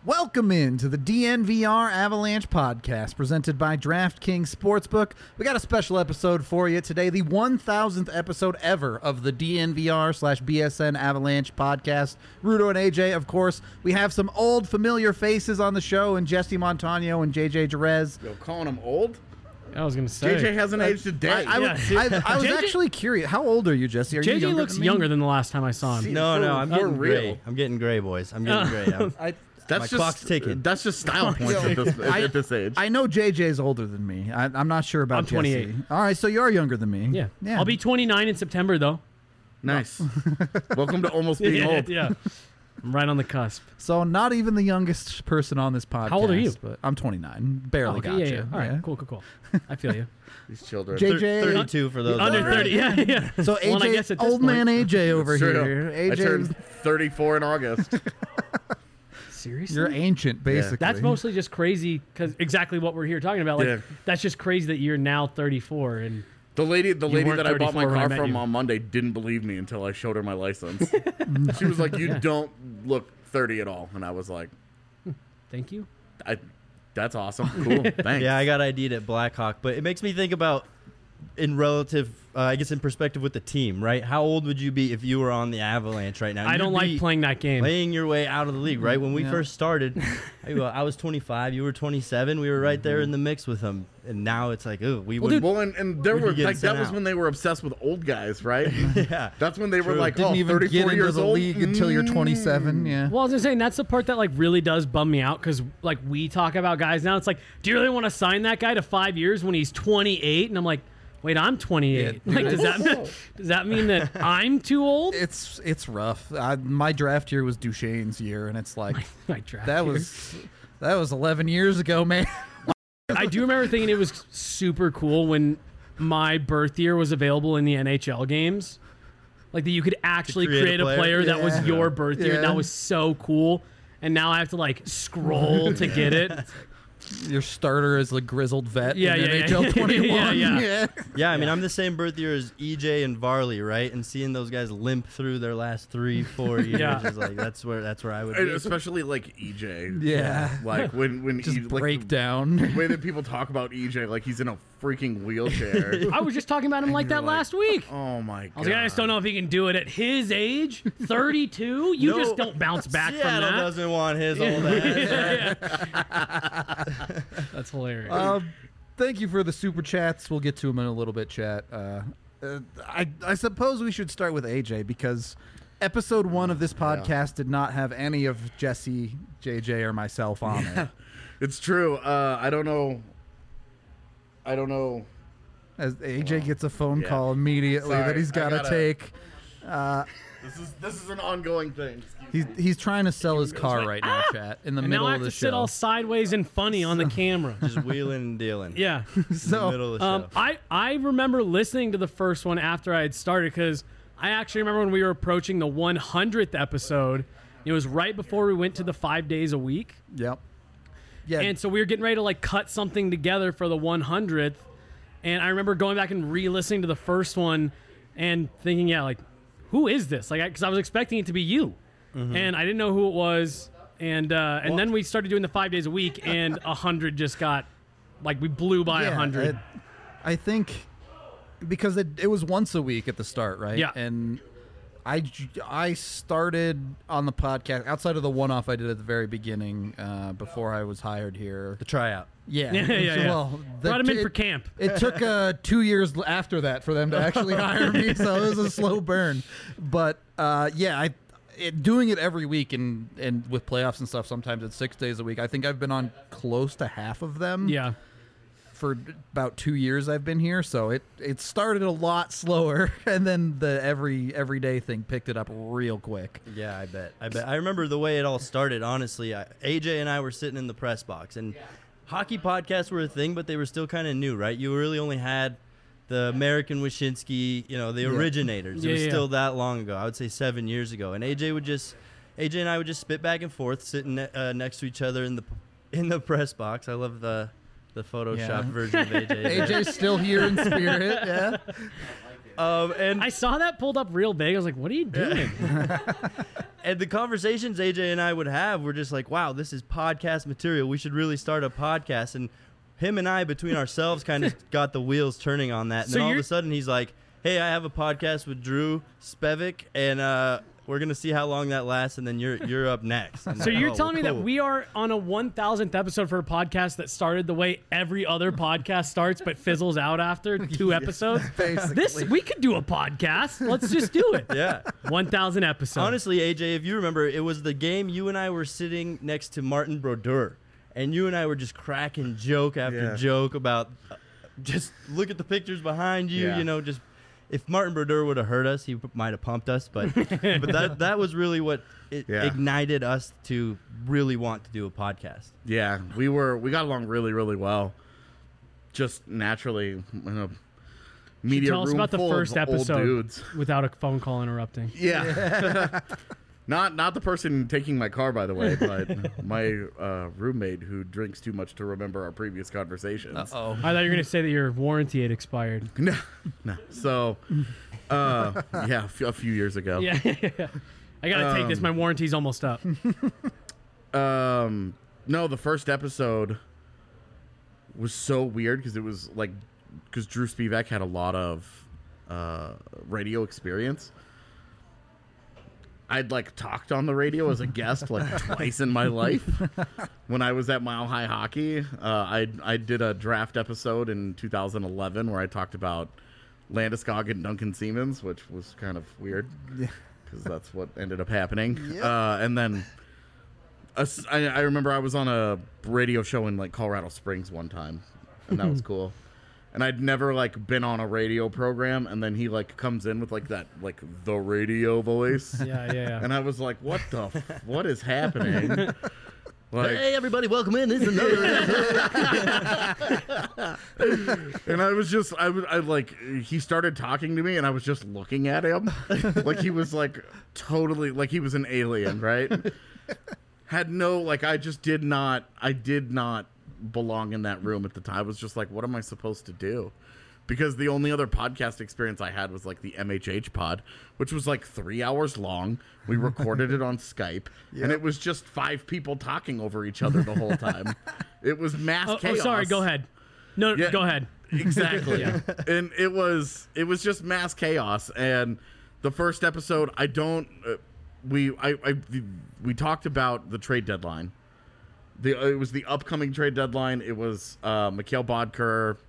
Welcome into the DNVR Avalanche podcast presented by DraftKings Sportsbook. We got a special episode for you today, the 1000th episode ever of the DNVR/BSN Avalanche podcast. Rudo and AJ, of course. We have some old familiar faces on the show, and Jesse Montano and JJ Jerez. Yo, calling him old? I was going to say. JJ hasn't aged a day. I was actually curious. How old are you, Jesse? Are you JJ younger looks than me? younger than the last time I saw him. No, I'm for getting real. gray. I'm getting gray, boys. I'm getting gray. That's My clock's ticking. That's just style points at this age. I know JJ's older than me. I'm not sure about I'm 28. Jesse. All right, so you're younger than me. Yeah. I'll be 29 in September, though. Nice. Welcome to almost being old. Yeah. I'm right on the cusp. So not even the youngest person on this podcast. How old are you? But I'm 29. Barely got yeah. you. All right, cool. I feel you. These children. JJ, 32 for those. Under 30, yeah. so Well, and I AJ, guess at this old point- man AJ over Straight here. up. I AJ, turned 34 in August. Seriously? you're ancient, basically. That's mostly just crazy because exactly what we're here talking about. Like, Yeah. that's just crazy that you're now 34 and The lady weren't that I bought my 34 when I car met from you. on Monday didn't believe me until I showed her my license. She was like, "You don't look 30 at all," and I was like, thank you. "That's awesome, cool, thanks." Yeah, I got ID'd at Blackhawk, but it makes me think about in relative, I guess in perspective with the team, right? How old would you be if you were on the Avalanche right now? I don't You'd be like playing that game. Playing your way out of the league, right? When we Yeah. first started, I was 25, you were 27, we were right there in the mix with them, and now it's like, oh, we would. Well, and there We'd were be getting like that sent was out. when they were obsessed with old guys, right? Yeah. That's when they were True. like, Didn't "Oh, even 34 get into years the old league until you're 27. Yeah. Well, I was just saying that's the part that like really does bum me out because like we talk about guys now. It's like, do you really want to sign that guy to 5 years when he's 28? And I'm like, wait, I'm 28. Yeah, like, does that mean that I'm too old? It's rough. My draft year was Duchesne's year, and it's like My draft that year. was 11 years ago, man. I do remember thinking it was super cool when my birth year was available in the NHL games. Like that you could actually create a player that was Yeah. your birth year. Yeah. That was so cool. And now I have to like scroll to get it. Your starter is a grizzled vet Yeah, in yeah, NHL yeah. 21. Yeah. Yeah, I mean, I'm the same birth year as EJ and Varley, right? And seeing those guys limp through their last 3-4 years Yeah. is like that's where I would And be. especially like EJ. Yeah. Like when Just like, break the down. way that people talk about EJ like he's in a freaking wheelchair. I was just talking about him like that last week. Oh my god. I was like, I just don't know if he can do it at his age, 32. You No. just don't bounce back from Seattle that. doesn't want his old ass. That's hilarious. Thank you for the super chats. We'll get to them in a little bit, chat. I suppose we should start with AJ because episode 1 of this podcast did not have any of Jesse, JJ, or myself on it. It's true. I don't know. As AJ gets a phone Yeah. call immediately Sorry, that he's I got to gotta- take. This is an ongoing thing. He's trying to sell his car right now, chat, in the and middle now I of have the to sit show. all sideways and funny on the camera. Just wheeling and dealing. Yeah. In the So, middle of the show. I remember listening to the first one after I had started because I actually remember when we were approaching the 100th episode. It was right before we went to the 5 days a week. Yep. Yeah. And so we were getting ready to like cut something together for the 100th. And I remember going back and re-listening to the first one and thinking, yeah, like, who is this? Like, because I was expecting it to be you. And I didn't know who it was. And then we started doing the 5 days a week, and 100 just got, like, we blew by 100. I think because it was once a week at the start, right? Yeah. And I started on the podcast outside of the one-off I did at the very beginning before I was hired here. The tryout. Yeah. Yeah. Well, Brought him in for camp. It took 2 years after that for them to actually hire me, so it was a slow burn. But doing it every week and with playoffs and stuff, sometimes it's 6 days a week. I think I've been on close to half of them. Yeah. For about 2 years I've been here, so it started a lot slower, and then the everyday thing picked it up real quick. Yeah, I bet. I remember the way it all started, honestly. AJ and I were sitting in the press box, and hockey podcasts were a thing, but they were still kind of new, right? You really only had the American Wyshynski, the originators. It was still that long ago. I would say 7 years ago. And AJ and I would just spit back and forth, sitting next to each other in the press box. I love the Photoshop version of AJ. AJ's still here in spirit, yeah. And I saw that pulled up real big. I was like, what are you doing? And the conversations AJ and I would have were just like, wow, this is podcast material. We should really start a podcast. And him and I, between ourselves, kind of got the wheels turning on that. And So then all of you're- a sudden, he's like, hey, I have a podcast with Drew Spevik, and we're going to see how long that lasts, and then you're up next. And So I'm you're like, telling me that cool. we are on a 1,000th episode for a podcast that started the way every other podcast starts, but fizzles out after 2 episodes? Basically. We could do a podcast. Let's just do it. Yeah. 1,000 episodes. Honestly, AJ, if you remember, it was the game you and I were sitting next to Martin Brodeur, and you and I were just cracking joke after Yeah. joke about just look at the pictures behind you, Yeah. you know, just if Martin Brodeur would have heard us, he might have pumped us, but that was really what Yeah. ignited us to really want to do a podcast. Yeah, we got along really, really well. Just naturally in a media Tell us room about the full first of old episode dudes. without a phone call interrupting. Yeah. Not the person taking my car, by the way, but my roommate who drinks too much to remember our previous conversations. Oh. I thought you were going to say that your warranty had expired. No. So, yeah, a few years ago. Yeah. I got to take this. My warranty's almost up. No, the first episode was so weird because it was like, because Drew Spivak had a lot of radio experience. I'd like talked on the radio as a guest like twice in my life. When I was at Mile High Hockey, I did a draft episode in 2011 where I talked about Landeskog and Duncan Siemens, which was kind of weird because that's what ended up happening. And then I remember I was on a radio show in like Colorado Springs one time, and that was cool. And I'd never like been on a radio program, and then he like comes in with like that like the radio voice, Yeah. and I was like, what what is happening? Like, Hey, everybody, welcome in. This is another. and I was just I like he started talking to me, and I was just looking at him like he was like totally like he was an alien, right? Had no like I did not belong in that room at the time. I was just like, what am I supposed to do? Because the only other podcast experience I had was like the MHH pod, which was like 3 hours long. We recorded it on Skype, and it was just 5 people talking over each other the whole time. It was mass Oh, chaos. sorry. Go ahead. No, Yeah. go ahead. Exactly. And it was just mass chaos. And the first episode, we talked about the trade deadline. It was the upcoming trade deadline. It was Mikhail Bodker,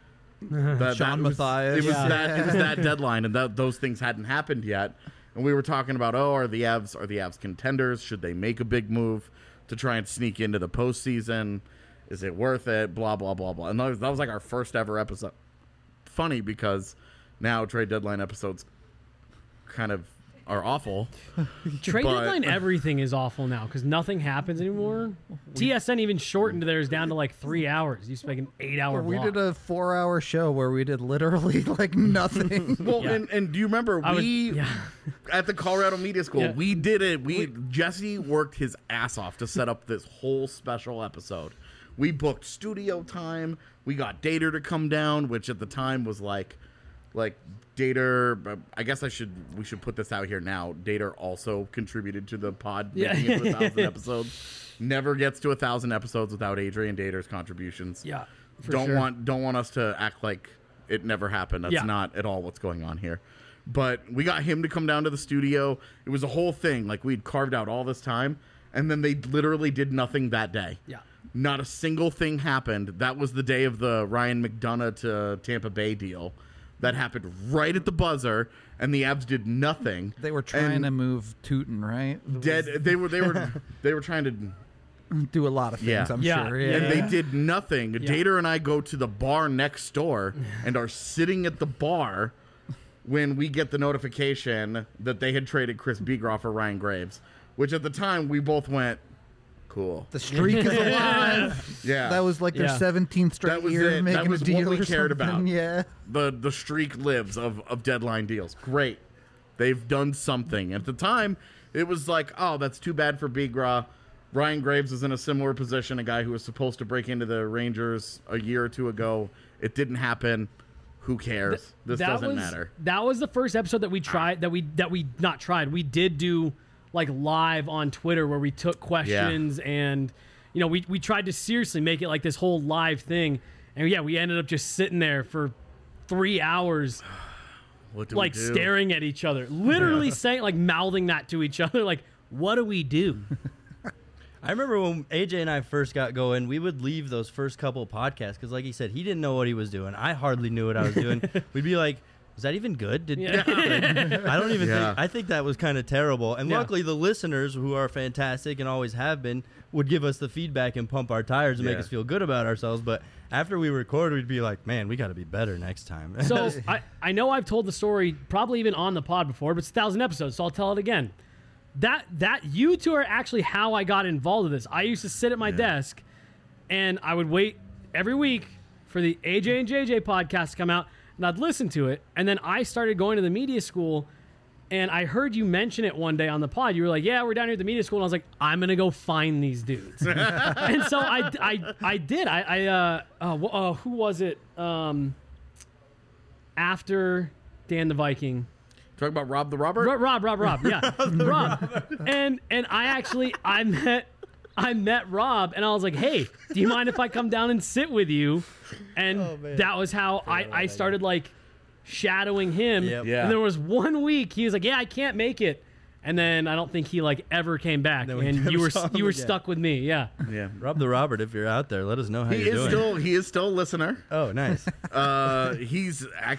Sean Matthias. It was Yeah. that deadline, and those things hadn't happened yet. And we were talking about, are the Avs contenders? Should they make a big move to try and sneak into the postseason? Is it worth it? Blah blah blah blah. And that was like our first ever episode. Funny because now trade deadline episodes kind of are awful. Trade But- deadline, everything is awful now because nothing happens anymore. TSN even shortened theirs down to like 3 hours. You used to make an 8-hour We block. did a 4-hour show where we did literally like nothing. Well, Yeah. and do you remember yeah. at the Colorado Media School, Yeah. we did it. Jesse worked his ass off to set up this whole special episode. We booked studio time. We got Dater to come down, which at the time was like Dater. I guess we should put this out here now. Dater also contributed to the pod making it to 1,000 episodes. Never gets to 1,000 episodes without Adrian Dater's contributions. Yeah. for Don't sure. want us to act like it never happened. That's Yeah. not at all what's going on here. But we got him to come down to the studio. It was a whole thing. Like we'd carved out all this time, and then they literally did nothing that day. Yeah. Not a single thing happened. That was the day of the Ryan McDonough to Tampa Bay deal. That happened right at the buzzer, and the Avs did nothing. They were trying And to move Tootin, right? They were trying to. Do a lot of things, Yeah. I'm Yeah. sure. And Yeah. they did nothing. Yeah. Dater and I go to the bar next door and are sitting at the bar when we get the notification that they had traded Chris Beagroff for Ryan Graves, which at the time we both went, cool. The streak is alive. Yeah. That was like their Yeah. 17th straight That was year it. That making was a what deal we or cared something. about. Yeah. the streak lives of deadline deals. Great. They've done something. At the time, it was like, oh, that's too bad for Beagroff. Ryan Graves is in a similar position, a guy who was supposed to break into the Rangers a year or two ago. It didn't happen. who cares? This that doesn't was, matter. That was the first episode that we tried. That we not tried. We did do like live on Twitter where we took questions and we tried to seriously make it like this whole live thing. And yeah, we ended up just sitting there for 3 hours. What do like we do? staring at each other, literally saying, like mouthing that to each other, like, what do we do? I remember when AJ and I first got going, we would leave those first couple podcasts because, like he said, he didn't know what he was doing. I hardly knew what I was doing. We'd be like, was that even good? Yeah. I don't even Yeah. think. I think that was kind of terrible. And Yeah. luckily, the listeners, who are fantastic and always have been, would give us the feedback and pump our tires and make Yeah. us feel good about ourselves. But after we record, we'd be like, man, we got to be better next time. So I know I've told the story probably even on the pod before, but it's 1,000 episodes, so I'll tell it again. That you two are actually how I got involved with this. I used to sit at my desk and I would wait every week for the AJ and JJ podcast to come out, and I'd listen to it. And then I started going to the media school, and I heard you mention it one day on the pod. You were like, yeah, we're down here at the media school. And I was like, I'm going to go find these dudes. And so I did. Who was it? After Dan the Talk about Rob the Robert? Rob, yeah. Rob. And I met Rob, and I was like, hey, do you mind if I come down and sit with you? And that was how I started like shadowing him. Yep. Yeah. And there was 1 week he was like, yeah, I can't make it. And then I don't think he like ever came back. Then we And never you were saw him again. stuck with me. Yeah. Yeah. Rob the Robert, if you're out there, let us know how He you're doing. he is still a listener. Oh, nice. He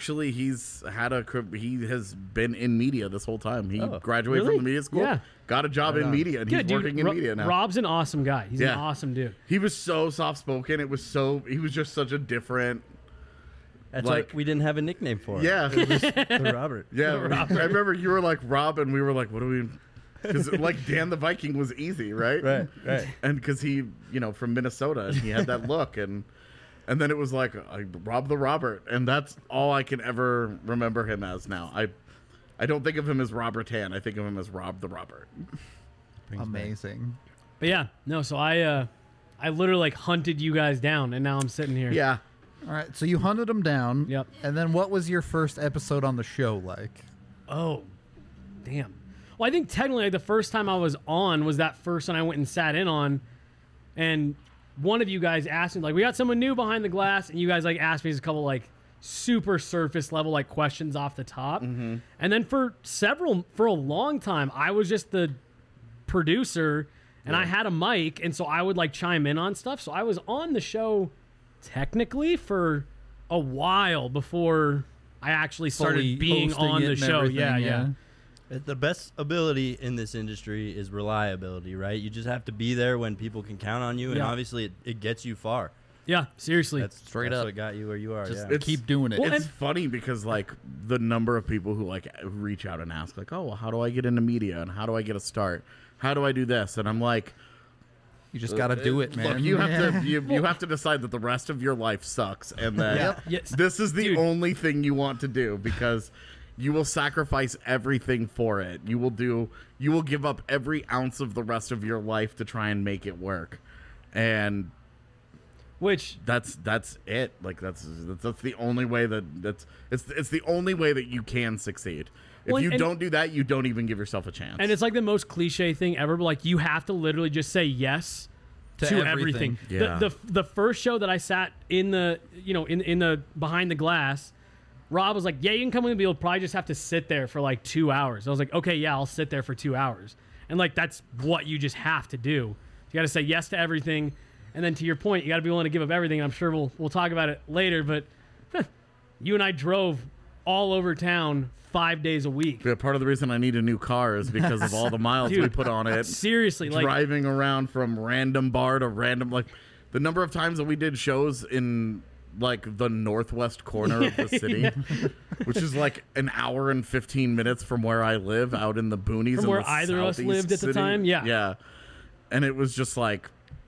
has been in media this whole time. He Oh, graduated really? from the media school, Yeah. got a job in media, and he's Good, dude. working in media now. Rob's an awesome guy. He's an Yeah. awesome dude. He was so soft spoken. He was just such a different. That's Like- like we didn't have a nickname for him. Yeah. The Robert. Yeah, I remember you were like Rob, and we were like, "What do we?" Because like Dan the Viking was easy, right? Right. And because he, from Minnesota, and he had that look, and then it was like Rob the Robert, and that's all I can ever remember him as now. I don't think of him as Robert Tan. I think of him as Rob the Robert. Amazing. But yeah, no, so I literally like hunted you guys down, and now I'm sitting here. Yeah. All right, so you hunted them down. Yep. And then what was your first episode on the show like? Oh, damn. Well, I think technically like, the first time I was on was that first one I went and sat in on, and one of you guys asked me, like, we got someone new behind the glass, and you guys like asked me a couple like super surface level like questions off the top. And then for a long time, I was just the producer, and I had a mic, and so I would like chime in on stuff. So I was on the show technically for a while before I actually started Fully being hosting on it the and show. everything, Yeah. The best ability in this industry is reliability, right? You just have to be there when people can count on you, and Yeah. obviously it gets you far. Yeah, seriously. That's Straight that's up. what got you where you are. Just Yeah. keep doing it. Well, It's and- funny because like the number of people who like reach out and ask like, "Oh, well, how do I get into media and how do I get a start? How do I do this?" And I'm like, you just got to do it, man. Look, you have to you have to decide that the rest of your life sucks and that Yep. Yes. this is the Dude. only thing you want to do because you will sacrifice everything for it. You will give up every ounce of the rest of your life to try and make it work. And Which that's it. Like that's the only way it's the only way that you can succeed. If Well, you and- don't do that, you don't even give yourself a chance. and it's like the most cliche thing ever, but like you have to literally just say yes To to everything. everything. Yeah. The first show that I sat in the in the behind the glass, Rob was like, "Yeah, you can come with me. You'll probably just have to sit there for like 2 hours." I was like, "Okay, yeah, I'll sit there for 2 hours." And like that's what you just have to do. You got to say yes to everything, and then to your point, you got to be willing to give up everything. I'm sure we'll talk about it later, but you and I drove all over town 5 days a week. Yeah, part of the reason I need a new car is because of all the miles we Dude, put on it. Seriously, like Driving around from random bar to random, like the number of times that we did shows in like the northwest corner of the city, which is like an hour and 15 minutes from where I live out in the boonies. From in where the either of us southeast lived at the city. time? Yeah. Yeah. And it was just like,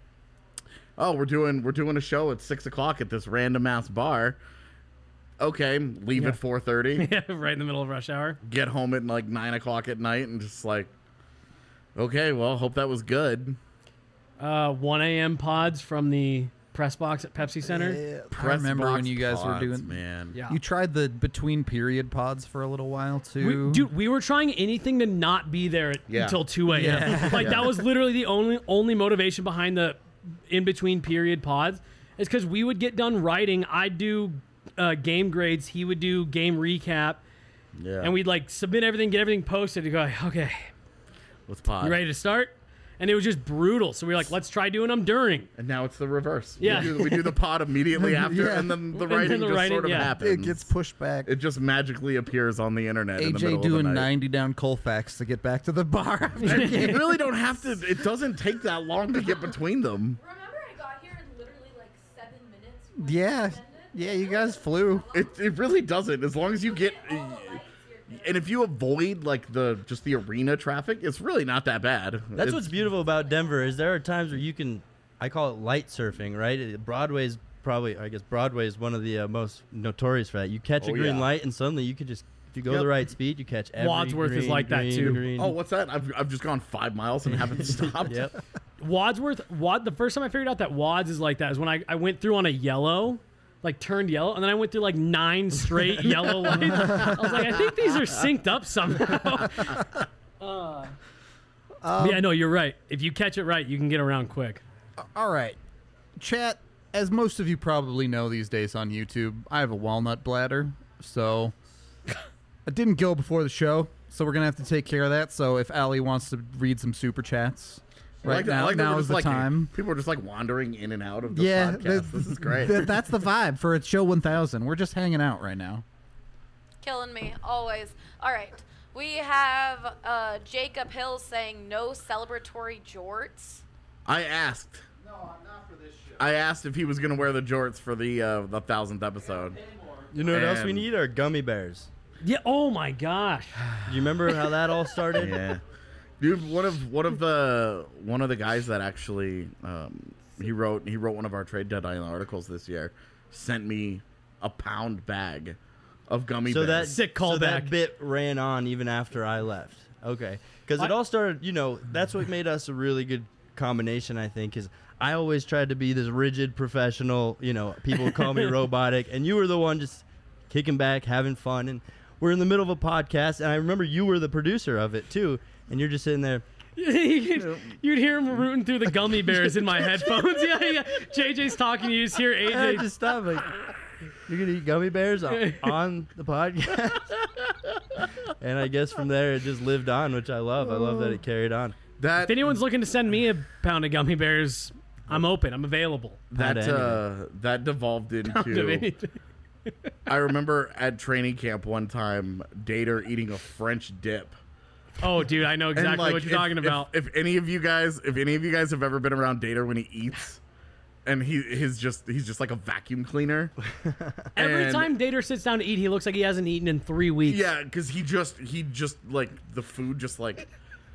oh, we're doing a show at 6 o'clock at this random ass bar. Okay, leave Yeah. at 4:30. yeah, right in the middle of rush hour. Get home at like 9 o'clock at night and just like, okay, well, hope that was good. 1 a.m. pods from the press box at Pepsi Center. I remember when you guys were Pods, doing. man. Yeah. You tried the between period pods for a little while too. We were trying anything to not be there Yeah. until 2 a.m. Yeah. Like that was literally the only motivation behind the in between period pods. Is because we would get done writing. I'd do game grades. He would do game recap, Yeah. and we'd like submit everything, get everything posted. To go, okay, Let's pod. you ready to start? And it was just brutal. So we were like, let's try doing them during. And now it's the reverse. Yeah. We do the pod immediately after, Yeah. and then the And then writing the just writing, sort of yeah. happens. It gets pushed back. It just magically appears on the internet. in the middle AJ of the doing night. 90 down Colfax to get back to the bar. after You game. really don't have to. It doesn't take that long to get between them. Remember, I got here in literally like 7 minutes. when Yeah, I ended? yeah, you guys flew. It really doesn't. As long as you get, All the lights here. and if you avoid like the arena traffic, it's really not that bad. That's what's beautiful about Denver is there are times where you can, I call it light surfing, right? Broadway's probably, I guess Broadway is one of the most notorious for that. You catch a Oh, green yeah. light and suddenly you could just, if you go Yep. the right speed, you catch every Wadsworth is green, like that, green, too. green. Oh, what's that? I've just gone 5 miles and haven't stopped. Yep. The first time I figured out that Wads is like that is when I went through on a yellow, like turned yellow, and then I went through like 9 straight yellow lights. I was like, I think these are synced up somehow. Yeah, no, you're right. If you catch it right, you can get around quick. All right, chat. As most of you probably know these days on YouTube, I have a walnut bladder, so I didn't go before the show, so we're gonna have to take care of that. So if Allie wants to read some super chats right I now, like that now we're is just the like, time. People are just like wandering in and out of the Yeah, podcast. This is great. That's the vibe for its show 1000. We're just hanging out right now. Killing me, always. All right. We have Jacob Hill saying no celebratory jorts. I asked. No, not for this show. I asked if he was gonna wear the jorts for the 1000th episode. You know what else we And- need are gummy bears. Yeah. Oh my gosh. Do you remember how that all started? Yeah, dude. One of the guys that actually he wrote one of our Trade Deadline articles this year sent me a pound bag of gummy So that bears. Sick so that callback. bit ran on even after I left. Okay, because it all started. You know, that's what made us a really good combination. I think is I always tried to be this rigid professional. You know, people would call me robotic, and you were the one just kicking back, having fun, and we're in the middle of a podcast. And I remember you were the producer of it too, and you're just sitting there. You'd hear him rooting through the gummy bears in my headphones. Yeah. JJ's talking. You just hear Hey, AJ. just stop. Like, you're gonna eat gummy bears on the podcast, and I guess from there it just lived on, which I love. I love that it carried on. If anyone's looking to send me a pound of gummy bears, I'm open. I'm available. that devolved into. I remember at training camp one time, Dater eating a French dip. Oh, dude, I know exactly And, like, what you're talking about. If any of you guys have ever been around Dater when he eats, and he's just like a vacuum cleaner. Every and- time Dater sits down to eat, he looks like he hasn't eaten in 3 weeks. Yeah, because he just like the food just like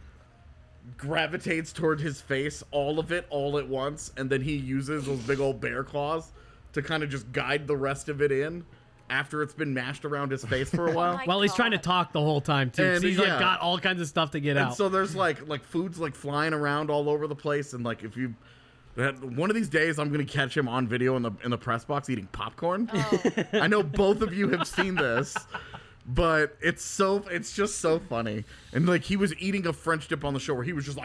gravitates toward his face, all of it, all at once, and then he uses those big old bear claws to kind of just guide the rest of it in after it's been mashed around his face for a while. my Well, he's trying to God. talk the whole time too. 'cause And, he's yeah. like got all kinds of stuff to get And out. so there's like food's like flying around all over the place, and like if you one of these days I'm gonna catch him on video in the press box eating popcorn. I know both of you have seen this, but it's just so funny. And like he was eating a French dip on the show where he was just like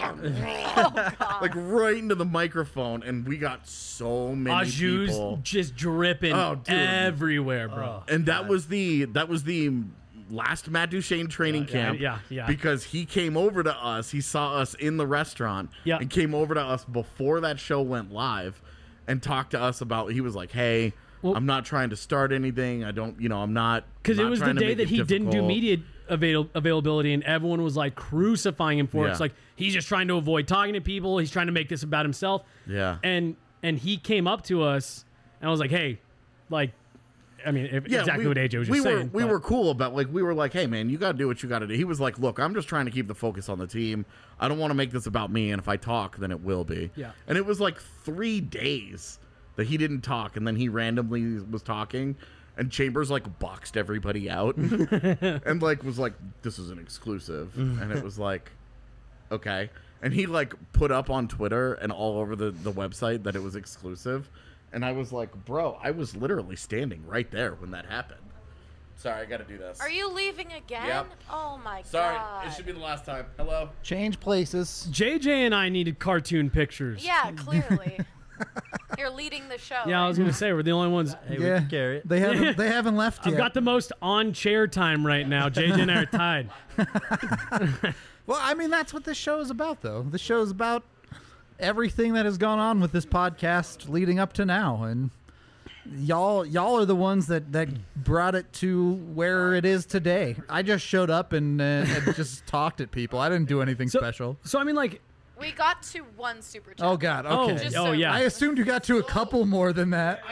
like right into the microphone, and we got so many Ajou's people. just dripping Oh, dude. everywhere, bro. And that was the last Matt Duchesne training camp. yeah. Because he came over to us. He saw us in the restaurant. Yeah. And came over to us before that show went live and talked to us about. He was like, "Hey, Well- I'm not trying to start anything. I don't. I'm not." Because it not was the trying to day make that it he didn't do difficult." media availability, and everyone was like crucifying him for it. Yeah. It's like he's just trying to avoid talking to people. He's trying to make this about himself. Yeah. And he came up to us, and I was like, "Hey, like, I mean, exactly what AJ was just saying." We but- were cool about we were like, hey man, you got to do what you got to do. He was like, look, I'm just trying to keep the focus on the team. I don't want to make this about me, and if I talk, then it will be. Yeah. And it was like 3 days that he didn't talk, and then he randomly was talking, and Chambers like boxed everybody out, and like was like, this is an exclusive, and it was like, okay. And he like put up on Twitter and all over the website that it was exclusive. And I was like, bro, I was literally standing right there when that happened. Sorry, I got to do this. Are you leaving again? Yep. Oh my Sorry, god. it should be the last time. Hello? Change places. JJ and I needed cartoon pictures. Yeah, clearly. You're leading the show. Yeah, I was gonna say we're the only ones. Hey, we can carry it. They haven't left yet. I've got the most on chair time right now. JJ and I are tied. Well, I mean, that's what this show is about, though. The show is about everything that has gone on with this podcast leading up to now, and y'all are the ones that brought it to where it is today. I just showed up and just talked at people. I didn't do anything special. So I mean, like, We got to one super chat. Oh God. Okay. Just oh so- yeah. I assumed you got to a couple more than that.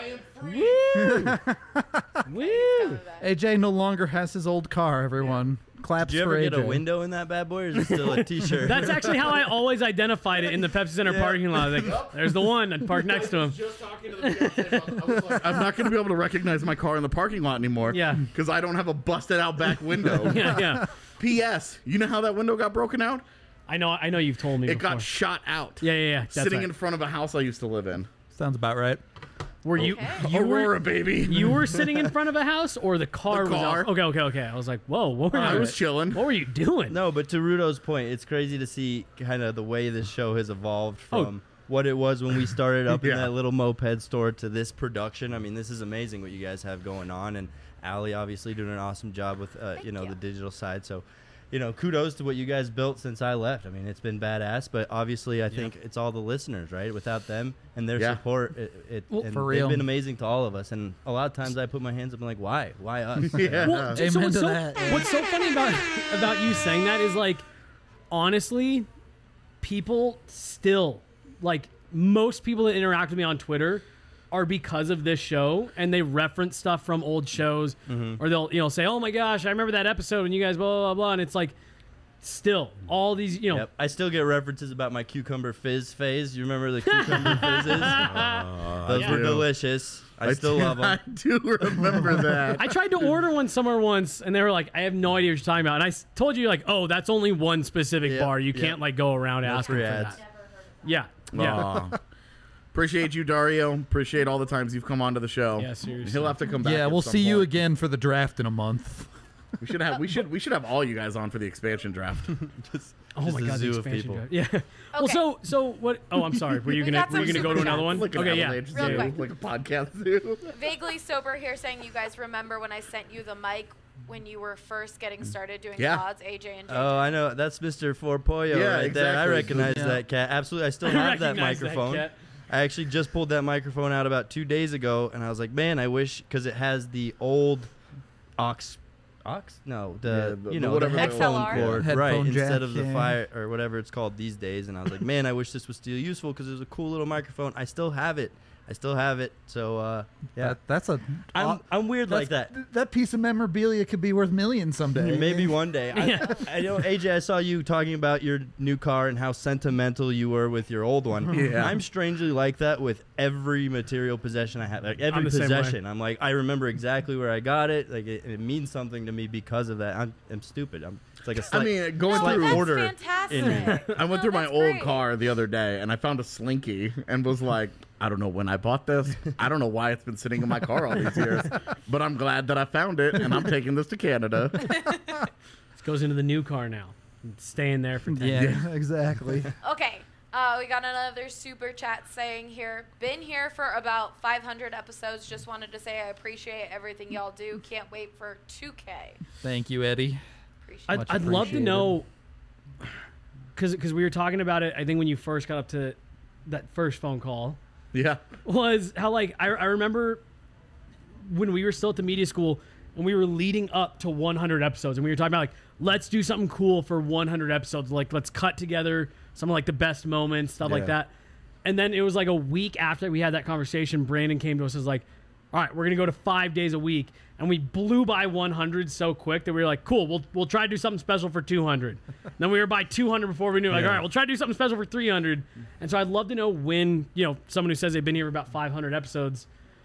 Woo! AJ no longer has his old car. Everyone claps Did you for ever AJ. get a window in that bad boy, or is it still a T-shirt? That's actually how I always identified it in the Pepsi Center parking lot. Like, there's the one. I'd park next to him. Just talking to the I was like, I'm not going to be able to recognize my car in the parking lot anymore. Yeah. Because I don't have a busted out back window. Yeah, yeah. P.S. You know how that window got broken out? I know you've told me It before. got shot out. Yeah. That's Sitting right. in front of a house I used to live in. Sounds about right. Were you Okay. you Aurora, were baby. you were sitting in front of a house or the car The was car. out? Okay. I was like, whoa, what were I you, was chilling. what were you doing? No, but to Rudo's point, it's crazy to see kind of the way this show has evolved Oh. from what it was when we started up in Yeah. that little moped store to this production. I mean, this is amazing what you guys have going on, and Allie obviously doing an awesome job with you. the digital side. So, kudos to what you guys built since I left. I mean, it's been badass, but obviously I think it's all the listeners, right? Without them and their Yeah. support, Well, and for real. they've been amazing to all of us. And a lot of times I put my hands up and like, why us? Yeah. Well, Amen what's to so, that. what's so funny about you saying that is like, honestly, people still like most people that interact with me on Twitter are because of this show, and they reference stuff from old shows, or they'll say, "Oh my gosh, I remember that episode when you guys blah blah blah," and it's like, still all these Yep. I still get references about my cucumber fizz phase. You remember the cucumber fizzes? Those Yeah. were delicious. I still love them. I do remember that. I tried to order one somewhere once, and they were like, "I have no idea what you're talking about." And I told you like, "Oh, that's only one specific Yep, bar. You yep. can't like go around No asking free for ads. that." Yeah. Aw. Appreciate you, Dario. Appreciate all the times you've come onto the show. Yeah, seriously. He'll have to come back. Yeah, at we'll some see you point. again for the draft in a month. We should have all you guys on for the expansion draft. Oh my a god, the zoo of expansion people. draft. Yeah. Well, Okay. so what? Oh, I'm sorry. Were you We gonna got some go to super another chats. one? Like an Okay, yeah. avalanche Real zoo, quick. like a podcast zoo. Vaguely sober here saying you guys remember when I sent you the mic when you were first getting started doing Yeah. odds, AJ and JJ. Oh, I know. That's Mr. Forpoyo Yeah, right there. I exactly. recognize Yeah. that cat. Absolutely. I still I have that recognize that microphone. cat. I actually just pulled that microphone out about 2 days ago, and I was like, man, I wish, because it has the old aux? No, the the whatever the- headphone XLR? cord, Headphone right, jack, instead of the yeah. fire or whatever it's called these days. And I was like, man, I wish this was still useful because it was a cool little microphone. I still have it. So yeah, That's a. I'm weird like that. That piece of memorabilia could be worth millions someday. Maybe one day. I know, AJ, I saw you talking about your new car and how sentimental you were with your old one. Yeah. I'm strangely like that with every material possession I have. Like every I'm the same way. possession. I'm like, I remember exactly where I got it. Like it means something to me because of that. I'm stupid. It's like a I slight, mean, going no, through that's order fantastic. in me. I went No, through my that's old great. car the other day and I found a Slinky and was like, I don't know when I bought this. I don't know why it's been sitting in my car all these years, but I'm glad that I found it and I'm taking this to Canada. This goes into the new car now. It's staying there for 10 Yeah, years. exactly. Okay, we got another super chat saying here, been here for about 500 episodes. Just wanted to say I appreciate everything y'all do. Can't wait for 2K. Thank you, Eddie. Appreciate I'd, Much I'd love to appreciated. know, because we were talking about it, I think when you first got up to that first phone call, Yeah. was how like I remember when we were still at the media school and we were leading up to 100 episodes and we were talking about like, let's do something cool for 100 episodes, like let's cut together some of like the best moments, stuff like Yeah. that. And then it was like a week after we had that conversation, Brandon came to us and was like, all right, we're gonna go to 5 days a week, and we blew by 100 so quick that we were like, cool, we'll try to do something special for 200. Then we were by 200 before we knew, like, Yeah. all right, we'll try to do something special for 300. And so I'd love to know when, someone who says they've been here for about 500 episodes,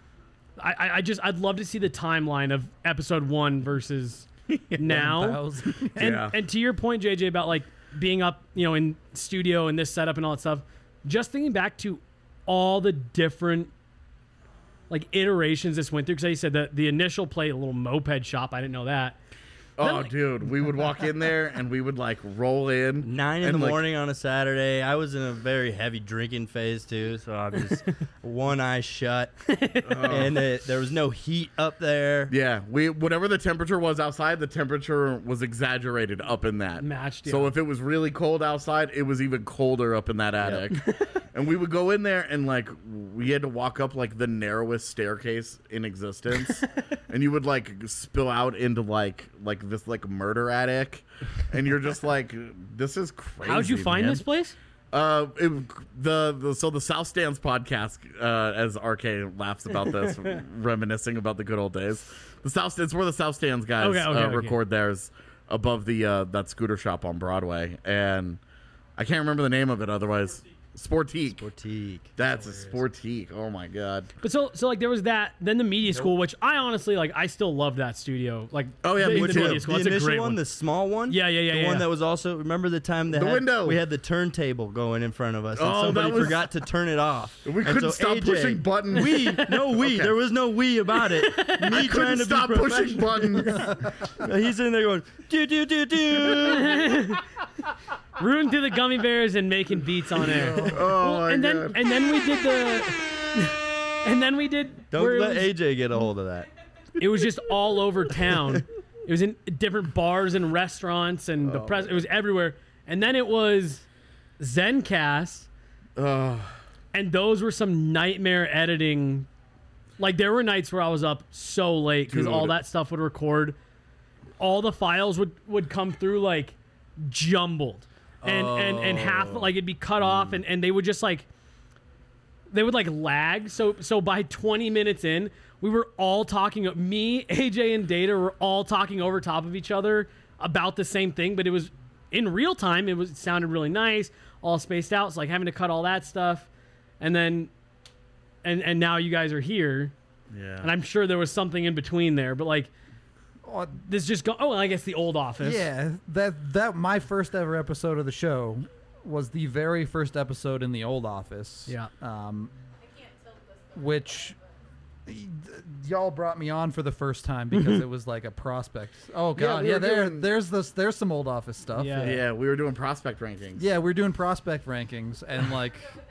I'd love to see the timeline of episode 1 versus now. 1,000. And Yeah. and to your point, JJ, about like being up, in studio and this setup and all that stuff, just thinking back to all the different like iterations this went through, because you said that the initial play, a little moped shop, I didn't know that. Oh, dude, we would walk in there and we would like roll in 9 in and, the like, morning on a Saturday. I was in a very heavy drinking phase too, so I'm just one eye shut, and there was no heat up there. Yeah, whatever the temperature was outside, the temperature was exaggerated up in that. Matched, So yeah. if it was really cold outside, it was even colder up in that attic. And we would go in there and like we had to walk up like the narrowest staircase in existence, and you would like spill out into like this like murder attic, and you're just like, this is crazy. How'd you find man. this place? So the South Stands podcast, as RK laughs about this, reminiscing about the good old days. The South Stands, where the South Stands guys Okay. record theirs above the that scooter shop on Broadway, and I can't remember the name of it. Otherwise, Sportique. Sportique. That's a Sportique. Oh my god. But so like there was that, then the media school, which I honestly like. I still love that studio. Like, Oh, yeah, the, me the too. media school. The That's a initial great one, one. the small one. Yeah. The one that was also, remember the time that The window. we had the turntable going in front of us, and Oh, somebody that was- forgot to turn it off. We And couldn't so stop AJ, pushing buttons. Okay. There was no we about it. Me trying Couldn't to stop be pushing professional. buttons. He's in there going do do do do. Rooting through the gummy bears and making beats on air. Oh my and god. then we did the, and then we did. where Don't it let was- AJ get a hold of that. It was just all over town. It was in different bars and restaurants, and the press. It was everywhere. And then it was Zencast, and those were some nightmare editing. Like there were nights where I was up so late because all Dude. that stuff would record. All the files would come through like jumbled, and half like it'd be cut off, and they would just like. They would like lag. So by 20 minutes in, we were all talking. Me, AJ, and Data were all talking over top of each other about the same thing, but it was in real time. It sounded really nice, all spaced out. It's like having to cut all that stuff, and then, and now you guys are here, Yeah. and I'm sure there was something in between there, but like Oh, this just go. Oh, I guess the old office. yeah, that my first ever episode of the show was the very first episode in the old office. Yeah. Which y'all brought me on for the first time because it was like a prospect. Oh god, we yeah, were doing- there's some old office stuff. Yeah. Yeah, we were doing prospect rankings. Yeah, we're doing prospect rankings and like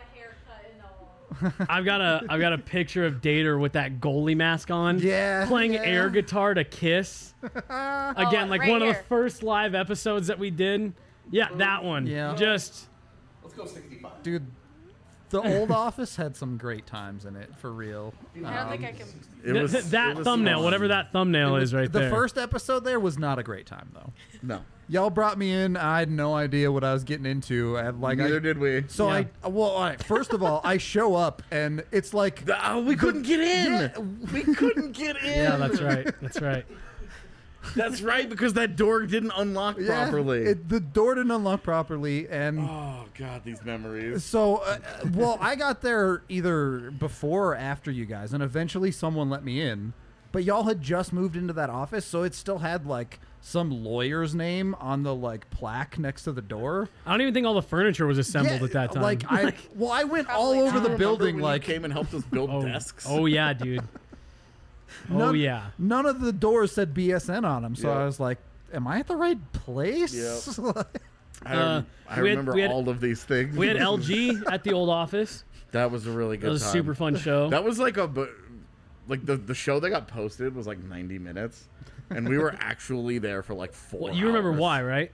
I've got a picture of Dater with that goalie mask on. Yeah, Playing yeah. air guitar to Kiss. Again, like right one of the here. first live episodes that we did. Yeah, that one. Yeah. Just dude, the old office had some great times in it for real. I don't think I can. It was, that it was thumbnail, fun. whatever that thumbnail is right the there. first episode there was not a great time though. No. Y'all brought me in. I had no idea what I was getting into. And like Neither did we. So Yeah. all right, first of all, I show up and it's like We couldn't get in. Yeah. We couldn't get in. Yeah, that's right. That's right. That's right, because that door didn't unlock properly. the door didn't unlock properly, and Oh god, these memories. so well, I got there either before or after you guys, and eventually someone let me in. But y'all had just moved into that office, so it still had like some lawyer's name on the like plaque next to the door. I don't even think all the furniture was assembled Yeah, at that time. Like I went all Probably over not. the Remember building. when Like you came and helped us build oh, desks. oh yeah, dude. Oh none, yeah. none of the doors said BSN on them, so Yeah. I was like, "Am I at the right place?" Yep. I we had- remember we had- all of these things. We had LG at the old office. That was a really good That was a time. super fun show. That was like the show that got posted was like 90 minutes, and we were actually there for like 4 Well, you remember hours. why, right?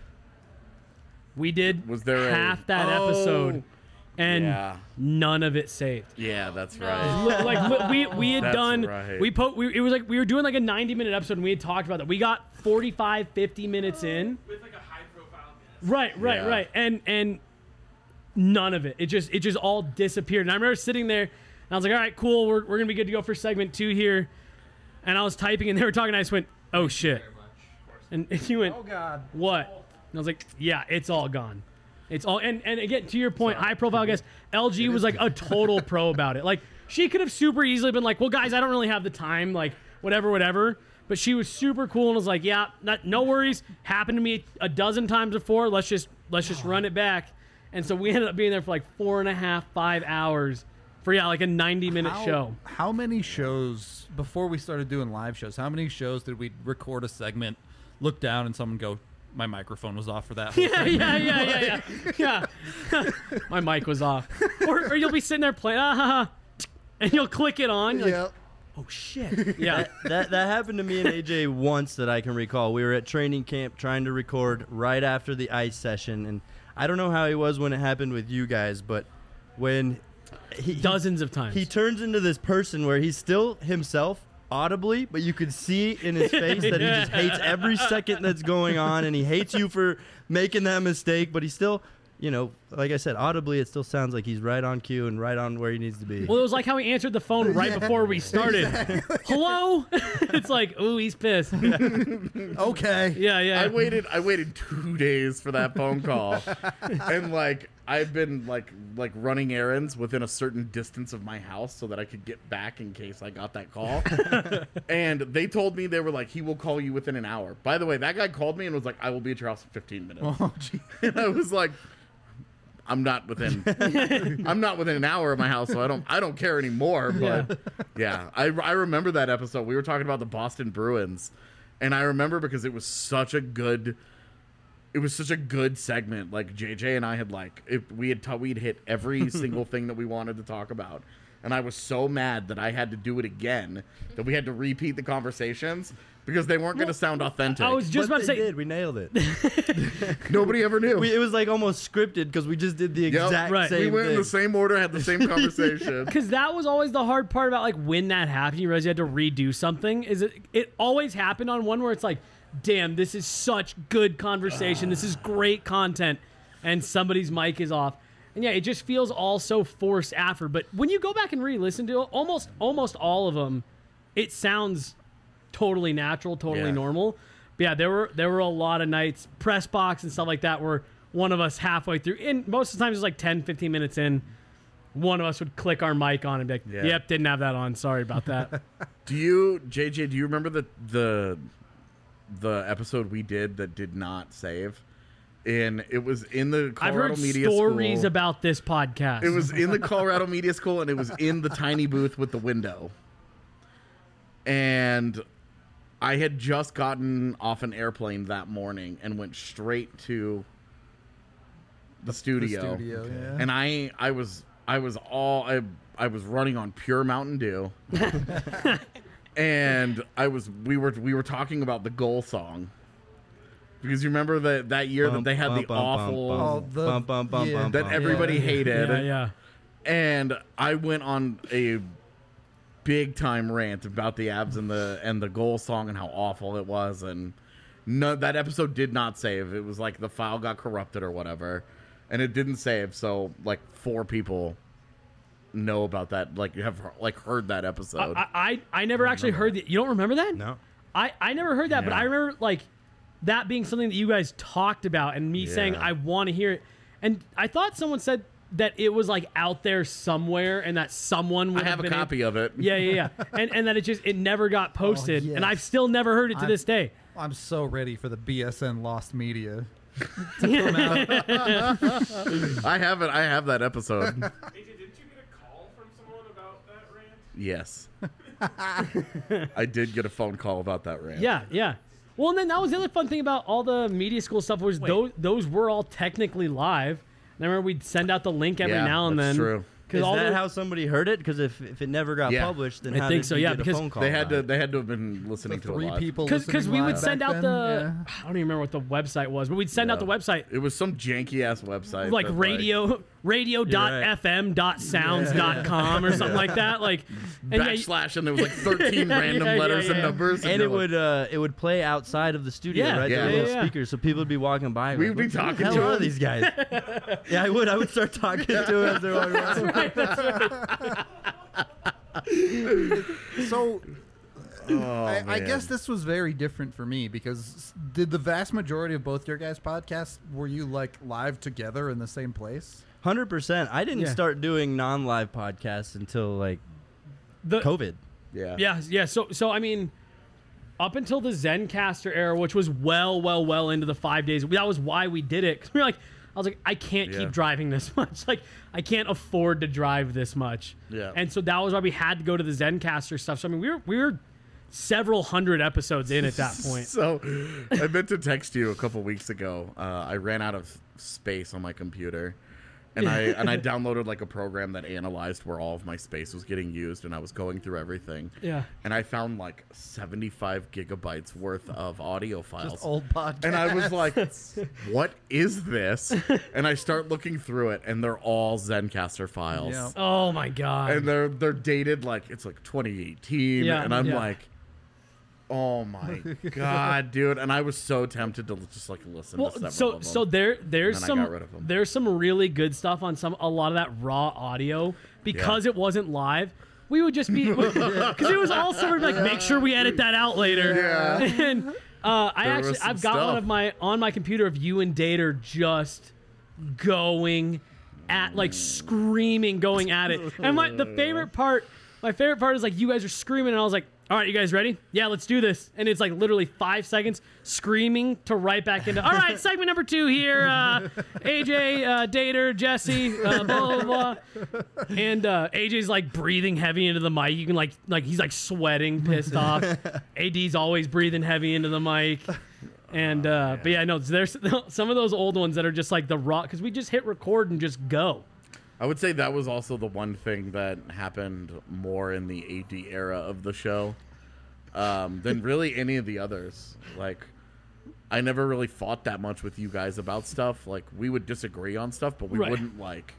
We did Was there half that Oh, episode, and yeah. none of it saved. Yeah, that's No. right. Like we had That's done right. it was like we were doing like a 90-minute episode, and we had talked about that. We got 45 50 minutes in with like a high profile guest. right Yeah. right and none of it just all disappeared. And I remember sitting there and I was like, all right, cool, we're gonna be good to go for segment 2 here. And I was typing and they were talking and I just went, oh shit. And you went, Oh God. what? And I was like, yeah, it's all gone. It's all, and again, to your point, high profile guest, LG was like a total pro about it. Like, she could have super easily been like, well, guys, I don't really have the time, like, whatever. But she was super cool and was like, yeah, no worries. Happened to me a dozen times before. Let's let's just run it back. And so we ended up being there for like 4.5, 5 hours for like a 90-minute show. How many shows before we started doing live shows? How many shows did we record a segment, look down, and someone go, "My microphone was off for that"? Whole thing. Yeah. My mic was off. Or you'll be sitting there playing, and you'll click it on. You're like, oh shit. Yeah. That happened to me and AJ once that I can recall. We were at training camp trying to record right after the ice session, and I don't know how he was when it happened with you guys, but when dozens of times he turns into this person where he's still himself audibly, but you could see in his face that he just hates every second that's going on, and he hates you for making that mistake, but he still, like I said, audibly it still sounds like he's right on cue and right on where he needs to be. Well, it was like how he answered the phone right before we started. Exactly. Hello? It's like, ooh, he's pissed. Okay. Yeah. I waited 2 days for that phone call. And I've been like running errands within a certain distance of my house so that I could get back in case I got that call. And they told me, they were like, he will call you within an hour. By the way, that guy called me and was like, I will be at your house in 15 minutes. Oh, gee. And I was like, I'm not within an hour of my house, so I don't care anymore. But yeah, I remember that episode. We were talking about the Boston Bruins, and I remember because it was such a good segment. Like JJ and I had we'd hit every single thing that we wanted to talk about. And I was so mad that I had to do it again, that we had to repeat the conversations because they weren't going to sound authentic. I was just about to say, we nailed it. Nobody ever knew. It was like almost scripted because we just did the exact same We went thing. in the same order, had the same conversation. because that was always the hard part about when that happened, you realize you had to redo something. It always happened on one where it's like, damn, this is such good conversation. This is great content. And somebody's mic is off. And yeah, it just feels all so forced after. But when you go back and re-listen to it, almost all of them, it sounds totally natural, totally normal. But yeah, there were a lot of nights, press box and stuff like that, where one of us halfway through, and most of the times it was like 10, 15 minutes in, one of us would click our mic on and be like, yep, didn't have that on. Sorry about that. JJ, do you remember the episode we did that did not save? And it was in the Colorado Media School. I've heard stories about this podcast. It was in the Colorado Media School, and it was in the tiny booth with the window. And I had just gotten off an airplane that morning and went straight to the studio. Yeah. And I was running on pure Mountain Dew. And we were talking about the goal song. Because you remember that year that they had the awful that everybody hated. Yeah. And I went on a big time rant about the Avs and the goal song and how awful it was, and that episode did not save. It was like the file got corrupted or whatever, and it didn't save. So 4 people know about that, have heard that episode. I never actually heard that. You don't remember that? No. I never heard that, but I remember that being something that you guys talked about and me saying I want to hear it. And I thought someone said that it was out there somewhere and that someone would I have a copy of it. Yeah. and that it never got posted. yes. And I've still never heard it to this day. I'm so ready for the BSN Lost Media. I have that episode. AJ, didn't you get a call from someone about that rant? Yes. I did get a phone call about that rant. Yeah. Well, and then that was the other fun thing about all the media school stuff was those were all technically live. And I remember we'd send out the link every now and then. That's true. Is that how somebody heard it? Because if it never got published, then how did you get a phone call? They had to have been listening to it live. People because we would send out the. I don't even remember what the website was, but we'd send out the website. It was some janky ass website, like radio.fm.sounds.com or something like that. Backslash, and there was 13 random letters and numbers, and it would play outside of the studio, right? Yeah. The little speakers, so people would be walking by. We'd be talking to them. All these guys. Yeah, I would start talking to them as they're walking by. So I guess this was very different for me because did the vast majority of both your guys' podcasts, were you live together in the same place? 100%. I didn't start doing non-live podcasts until COVID. Yeah. So I mean, up until the Zencaster era, which was well into the 5 days, that was why we did it. 'Cause we were like, I was like, I can't Yeah. keep driving this much. Like, I can't afford to drive this much. Yeah. And so that was why we had to go to the Zencaster stuff. So I mean, we were several hundred episodes in at that point. So I meant to text you a couple weeks ago. I ran out of space on my computer, and I downloaded like a program that analyzed where all of my space was getting used, and I was going through everything. Yeah. And I found like 75 gigabytes worth of audio files. Just old podcasts. And I was like, what is this? And I start looking through it, and they're all Zencaster files. Yeah. Oh my god. And they're dated like it's like 2018. Yeah, and I'm yeah. like, oh my god, dude. And I was so tempted to just like listen to several of them. So there's And then I some got rid of 'em. there's some really good stuff on a lot of that raw audio because it wasn't live. We would just be because it was all sort of like make sure we edit that out later. Yeah. And was some I've got one stuff. of on my computer of you and Dater just going at like screaming going at it. And my favorite part is like you guys are screaming and I was like, all right, you guys ready? Yeah, let's do this. And it's like literally 5 seconds screaming to right back into, all right, segment number 2 here. AJ, Dater, Jesse, blah, blah, blah. And AJ's like breathing heavy into the mic. You can like he's like sweating, pissed off. AD's always breathing heavy into the mic. And, but yeah, no, there's some of those old ones that are just like the raw, because we just hit record and just go. I would say that was also the one thing that happened more in the AD era of the show than really any of the others. Like, I never really fought that much with you guys about stuff. Like, we would disagree on stuff, but we Right. wouldn't like.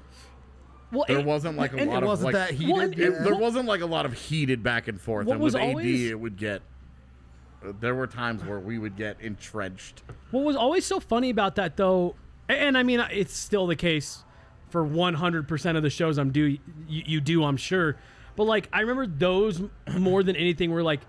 Well, There wasn't like a and lot It of wasn't like. that heated. There wasn't like a lot of heated back and forth. What And was with AD, always- it would get. There were times where we would get entrenched. What was always so funny about that, though, and I mean, it's still the case for 100% of the shows you do, I'm sure. But, like, I remember those more than anything were, like,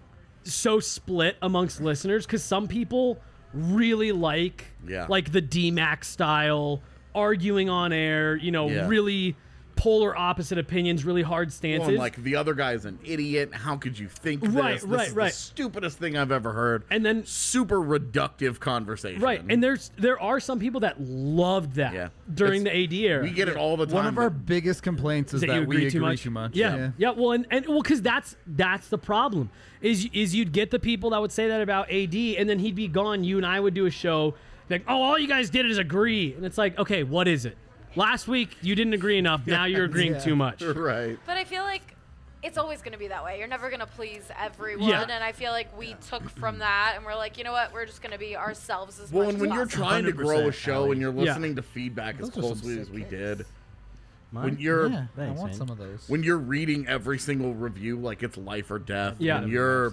so split amongst listeners because some people really like the D-Max style, arguing on air, really polar opposite opinions, really hard stances. Well, and like the other guy's an idiot. How could you think this? Right, This right, is right. the stupidest thing I've ever heard. And then super reductive conversation. Right, and there are some people that loved that Yeah. during the It's- AD era. we get it all the time. One of our biggest complaints is that you that we agree agree too too much. Yeah. Well, and because that's the problem is you'd get the people that would say that about AD, and then he'd be gone. You and I would do a show like, oh, all you guys did is agree, and it's like, okay, what is it? Last week you didn't agree enough. Now you're agreeing too much. Right. But I feel like it's always going to be that way. You're never going to please everyone. Yeah. And I feel like we took from that and we're like, you know what? We're just going to be ourselves as Well, much and when as you're possible. trying to grow a 100%, show Allie. and you're Yeah. listening to feedback as Those are some closely as sick we hits. did, Mine? when you're Yeah, Thanks, I want man. some of those. when you're reading every single review like it's life or death, Yeah. when you're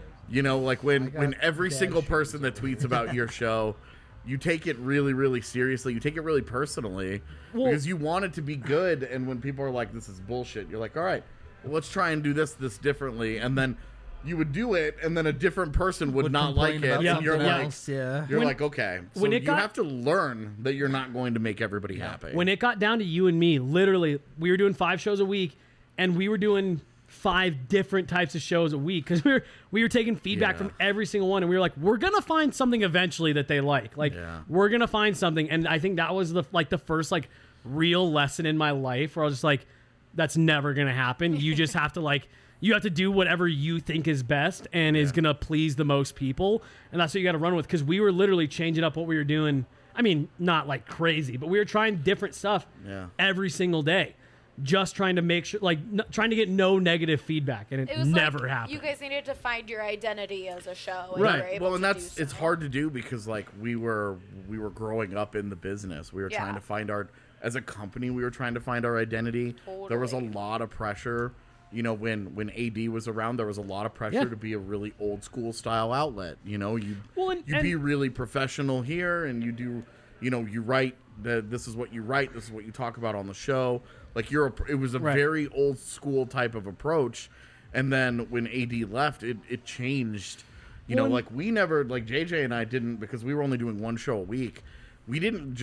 like when got every dad single shoes person that tweets about your show, you take it really, really seriously. You take it really personally Well- because you want it to be good. And when people are like, "This is bullshit," you're like, "All right, well, let's try and do this differently." And then you would do it, and then a different person would not like complain it, about and you're something like, else, yeah. you're When- like, okay, so when it you got- have to learn that you're not going to make everybody happy. When it got down to you and me, literally, we were doing 5 shows a week, and we were doing 5 different types of shows a week because we were taking feedback Yeah. from every single one, and we were like, we're gonna find something eventually that they like. Like, Yeah. we're gonna find something, and I think that was the first like real lesson in my life where I was just like, that's never gonna happen. You just have to you have to do whatever you think is best and is gonna please the most people, and that's what you got to run with. Because we were literally changing up what we were doing. I mean, not like crazy, but we were trying different stuff every single day, just trying to make sure, trying to get no negative feedback, and it It was never like happened. you guys needed to find your identity as a show. And Right. You were able Well, and to that's do it's so. hard to do because like we were growing up in the business. We were Yeah. trying to find as a company, we were trying to find our identity. There was a Totally. lot of pressure. When AD was around, there was a lot of pressure Yeah. to be a really old school style outlet. You Well, and- be really professional here, and you do. You write this is what you write. This is what you talk about on the show. Like it was a Right. very old school type of approach. And then when AD left, it changed. Like we never, like JJ and I didn't, because we were only doing 1 show a week. We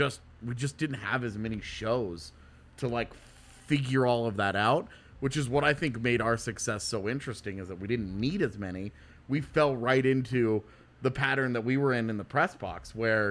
just didn't have as many shows to like figure all of that out, which is what I think made our success so interesting, is that we didn't need as many. We fell right into the pattern that we were in the press box, where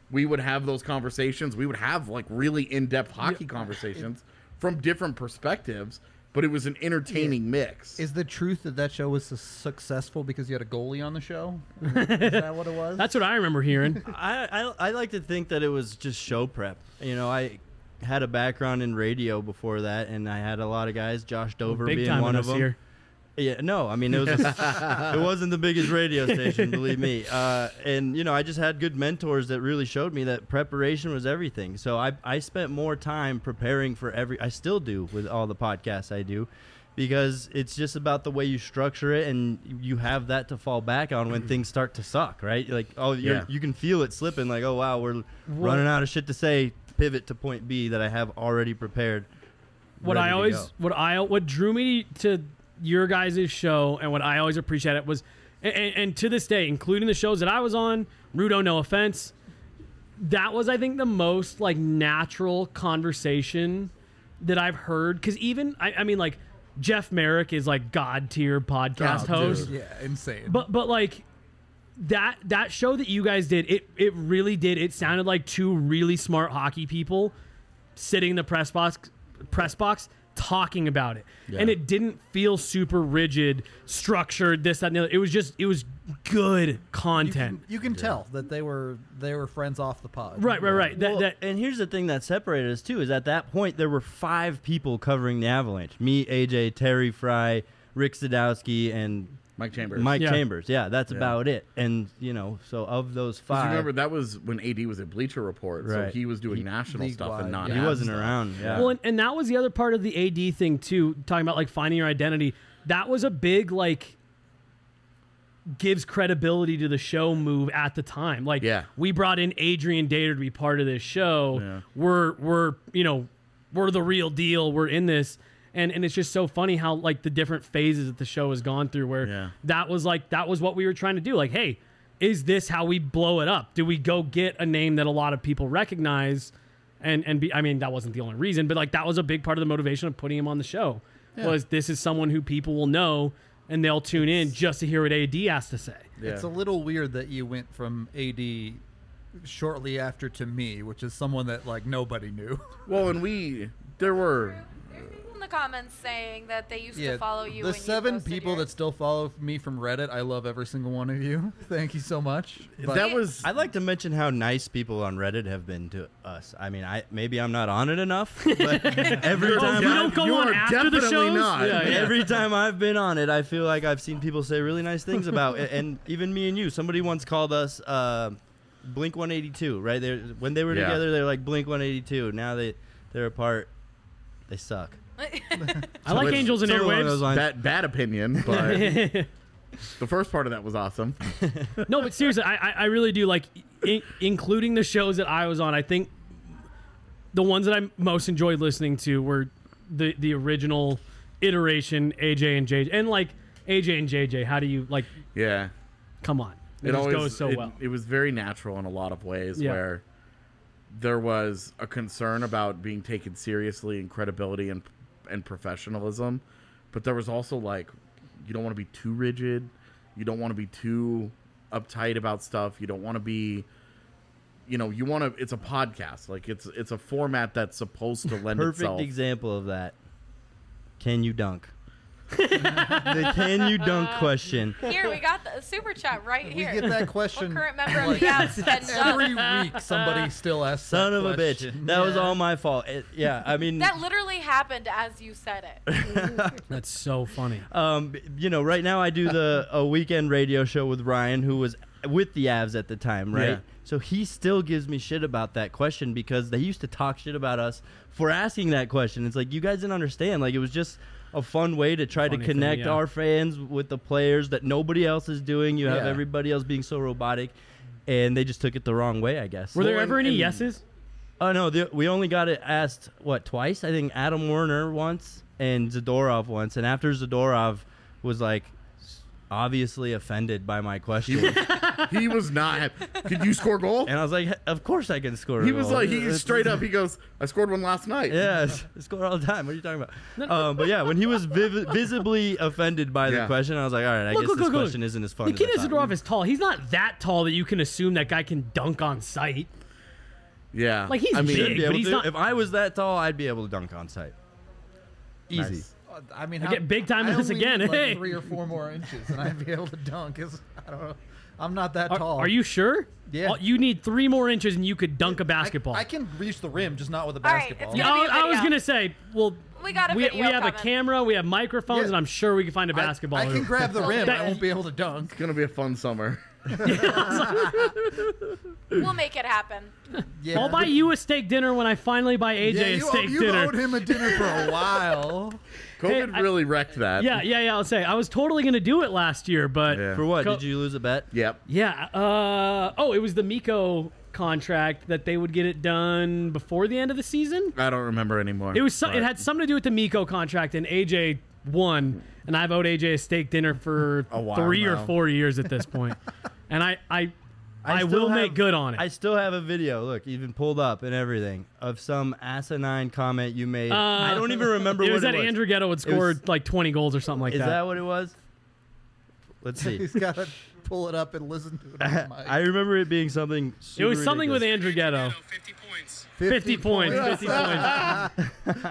we would have those conversations. We would have like really in-depth hockey conversations from different perspectives, but it was an entertaining mix. Is the truth that show was successful because you had a goalie on the show? Is that what it was? That's what I remember hearing. I like to think that it was just show prep. You know, I had a background in radio before that, and I had a lot of guys, Josh Dover Big being time one in of this them. year. Yeah, no, I mean, it was it wasn't the biggest radio station, believe me. And, you know, I just had good mentors that really showed me that preparation was everything. So I spent more time preparing for I still do with all the podcasts I do, because it's just about the way you structure it, and you have that to fall back on when things start to suck, right? Like, you can feel it slipping, like, oh, wow, we're running out of shit to say, pivot to point B that I have already prepared. What drew me to your guys' show and what I always appreciated was, and to this day, including the shows that I was on, Rudo, no offense, that was, I think, the most like natural conversation that I've heard. Because even, I mean, like, Jeff Merrick is like god tier podcast host. Yeah, insane. But like that show that you guys did, it really did. It sounded like two really smart hockey people sitting in the press box talking about it. Yeah. And it didn't feel super rigid, structured, this, that, and the other. It was good content. You can tell that they were friends off the pod. Right. Well, and here's the thing that separated us too, is at that point there were 5 people covering the Avalanche. Me, AJ, Terry Fry, Rick Sadowski, and Mike Chambers. Chambers. Yeah, that's about it. And, you know, so of those 5. You remember, that was when AD was at Bleacher Report, so Right. he was doing national stuff and not he wasn't stuff. around. Yeah. Well, and that was the other part of the AD thing too, talking about like finding your identity. That was a big like gives credibility to the show move at the time. Like, we brought in Adrian Dater to be part of this show. Yeah. We're the real deal. We're in this. And it's just so funny how like the different phases that the show has gone through, where that was what we were trying to do. Like, hey, is this how we blow it up? Do we go get a name that a lot of people recognize and be, I mean, that wasn't the only reason, but like that was a big part of the motivation of putting him on the show. Was this is someone who people will know and they'll tune in just to hear what AD has to say. Yeah. It's a little weird that you went from AD shortly after to me, which is someone that like nobody knew. Well, and there were In the comments saying that they used to follow you. The when you 7 posted people yours. that still follow me from Reddit, I love every single one of you. Thank you so much. But that was I'd like to mention how nice people on Reddit have been to us. I mean, maybe I'm not on it enough, but every time You don't go on after the shows? not. Yeah. every time I've been on it, I feel like I've seen people say really nice things about it. And even me and you. Somebody once called us Blink 182, right? When they were together, they're like Blink 182. Now they're apart. They suck. I like Angels and Something along those Airwaves. lines. bad opinion, but the first part of that was awesome. No, but seriously, I really do like, including the shows that I was on. I think the ones that I most enjoyed listening to were the original iteration, AJ and JJ, and like AJ and JJ. How do you like? Yeah, Come on, it just goes so well. It was very natural in a lot of ways, Yeah. where there was a concern about being taken seriously and credibility and professionalism, but there was also like, you don't want to be too rigid, you don't want to be too uptight about stuff, you don't want to be, you want to. It's a podcast, like it's a format that's supposed to lend Perfect itself. example of that. Can you dunk? The can you dunk question. Here, we got the super chat right we here. get that question What current member of the Avs can every dunk? week. Somebody still asks Son that of a question. bitch. That was all my fault. I mean, That literally happened as you said it. That's so funny. right now I do a weekend radio show with Ryan, who was with the Avs at the time, right? Yeah. So he still gives me shit about that question because they used to talk shit about us for asking that question. It's like, you guys didn't understand. Like, it was just a fun way to try to Funny thing, connect yeah. our fans with the players that nobody else is doing. You have Yeah. everybody else being so robotic, and they just took it the wrong way, I guess. Were there Well, ever any and- yeses? Oh no, we only got it asked twice. I think Adam Werner once and Zadorov once, and after Zadorov was like obviously offended by my question, He was not. Could you score a goal? and I was like, of course I can score. He a was goal. like, he It's- straight up. He goes, "I scored one last night." Yeah, I score all the time. What are you talking about? But yeah, when he was visibly offended by the Yeah. question, I was like, all right, I guess this question isn't as fun The as kid I thought. Zadorov is tall. He's not that tall that you can assume that guy can dunk on sight. Yeah. Like, he's I mean, big. Be able but he's to. not- If I was that tall, I'd be able to dunk on site. Easy. nice. I mean, I get big time I in this only again. need, like, Hey. 3 or 4 more inches, and I'd be able to dunk. I don't know. I'm not that tall. Are you sure? Yeah. You need 3 more inches and you could dunk a I- basketball. I can reach the rim, just not with a All right, basketball. it's Yeah, gonna be a I was video. gonna say, well, We got a we video have a coming. camera, we have microphones, Yeah. and I'm sure we can find a basketball. I can hoop. grab the rim. That- I won't be able to dunk. It's gonna be a fun summer. We'll make it happen. Yeah. I'll buy you a steak dinner when I finally buy AJ Yeah, a steak you dinner. owed him a dinner for a while. COVID I- really wrecked that. Yeah. I'll say I was totally gonna do it last year, but Yeah. For what? Co- Did you lose a bet? Yep. yeah. It was the Miko contract that they would get it done before the end of the season. I don't remember anymore. It was. It but- had something to do with the Miko contract, and AJ won, and I've owed AJ a steak dinner for A while 3 or now. 4 years at this point, and I still will make have- good on it. I still have a video, look, even pulled up and everything, of some asinine comment you made. I don't even remember it what was it that was. Andrew Ghetto had It was- scored like 20 goals or something like Is that. that what it was? Let's see. He's got to pull it up and listen to it on the mic. I remember it being something. It was super something with ridiculous. Andrew Ghetto. 50 points. 50 points. 50 points.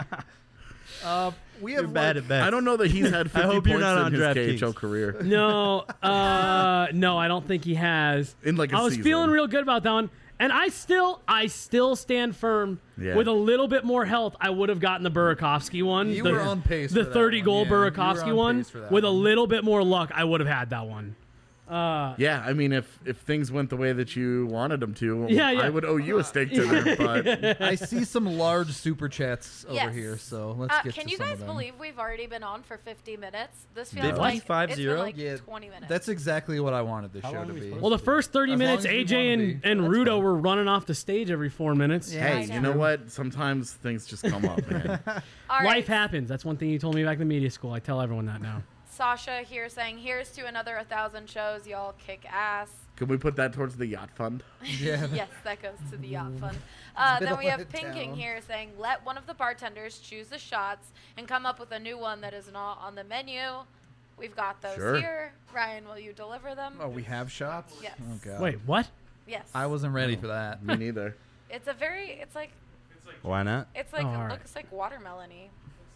We have You're bad at bets. I don't know that he's had 50 hope you're points not on in his DraftKings. KHL career. No, no, I don't think he has. In like a I was season. feeling real good about that one, and I still stand firm. Yeah. With a little bit more health, I would have gotten the Burakovsky one. You the, were on pace The for that 30 one. goal Yeah, you were Burakovsky on one. pace for that With a one. little bit more luck, I would have had that one. Yeah, I mean, if things went the way that you wanted them to, Yeah. I would owe you a steak dinner. But I see some large super chats over Yes. here, so let's get Can to you some guys of them. believe we've already been on for 50 minutes? This feels 50? like it's 50? been like Yeah, 20 minutes. That's exactly what I wanted this How show long to are we be. supposed Well, the first 30 As long minutes, as we AJ wanna and, be. and That's Rudo fine. were running off the stage every 4 minutes. Yeah. hey, you know what? Sometimes things just come up, man. All right. Life happens. That's one thing you told me back in media school. I tell everyone that now. Sasha here saying, here's to another 1,000 shows. Y'all kick ass. Could we put that towards the yacht fund? Yeah. Yes, that goes to the yacht fund. Then we Middle have of Pinking town. here saying, let one of the bartenders choose the shots and come up with a new one that is not on the menu. We've got those Sure. here. Ryan, will you deliver them? Oh, we have shots? Yes. Oh, God. Wait, what? Yes. I wasn't ready for that. Me neither. It's a very, it's like, Why not? it's like, Oh, all it right. looks like watermelon-y.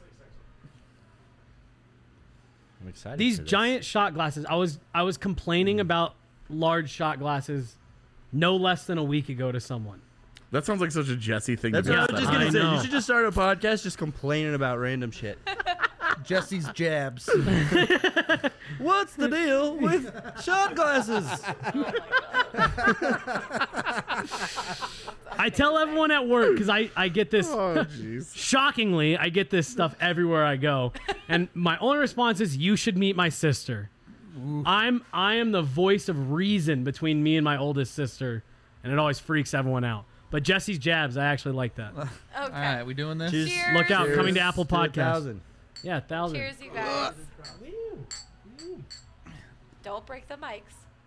I'm excited. These for this. giant shot glasses. I was complaining about large shot glasses no less than a week ago to someone. That sounds like such a Jesse thing That's to what do. I was just I gonna say. know. You should just start a podcast just complaining about random shit. Jesse's jabs. What's the deal with shot glasses? I tell everyone at work because I get this. Oh, jeez. Shockingly, I get this stuff everywhere I go, and my only response is, "You should meet my sister." I am the voice of reason between me and my oldest sister, and it always freaks everyone out. But Jesse's jabs, I actually like that. Okay. All right, we doing this? Cheers. Cheers. Look out, coming to Cheers Apple to Podcasts. 1,000. Yeah, 1,000. Cheers, you guys. Don't break the mics.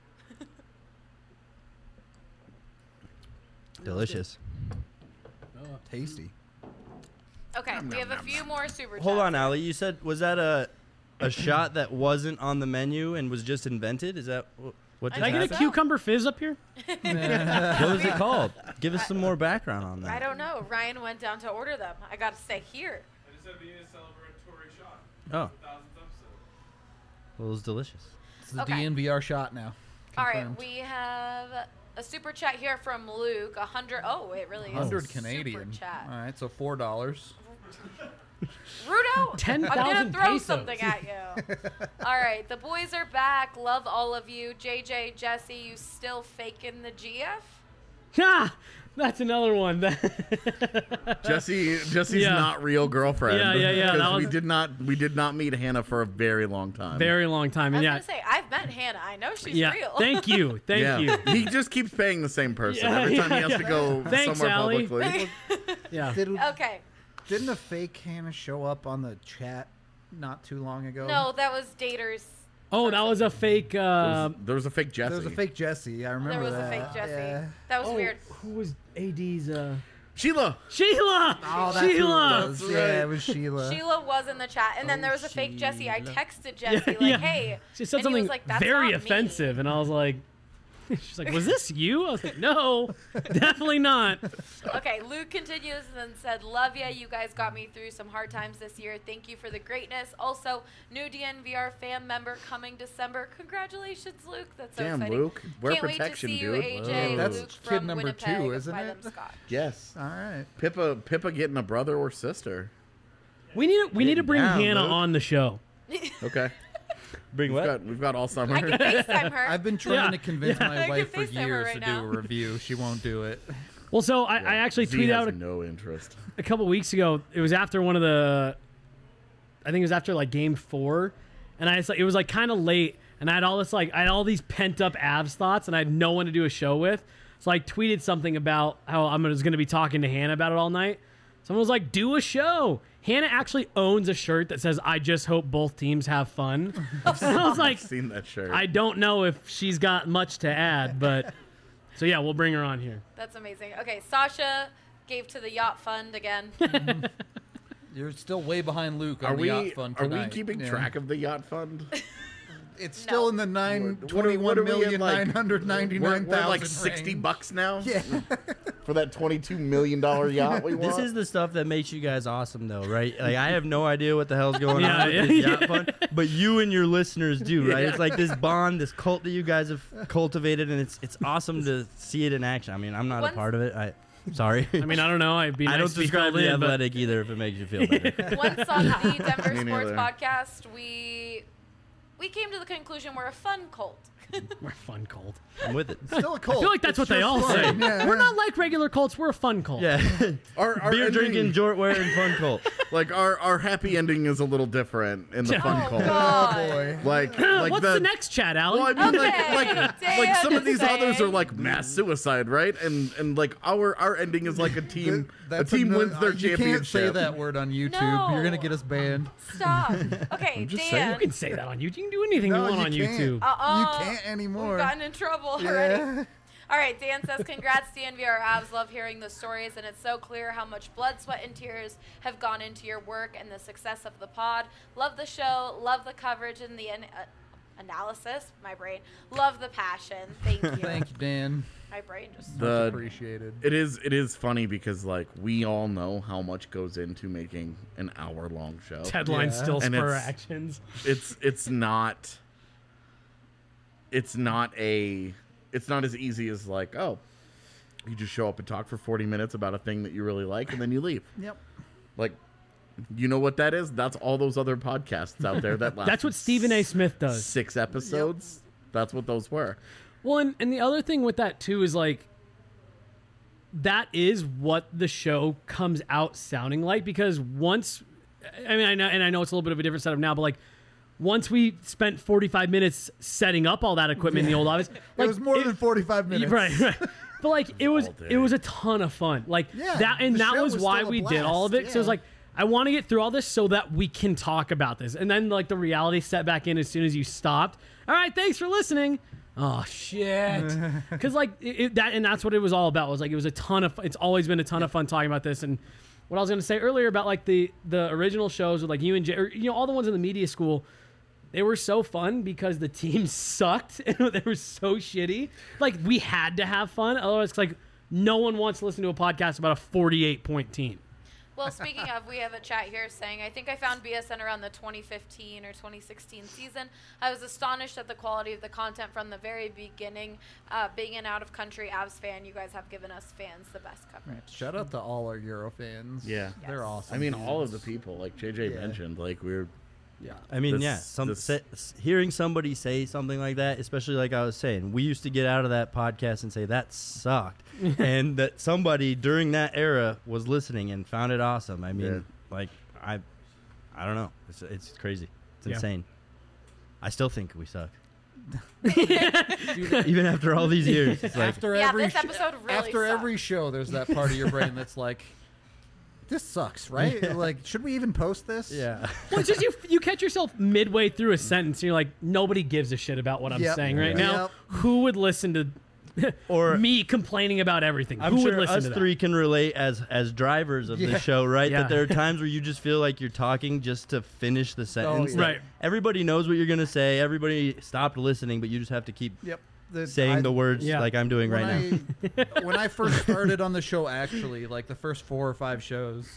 Delicious. Tasty. Okay, we have a few more super chats. Hold on, Ali. You said, was that a shot that wasn't on the menu and was just invented? Is that what I Did I just get a think happened? so. cucumber fizz up here? What was it called? Give us some more background on that. I don't know. Ryan went down to order them. I got to stay here. I just had being a celebratory shot. Oh, 1,000th episode. well, it was delicious. It's the Okay. DNVR shot now. All right, Confirmed. we have a super chat here from Luke. 100. Oh, it really is. 100 Super Canadian. chat. All right, so $4. Rudo, 10,000 I'm gonna throw pesos. something at you. All right, the boys are back. Love all of you. JJ, Jesse, you still faking the GF? Ah, that's another one. Jesse's Yeah. not real girlfriend. Yeah. That Because was- we did not meet Hannah for a very long time. Very long time. I And was yeah, gonna say I've met Hannah. I know she's yeah. real. Thank you. Thank yeah. you. He just keeps paying the same person Yeah, every time he has yeah. to go Thanks, somewhere Allie. publicly. Yeah. Okay. Didn't a fake Hannah show up on the chat not too long ago? No, that was Daters. Oh, that was a fake. There was a fake Jesse. There was a fake Jesse. I remember There was that. a fake Jesse. Yeah. That was oh, weird. who was AD's? Sheila. Sheila. Oh, that's who it Sheila. was. That's Yeah, right. it was Sheila. Sheila was in the chat, and then there was a fake Jesse. I texted Jesse Yeah. like, "Hey," She said and he something was like, "That's very not me." offensive, and I was like, She's like, was this you? I was like, no, definitely not. Okay, Luke continues and then said, love ya. You guys got me through some hard times this year. Thank you for the greatness. Also, new DNVR fan member coming December. Congratulations, Luke. That's so Damn, exciting. Luke. Wear Can't protection, wait to see dude. you, AJ. That's Luke kid from number Winnipeg 2, isn't by it? them Scotch. Yes. All right. Pippa getting a brother or sister. We need to bring down, Hannah Luke. on the show. Okay. Bring what? We've got all summer. I can FaceTime her. I've been trying Yeah. to convince I my can wife for FaceTime her years right to now. do a review. She won't do it. Well, so I actually Z tweeted has out no interest. a couple weeks ago. It was after one of the, I think it was after like game 4, and it was like kind of late, and I had all these pent up Avs thoughts, and I had no one to do a show with. So I tweeted something about how I was going to be talking to Hannah about it all night. Someone was like, "Do a show." Hannah actually owns a shirt that says, "I just hope both teams have fun." And I was like, I've seen that shirt. I don't know if she's got much to add, but so yeah, we'll bring her on here. That's amazing. Okay, Sasha gave to the yacht fund again. You're still way behind Luke on Are the we yacht fund tonight. keeping Yeah. track of the yacht fund? It's still in the What are we in, like- 21,999,000 We're like $60 range. now. Yeah. For that $22 million yacht we want. This is the stuff that makes you guys awesome, though, right? Like, I have no idea what the hell's going Yeah, on with yeah, this yeah. yacht fund, but you and your listeners do, right? Yeah. It's like this bond, this cult that you guys have cultivated, and it's awesome to see it in action. I mean, I'm not Once- a part of it. Sorry. I mean, I don't know. I'd be nice I don't to be describe filled the in, but athletic either if it makes you feel better. Once on the Denver Me Sports neither. Podcast, we came to the conclusion we're a fun cult. we're a fun cult. I'm with it. Still a cult. I feel like that's It's what they just all fun. say. Yeah. We're not like regular cults. We're a fun cult. Yeah. Our Beer ending- drinking, jort wearing, fun cult. Like our happy ending is a little different in the fun Oh, cult. God. Boy. Like What's the next chat, Alan? Well, I mean, Okay, like some of these Dan others are saying. like mass suicide, right? And like our ending is like a team. A That's team another- wins their You championship. can't say that word on YouTube. No. You're gonna get us banned. Stop. Okay, just you Dan. can say that on YouTube. You can do anything No, you want on you can't. YouTube. You can't anymore. We've gotten in trouble already. All right, Dan says, congrats, DNVR Avs. Love hearing the stories, and it's so clear how much blood, sweat, and tears have gone into your work and the success of the pod. Love the show. Love the coverage and the analysis. My brain. Love the passion. Thank you. Thank you, Dan. My brain just... The- Appreciated. It is funny because like we all know how much goes into making an hour-long show. Headlines Yeah. still And spur it's- actions. It's not as easy as like, oh, you just show up and talk for 40 minutes about a thing that you really like and then you leave. Yep. Like, you know what that is? That's all those other podcasts out there that last That's what Stephen A. Smith does. 6 episodes. That's what those were. Well, and the other thing with that too is like that is what the show comes out sounding like, because once I mean I know it's a little bit of a different setup now, but like once we spent 45 minutes setting up all that equipment in the old office, like it was more than 45 minutes. right. But like it was All day. it was a ton of fun. Like Yeah, that, and the that show was was why still a we did all of blast, it. So it's yeah. like I want to get through all this so that we can talk about this. And then like the reality set back in as soon as you stopped. All right, thanks for listening. Oh shit! Because like that's what it was all about. Was like it was a ton of. It's always been a ton of fun talking about this. And what I was going to say earlier about like the original shows with like you and Jay, or, you know, all the ones in the media school. They were so fun because the team sucked and they were so shitty. Like we had to have fun. Otherwise, it's like no one wants to listen to a podcast about a 48-point team. Well, speaking of, we have a chat here saying, I think I found BSN around the 2015 or 2016 season. I was astonished at the quality of the content from the very beginning. Being an out-of-country Avs fan, you guys have given us fans the best coverage. Shout out to all our Euro fans. Yeah. They're Yes. awesome. I mean, all of the people, like JJ Yeah. mentioned, like we're I mean, This- hearing somebody say something like that, especially like I was saying, we used to get out of that podcast and say that sucked, and that somebody during that era was listening and found it awesome. I mean, Yeah. like I don't know, it's crazy, it's Yeah. insane. I still think we suck, even after all these years. It's like after Yeah, every this episode really after sucked. every show, there's that part of your brain that's like, this sucks, right? Like, should we even post this? yeah. Well, it's just you catch yourself midway through a sentence and you're like, nobody gives a shit about what I'm Yep. saying right Yeah. now. Yep. Who would listen to Or me complaining about everything? I'm Who would sure listen us to that? three can relate as drivers of Yeah. the show, right? Yeah. That there are times where you just feel like you're talking just to finish the sentence. yeah. that Right. Everybody knows what you're gonna say. Everybody stopped listening, but you just have to keep Yep. saying the words Yeah. like I'm doing right now. When I first started on the show, actually, like the first 4 or 5 shows,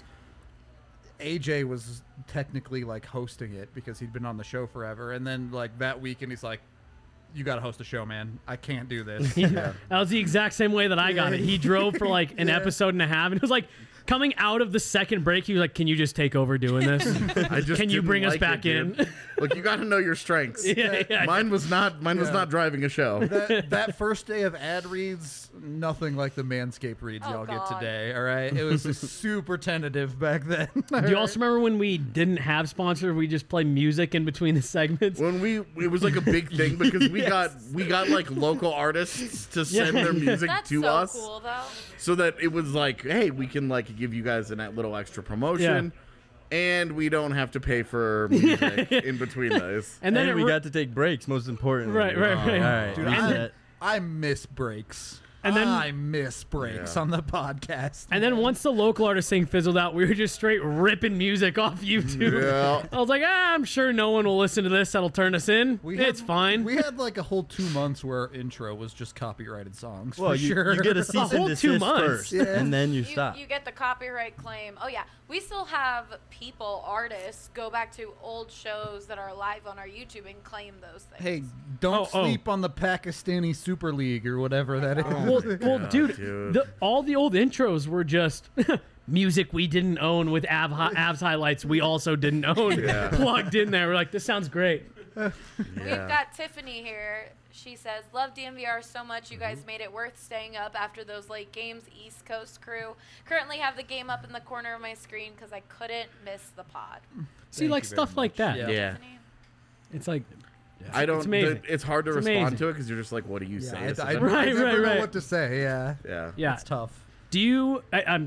AJ was technically like hosting it because he'd been on the show forever. And then like that weekend, he's like, "You got to host a show, man. I can't do this." That was the exact same way that I got it. He drove for like an episode and a half, and it was like coming out of the second break. He was like, "Can you just take over doing this? I just Can you didn't bring us like back it, in?" dude. Look, you got to know your strengths. Yeah. Mine was not driving a show. That first day of ad reads, nothing like the Manscaped reads Oh, y'all God. get today. All right, it was just super tentative back then. Do you also remember when we didn't have sponsors? We just play music in between the segments. When it was like a big thing because we got like local artists to send their music That's to so us, cool, though. so that it was like, hey, we can like give you guys a little extra promotion, and we don't have to pay for music in between those. And then And it we got to take breaks, most importantly. Right. All right. Dude, reset. I miss breaks. And then- I miss breaks Yeah. on the podcast. And then once the local artist thing fizzled out, we were just straight ripping music off YouTube. Yeah. I was like, I'm sure no one will listen to this. That'll turn us in. It's fine. We had like a whole 2 months where our intro was just copyrighted songs. Well, for you, sure. you get a cease whole and 2 desist months. first, Yeah. and then you stop. You get the copyright claim. Oh yeah, we still have artists go back to old shows that are live on our YouTube and claim those things. Hey, don't Oh. sleep on the Pakistani Super League or whatever that is. Well, dude, dude. all the old intros were just music we didn't own with abs highlights we also didn't own plugged in there. We're like, this sounds great. We've got Tiffany here. She says, "Love DMVR so much. You guys made it worth staying up after those late games. East Coast crew. Currently have the game up in the corner of my screen because I couldn't miss the pod." See, like you very stuff like that. Yeah. Yeah. Tiffany? It's like, I don't. amazing. It's hard to It's respond amazing. to it because you're just like, what do you say? I, This is I, a- I Right, never know right. what to say. Yeah, yeah. yeah. it's tough. Do you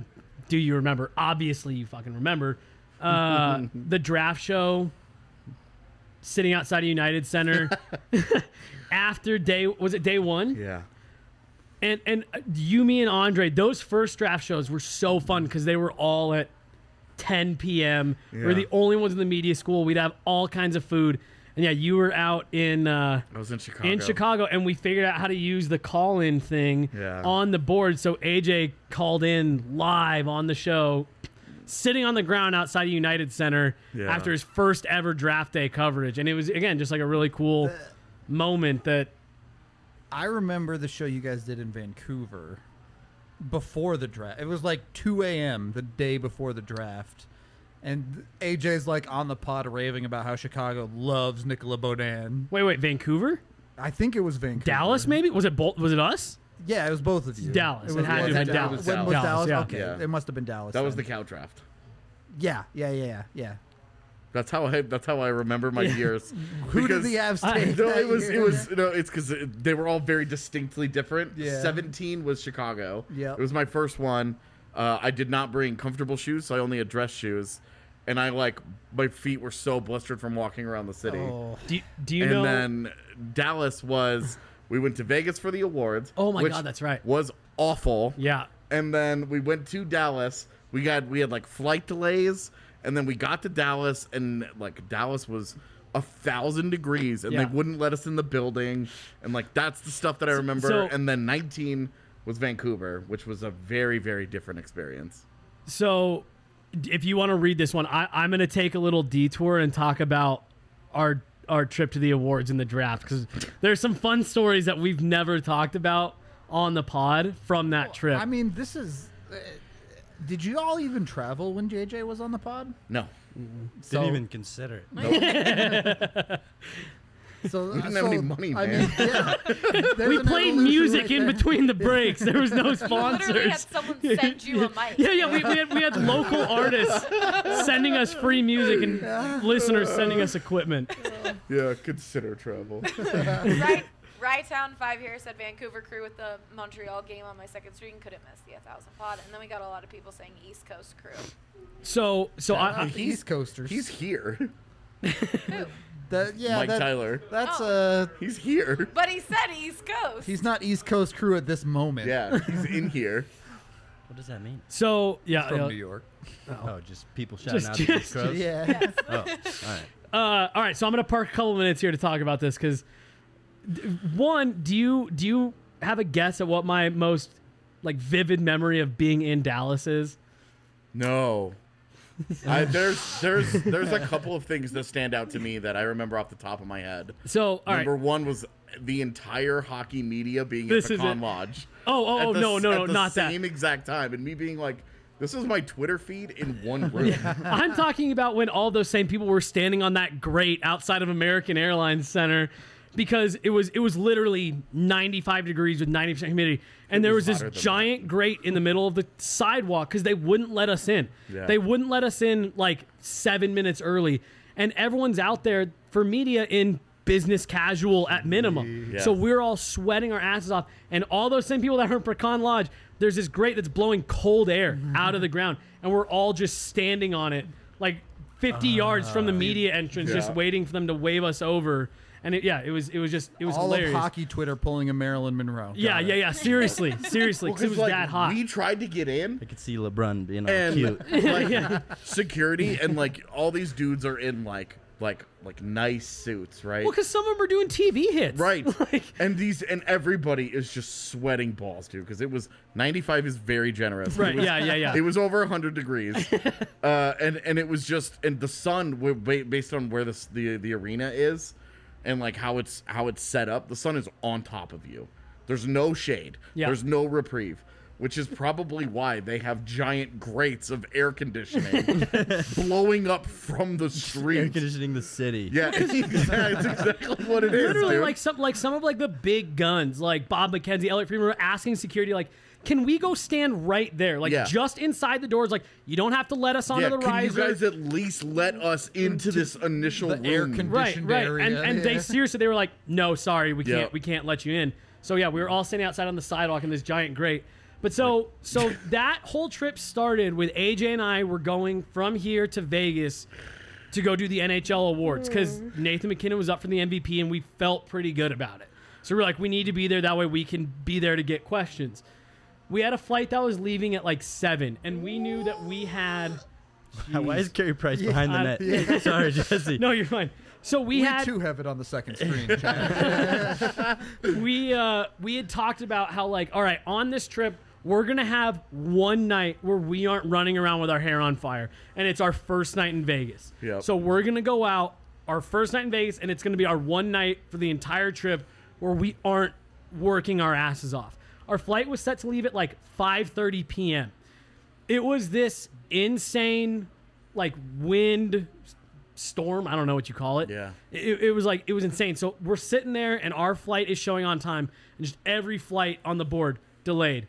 remember? Obviously, you fucking remember the draft show sitting outside of United Center after day one? Yeah. And you, me, and Andre, those first draft shows were so fun because they were all at 10 p.m. We were Yeah. the only ones in the media school. We'd have all kinds of food. And yeah, you were out in I was in Chicago. and we figured out how to use the call-in thing Yeah. on the board. So AJ called in live on the show, sitting on the ground outside of United Center Yeah. after his first ever draft day coverage. And it was, again, just like a really cool moment that I remember the show you guys did in Vancouver before the draft. It was like 2 a.m. the day before the draft. And AJ's like on the pod raving about how Chicago loves Nicola Baudin. Wait, Vancouver? I think it was Vancouver. Dallas, maybe? Was it us? Yeah, it was both of you. Dallas. It was, had to was have it been Dallas. When was Dallas, Dallas? yeah. Okay, Yeah. it must have been Dallas. That was the then. cow draft. Yeah. That's how I remember my years. Who did Because- the Avs take? No, that it was year? it's because they were all very distinctly different. Yeah. 17 was Chicago. Yep. It was my first one. I did not bring comfortable shoes, so I only had dress shoes, and my feet were so blistered from walking around the city. Oh. Do you And know? then Dallas was we went to Vegas for the awards. Oh my which God, that's right. Was awful. Yeah. And then we went to Dallas. We had like flight delays, and then we got to Dallas, and like Dallas was 1,000 degrees, and Yeah. they wouldn't let us in the building, and like that's the stuff that I remember. So- and then 19 was Vancouver, which was a very, very different experience. So, if you want to read this one, I'm going to take a little detour and talk about our trip to the awards and the draft because there's some fun stories that we've never talked about on the pod from that trip. I mean, this is. Did you all even travel when JJ was on the pod? No, Didn't even consider it. So we didn't have any money, I man. mean, yeah. we played music in between the breaks. There was no Literally had sponsors. someone send you a mic. Yeah, we had local artists sending us free music and listeners sending us equipment. Yeah, consider travel. Rytown 5 here said Vancouver crew with the Montreal game on my second screen couldn't miss the 1,000 pod, and then we got a lot of people saying East Coast crew. So I East Coasters. He's here. Who? Mike Tyler. That's He's here. But he said East Coast. he's not East Coast crew at this moment. Yeah, he's in here. What does that mean? so yeah. From New York. Oh, just people shouting Just- out the East Coast? Yeah. Oh, all right. All right, so I'm going to park a couple minutes here to talk about this because One, do you have a guess at what my most like vivid memory of being in Dallas is? No. There's a couple of things that stand out to me that I remember off the top of my head. So, all Number right. one was the entire hockey media being This at is Pecan it. Lodge. Oh, no, not that. Same exact time, and me being like, this is my Twitter feed in one room. I'm talking about when all those same people were standing on that grate outside of American Airlines Center because it was literally 95 degrees with 90% humidity. And there was this hotter than giant grate in the middle of the sidewalk because they wouldn't let us in. Yeah. They wouldn't let us in like 7 minutes early. And everyone's out there for media in business casual at minimum. Yes. So we're all sweating our asses off. And all those same people that are in Pecan Lodge, there's this grate that's blowing cold air out of the ground. And we're all just standing on it like 50 yards from the media entrance, just Yeah. waiting for them to wave us over. And it was All hilarious. of hockey Twitter pulling a Marilyn Monroe. Yeah. Seriously, because Well, it was like, that hot. We tried to get in, I could see LeBron being all and cute. like security, and like all these dudes are in like nice suits, right? Well, because some of them are doing TV hits. Right. Like, and everybody is just sweating balls, dude, because it was 95 is very generous. right. It was, Yeah. It was over 100 degrees. And it was just, and the sun, based on where the arena is and like how it's set up, the sun is on top of you. There's no shade. Yeah. There's no reprieve, which is probably why they have giant grates of air conditioning blowing up from the Air street. conditioning the city. Yeah, it's exactly what it is. Literally, dude. like some of like the big guns, like Bob McKenzie, Elliot Friedman, were asking security, like, can we go stand right there, like Yeah. just inside the doors? Like, you don't have to let us onto Yeah, the can riser. you guys at least let us into this initial the air room? conditioning right. area. And they Yeah. seriously, they were like, no, sorry, we Yeah. can't let you in. So yeah, we were all standing outside on the sidewalk in this giant grate. But so that whole trip started with AJ and I were going from here to Vegas to go do the NHL awards because Nathan McKinnon was up for the MVP and we felt pretty good about it. So we're like, we need to be there. That way we can be there to get questions. We had a flight that was leaving at like 7, and we knew that we had. Why is Carey Price behind the I- net? yeah. Sorry, Jesse. No, you're fine. So we We had too have it on the second screen. Chad. we had talked about how, like, all right, on this trip we're gonna have one night where we aren't running around with our hair on fire, and it's our first night in Vegas. Yep. So we're gonna go out our first night in Vegas, and it's gonna be our one night for the entire trip where we aren't working our asses off. Our flight was set to leave at like 5:30 p.m. It was this insane, like, wind storm. I don't know what you call it. Yeah. It was like, it was insane. So we're sitting there and our flight is showing on time, and just every flight on the board delayed.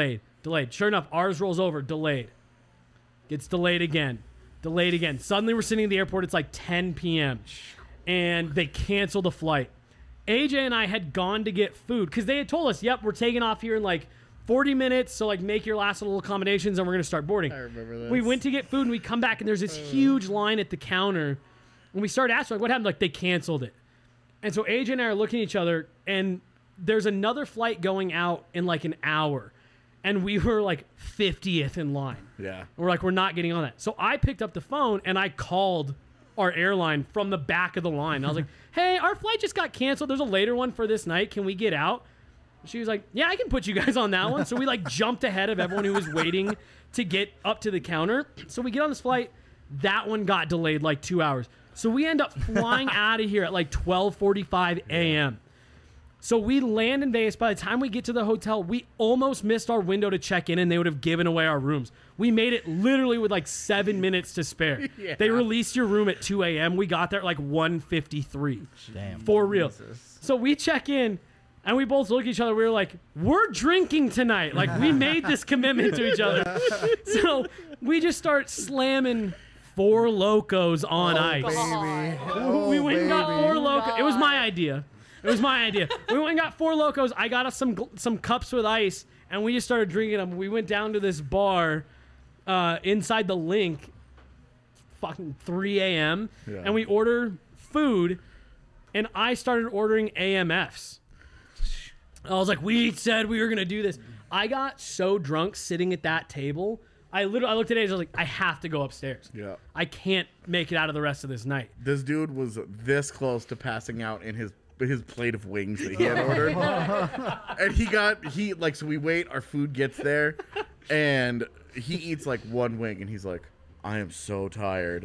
Sure enough, ours rolls over, delayed. Gets delayed again. Suddenly we're sitting at the airport. It's like 10 p.m. and they cancel the flight. AJ and I had gone to get food because they had told us, yep, we're taking off here in like 40 minutes. So like make your last little accommodations and we're going to start boarding. I remember this. We went to get food and we come back and there's this huge line at the counter. And we started asking, like, what happened? Like, they canceled it. And so AJ and I are looking at each other, and there's another flight going out in like an hour. And we were like 50th in line. Yeah. And we're like, we're not getting on that. So I picked up the phone and I called our airline from the back of the line. I was like, hey, our flight just got canceled. There's a later one for this night. Can we get out? She was like, yeah, I can put you guys on that one. So we like jumped ahead of everyone who was waiting to get up to the counter. So we get on this flight. That one got delayed like 2 hours. So we end up flying out of here at like 12:45 a.m. So we land in Vegas. By the time we get to the hotel, we almost missed our window to check in, and they would have given away our rooms. We made it literally with like 7 minutes to spare. Yeah. They released your room at 2 a.m. We got there at like 1:53. Damn. For real. So we check in, and we both look at each other. We were like, we're drinking tonight. Like, we made this commitment to each other. So we just start slamming Four Locos on ice. Baby. We went and got baby. Four Locos. It was my idea. We went and got Four Locos. I got us some cups with ice, and we just started drinking them. We went down to this bar inside the Link, fucking 3 a.m., Yeah. and we order food, and I started ordering AMFs. I was like, we said we were going to do this. I got so drunk sitting at that table. I looked at it and I was like, I have to go upstairs. Yeah. I can't make it out of the rest of this night. This dude was this close to passing out in his his plate of wings that he had ordered. And so we wait, our food gets there, and he eats like one wing, and he's like, I am so tired.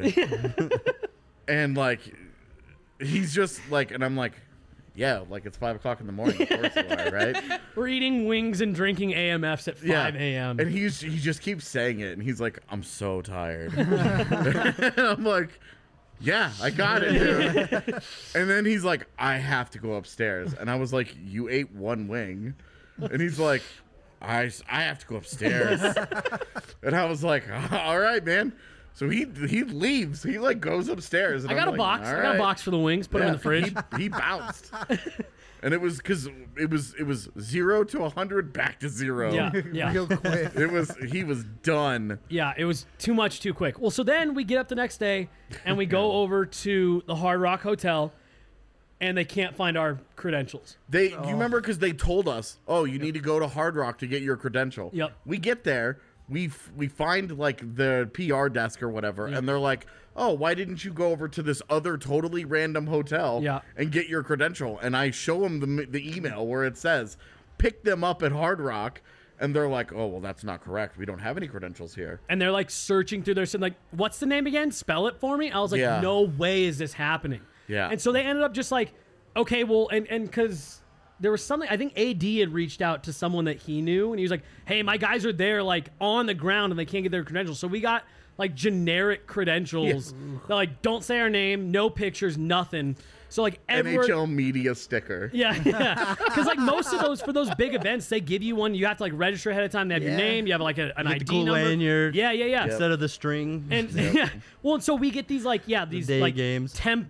And like, he's just like, and I'm like, yeah, like it's 5 o'clock in the morning. Of course you are, right? We're eating wings and drinking AMFs at 5 a.m. And he just keeps saying it, and he's like, I'm so tired. And I'm like, yeah, I got it, dude. And then he's like, I have to go upstairs. And I was like, you ate one wing. And he's like, I have to go upstairs. And I was like, all right, man. So he leaves. He like goes upstairs. And I got I'm a like, box. all I got a right. box for the wings. Put them in the fridge. He bounced. And it was because it was 0 to 100 back to 0. Yeah. Real quick. He was done. Yeah, it was too much too quick. Well, so then we get up the next day and we go over to the Hard Rock Hotel and they can't find our credentials. Do you remember because they told us, oh, you need to go to Hard Rock to get your credential. Yep. We get there, we find like the PR desk or whatever, and they're like, oh, why didn't you go over to this other totally random hotel and get your credential? And I show them the email where it says, pick them up at Hard Rock. And they're like, oh, well, that's not correct. We don't have any credentials here. And they're like searching through their, like, what's the name again? Spell it for me. I was like, no way is this happening. Yeah. And so they ended up just like, okay, well, and because there was something, I think AD had reached out to someone that he knew, and he was like, hey, my guys are there, like, on the ground, and they can't get their credentials. So we got, like, generic credentials that, like, don't say our name, no pictures, nothing. So, like, NHL media sticker. Yeah. Because, like, most of those, for those big events, they give you one. You have to, like, register ahead of time. They have your name. You have, like, an ID the cool number. lanyard. Yeah. Instead of the string. And, yeah. Well, and so we get these, like, these, day like, games. temp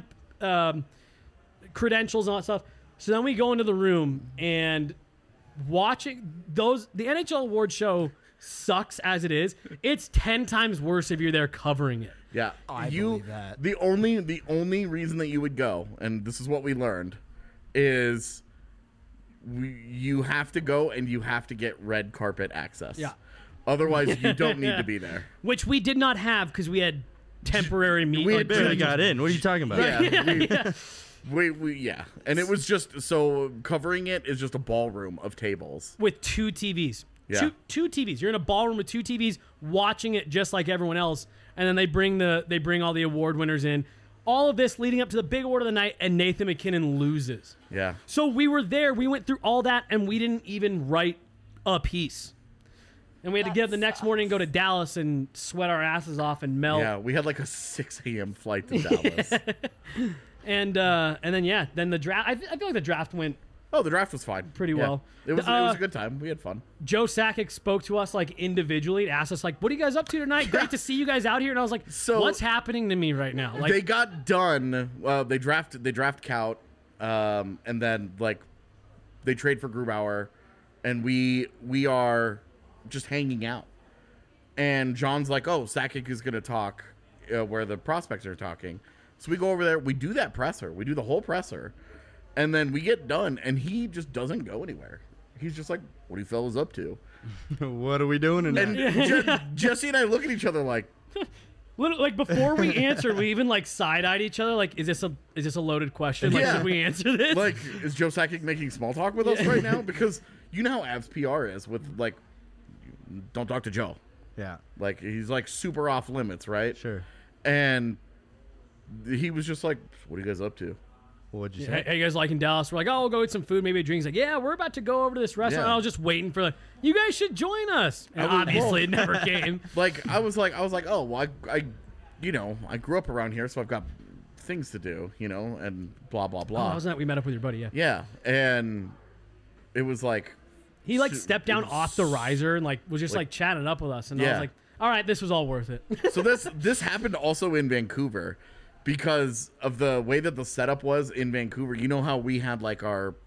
credentials and all that stuff. So then we go into the room and watching those, the NHL award show sucks as it is. It's 10 times worse if you're there covering it. Yeah, I believe that. The only reason that you would go, and this is what we learned, is you have to go and you have to get red carpet access. Yeah. Otherwise, you don't need to be there. Which we did not have because we had temporary meetings. We had Barely got in. What are you talking about? Yeah, and it was just so covering it is just a ballroom of tables. With 2 TVs. Yeah. Two TVs. You're in a ballroom with 2 TVs watching it just like everyone else. And then they bring all the award winners in. All of this leading up to the big award of the night, and Nathan MacKinnon loses. Yeah. So we were there. We went through all that, and we didn't even write a piece. And we had to get up the next morning and go to Dallas and sweat our asses off and melt. Yeah, we had like a 6 a.m. flight to Dallas. And then the draft. I feel like the draft went Oh, the draft was fine. Pretty Yeah. well. It was a good time. We had fun. Joe Sakic spoke to us like individually, asked us like, "What are you guys up to tonight? Great to see you guys out here." And I was like, So- "What's happening to me right now?" Like, They got done. They draft Kaut, and then like they trade for Grubauer, and we are just hanging out. And John's like, "Oh, Sakic is gonna talk where the prospects are talking." So we go over there. We do that presser. We do the whole presser, and then we get done, and he just doesn't go anywhere. He's just like, "What are you fellas up to?" What are we doing tonight? And Jesse and I look at each other like, literally, like before we answered, we even like side-eyed each other. Like, is this a loaded question? Like, Yeah. should we answer this? like, is Joe Sakic making small talk with us right now? Because you know how Avs PR is with like, don't talk to Joe. Yeah, Like he's like super off limits, right? sure. And he was just like, "What are you guys up to?" What'd you Hey, say? you guys liking Dallas? We're like, oh, we'll go eat some food, maybe a drink. He's like, yeah, we're about to go over to this restaurant. Yeah. I was just waiting for you guys should join us. And I was- obviously, it never came. Like I was like, "Oh, well, I grew up around here, so I've got things to do, and blah blah Oh, blah." wasn't that we met up with your buddy? Yeah. Yeah, and it was like, He like Su- stepped down it was off the riser and like was just like chatting up with us, and I was Yeah. like, all right, this was all worth it. so this happened also in Vancouver because of the way that the setup was in Vancouver. You know how we had like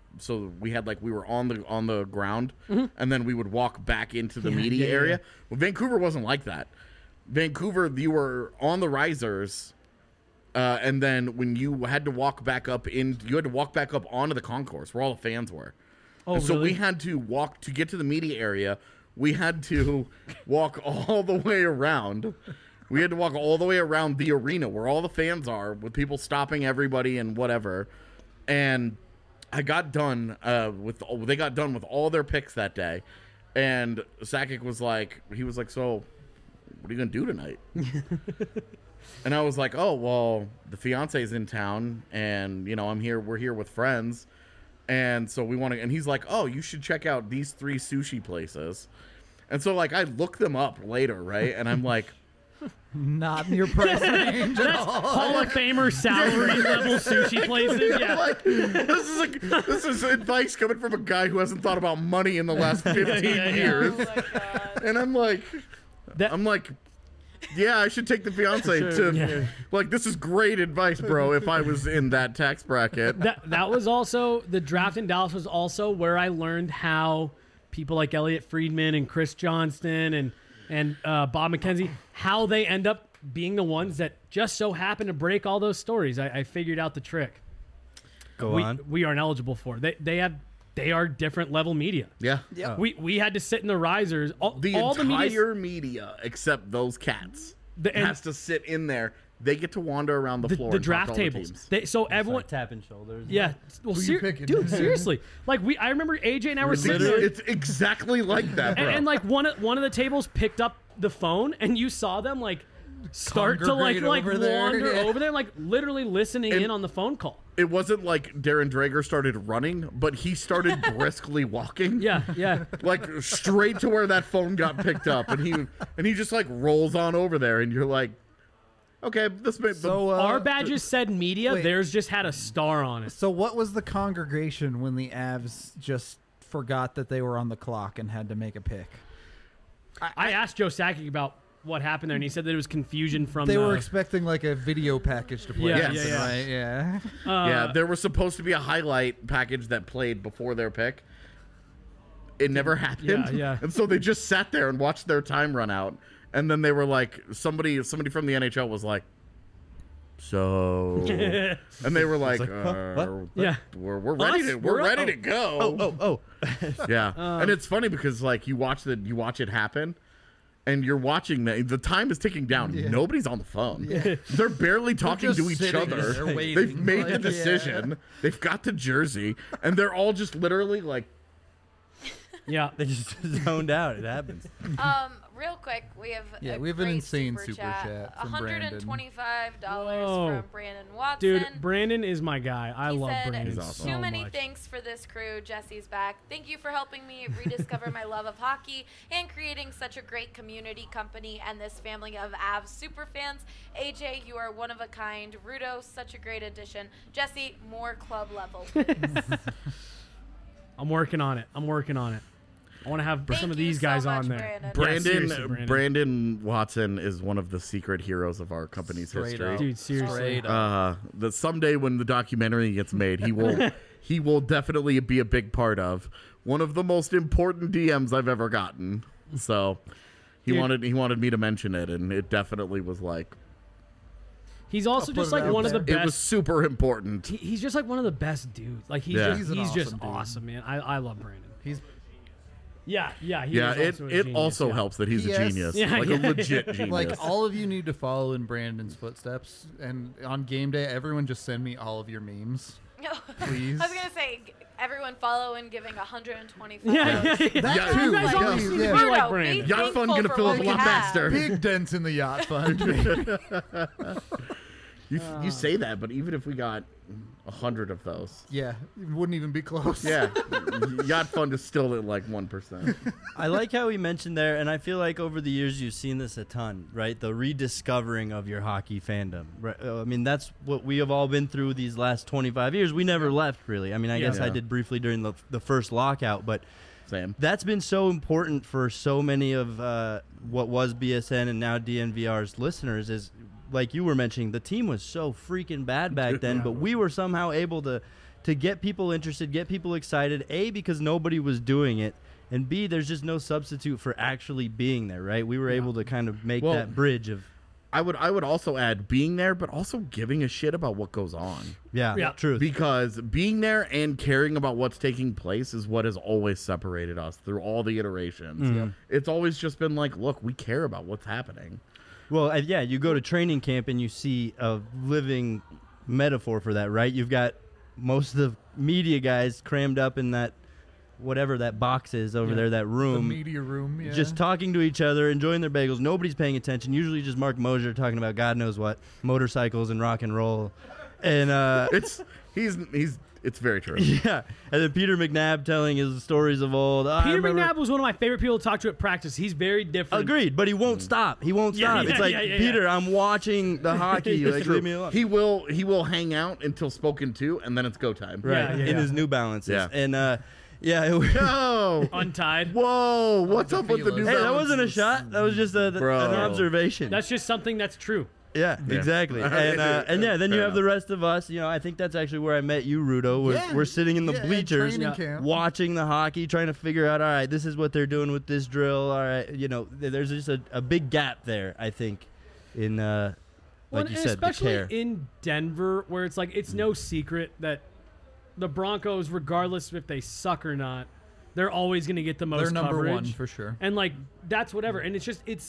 we were on the ground and then we would walk back into the media yeah, area. Well, Vancouver wasn't like that. Vancouver, you were on the risers, and then when you had to walk back up onto the concourse where all the fans were. Oh, And so really? we had to walk to get to the media area. We had to walk all the way around. We had to walk all the way around the arena where all the fans are, with people stopping everybody and whatever. And I got done they got done with all their picks that day, and Sakic was like, so what are you gonna do tonight? And I was like, oh well, the fiance's in town, and we're here with friends, and so we want to. And he's like, oh, you should check out these 3 sushi places. And so like I look them up later, right? And I'm like, Not in your price range at all. Hall of Famer salary level sushi places. Yeah. like, this is advice coming from a guy who hasn't thought about money in the last 15 years. Oh my god. And I'm like, yeah, I should take the fiance to. Yeah. Like, this is great advice, bro. If I was in that tax bracket, That was also the draft in Dallas was also where I learned how people like Elliot Friedman and Chris Johnston and Bob McKenzie, how they end up being the ones that just so happen to break all those stories. I figured out the trick. Go on. We aren't eligible for. They are different level media. yeah, We had to sit in the risers. All the the media entire media except those cats and has to sit in there. They get to wander around the floor. the and talk draft to all the tables. teams. So everyone. Like tapping shoulders. Yeah. Well, Who you picking? dude, seriously. Like I remember AJ and I were sitting there. It's exactly like that, bro. And like one of the tables picked up the phone, and you saw them like start to like Congregate over there, wander yeah. over there, like literally listening And- in on the phone call. It wasn't like Darren Drager started running, but he started briskly walking. Yeah. Like straight to where that phone got picked up, and he just like rolls on over there, and you're like, okay, this may. So Our badges said media. wait. Theirs just had a star on it. So what was the congregation when the Avs just forgot that they were on the clock and had to make a pick? I asked Joe Sakic about what happened there, and he said that it was confusion from They the, were expecting like a video package to play. Yeah, Yes. yeah. Right? Yeah. yeah, there was supposed to be a highlight package that played before their pick. It never happened. Yeah. And so they just sat there and watched their time run out. And then they were like, somebody from the NHL was like, so, and they were like, what? Yeah. we're ready Us? to We're ready up. to go. Oh. Yeah, and it's funny because like you watch it happen, and you're watching the time is ticking down. Yeah. Nobody's on the phone. They're barely talking just to each sitting other. there waiting, They've made the like, decision. They've got the jersey, and they're all just literally like, Yeah. They just zoned out. It happens. Real quick, we have Yeah, a we have an great insane super super chat. chat from Brandon. $125 Whoa. from Brandon Watson. Dude, Brandon is my guy. I He love said, Brandon He's awesome. so Too many much. thanks for this crew. Jesse's back. Thank you for helping me rediscover my love of hockey and creating such a great community, company, and this family of Avs super fans. AJ, you are one of a kind. Rudo, such a great addition. Jesse, more club level, please. I'm working on it. I want to have Thank some of you these so guys much, on there. Brandon. Yeah, seriously, Brandon Watson is one of the secret heroes of our company's Straight history. up. Dude, seriously. Straight up. That someday when the documentary gets made, he will definitely be a big part of one of the most important DMs I've ever gotten. So he Dude. wanted me to mention it, and it definitely was like He's also put just it like out one of the there. it was best. super important. He's just like one of the best dudes. Like he's Yeah. just, He's an he's just awesome dude. awesome, man. I love Brandon. He's Yeah. He Yeah, is also a it genius, also yeah. helps that he's a Yes. genius, Yeah, like yeah. a legit genius. like all of you need to follow in Brandon's footsteps. And on game day, everyone just send me all of your memes, please. I was gonna say, everyone follow and giving 125. Yeah. That Yeah, too. You guys like, always yeah. seem to Yeah. be like Rudo, Brandon. be Yacht thankful fund gonna for fill what up a we lot have. faster. Big dents in the yacht fund. You say that, but even if we got 100 of those, Yeah, it wouldn't even be close. yeah, yacht fund is still at like 1%. I like how he mentioned there, and I feel like over the years you've seen this a ton, right? The rediscovering of your hockey fandom. Right? I mean, that's what we have all been through these last 25 years. We never left, really. I mean, I guess I Yeah. did briefly during the first lockout, but Same. that's been so important for so many of what was BSN and now DNVR's listeners is, like you were mentioning, the team was so freaking bad back then, but we were somehow able to get people interested, get people excited, A, because nobody was doing it, and B, there's just no substitute for actually being there, right? We were able to kind of make Well, that bridge of, I would also add being there, but also giving a shit about what goes on. Yeah. truth. Because being there and caring about what's taking place is what has always separated us through all the iterations. It's always just been like, look, we care about what's happening. Well, yeah, you go to training camp and you see a living metaphor for that, right? You've got most of the media guys crammed up in that whatever that box is over there, that The room. media room, yeah. Just talking to each other, enjoying their bagels. Nobody's paying attention. Usually just Mark Mosier talking about God knows what, motorcycles and rock and roll. And It's very true. yeah. And then Peter McNabb telling his stories of old. I Peter remember- McNabb was one of my favorite people to talk to at practice. He's very different. Agreed, but he won't stop. He won't Yeah, stop. yeah, It's like, yeah. Peter, I'm watching the hockey. It's Like, true. leave me alone. He will hang out until spoken to, and then it's go time. Right, Yeah, yeah, in yeah. his New Balances. Yeah. And, yeah. Oh, Untied. whoa! What's up with the new? Hey, that Balances? wasn't a shot. That was just an Bro. observation. That's just something that's true. yeah, exactly. And yeah, then you Fair have the enough. rest of us. You know, I think that's actually where I met you, Rudo. Yeah. We're sitting in the Yeah, at bleachers, training camp. watching the hockey, trying to figure out. All right, this is what they're doing with this drill. All right, you know, there's just a big gap there. I think in Well, like you and said, the especially care. in Denver, where it's like it's no secret that the Broncos, regardless of if they suck or not, they're always going to get the most They're number coverage. one for sure. And like that's whatever. And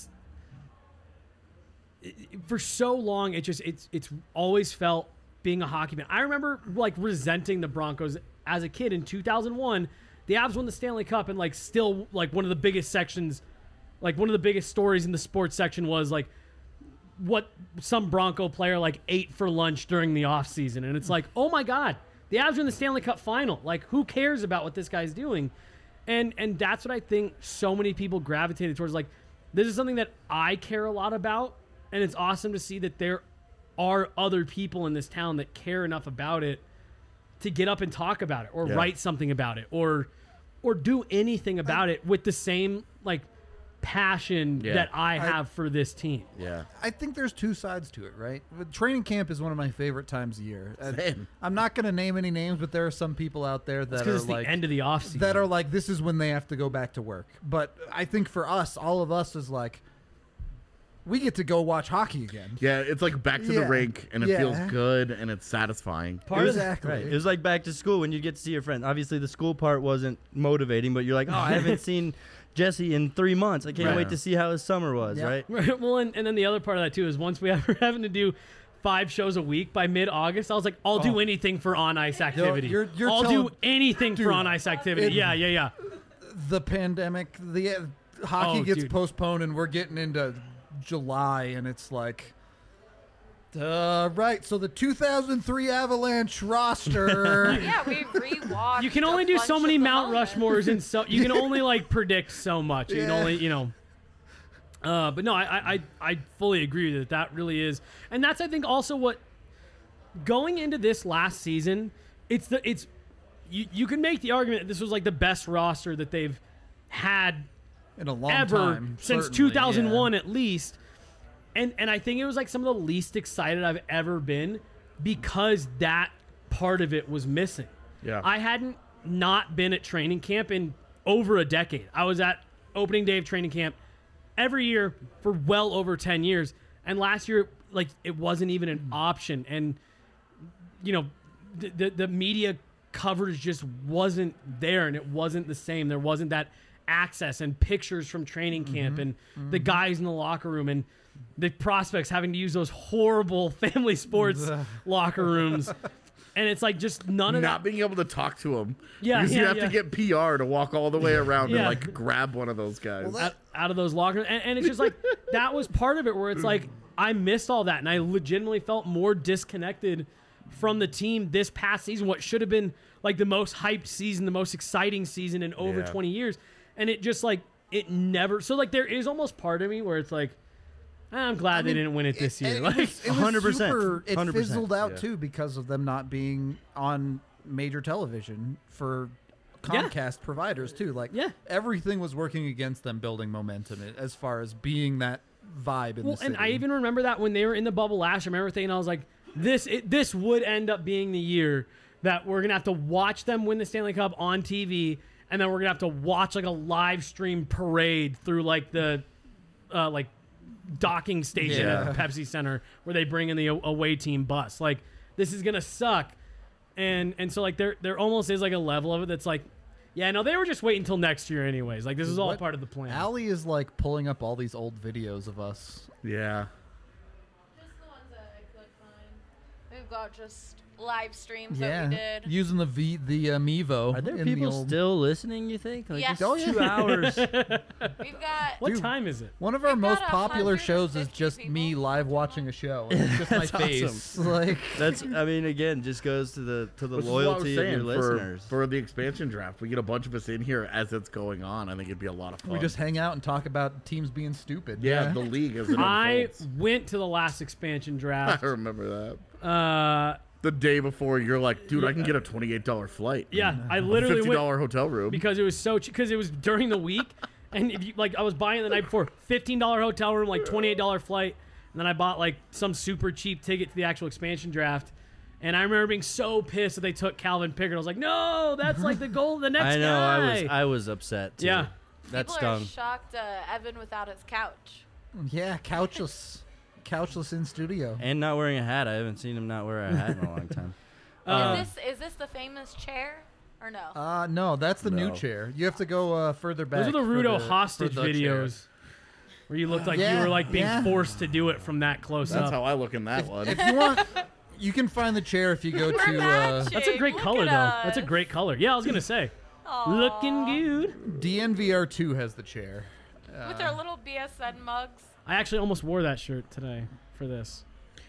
for so long it's always felt being a hockey fan. I remember like resenting the Broncos as a kid in 2001. The Avs won the Stanley Cup, and like still like one of the biggest sections, like one of the biggest stories in the sports section was like what some Bronco player like ate for lunch during the offseason. And it's like, oh my God, the Avs are in the Stanley Cup final. Like, who cares about what this guy's doing? And that's what I think so many people gravitated towards. Like, this is something that I care a lot about, and it's awesome to see that there are other people in this town that care enough about it to get up and talk about it, or Yeah. write something about it, or do anything about it with the same like passion Yeah. that I have for this team. Yeah. I think there's two sides to it, right? But training camp is one of my favorite times of year. Same. I'm not going to name any names, but there are some people out there that are Because it's like the end of the offseason. that are like, this is when they have to go back to work. But I think for us, all of us is like, we get to go watch hockey again. Yeah, it's like back to the Yeah. rink, and it Yeah. feels good, and it's satisfying. Part of Exactly. Right. It was like back to school when you get to see your friend. Obviously, the school part wasn't motivating, but you're like, oh, I haven't seen Jesse in 3 months. I can't Right. wait to see how his summer was, Yeah. right? Right. Well, and then the other part of that too is once we ever having to do 5 shows a week by mid-August, I was like, I'll do anything for on-ice activity. you're I'll telling- do anything for Dude, on-ice activity. it- Yeah. The pandemic, the hockey Oh, gets dude. postponed, and we're getting into July, and it's like, right. So the 2003 Avalanche roster. Yeah, we rewatched. You can a only do bunch so of many the Mount moments. Rushmores, and so you can only like predict so much. You can Yeah. only, but no, I fully agree that that really is, and that's I think also what going into this last season, you can make the argument that this was like the best roster that they've had in a long ever time, since certainly, 2001 yeah. at least. And I think it was like some of the least excited I've ever been because that part of it was missing. Yeah. I hadn't not been at training camp in over a decade. I was at opening day of training camp every year for well over 10 years. And last year, like, it wasn't even an option. And, the media coverage just wasn't there, and it wasn't the same. There wasn't that access and pictures from training camp and the guys in the locker room and the prospects having to use those horrible family sports locker rooms. And it's like just none of Not that. being able to talk to him. Yeah, Because you yeah, have yeah. to get PR to walk all the way around Yeah. and like grab one of those guys. Out of those lockers. And it's just like, that was part of it where it's like, I missed all that. And I legitimately felt more disconnected from the team this past season, what should have been like the most hyped season, the most exciting season in over Yeah. 20 years. And it just like, it never, so like there is almost part of me where it's like, I'm glad they didn't win it this year. It Like, was 100%, super- It 100%, fizzled out yeah. too because of them not being on major television for Comcast providers too. Like Yeah. everything was working against them building momentum as far as being that vibe in well, the city. and I even remember that when they were in the bubble last year, I remember thinking, I was like, this would end up being the year that we're going to have to watch them win the Stanley Cup on TV, and then we're going to have to watch like a live stream parade through like the like docking station Yeah. at the Pepsi Center where they bring in the away team bus. Like, this is going to suck. And so like there almost is like a level of it that's like, yeah, no, they were just waiting until next year anyways. Like, this is all What- part of the plan. Allie is like pulling up all these old videos of us. Yeah. Just the ones that I could find. We've got just live streams Yeah, that we did. using the Mevo. Are there in the people old- still listening, you think? Like, Yes. it's Oh, 2 hours. We've got What Dude. time is it? One of our We've most got popular shows is 150 just me people. live watching a show. And it's just my That's face. awesome. Like, That's, I mean, again, just goes to the Which is what I was loyalty of saying, your listeners. for the expansion draft. We get a bunch of us in here as it's going on. I think it'd be a lot of fun. we just hang out and talk about teams being stupid. yeah, the league as it I unfolds. went to the last expansion I draft. remember that. Uh, The day before, you're like, dude, I can get a $28 flight. yeah, I A literally $50 went hotel room. because it was so cheap. Because it was during the week, and if you like, I was buying the night before, $15 hotel room, like $28 flight, and then I bought like some super cheap ticket to the actual expansion draft. And I remember being so pissed that they took Calvin Pickard. I was like, no, that's like the goal, the next I know. guy. I was upset. Too. Yeah. That People stung. are shocked Evan without his couch. Yeah, couchless in studio. And not wearing a hat. I haven't seen him not wear a hat in a long time. Is this the famous chair or no? No, that's the new No. chair. You have to go further back. Those are the for Rudo for hostage the chair. videos where you looked like you Yeah, were like being yeah. forced to do it from that close That's up. how I look in that one. If you want, you can find the chair if you go We're to. matching. That's a great Look color, at though. That's a us. great color. Yeah, I was gonna say, Aw. looking good. DNVR2 has the chair. With our little BSN mugs. I actually almost wore that shirt today for this.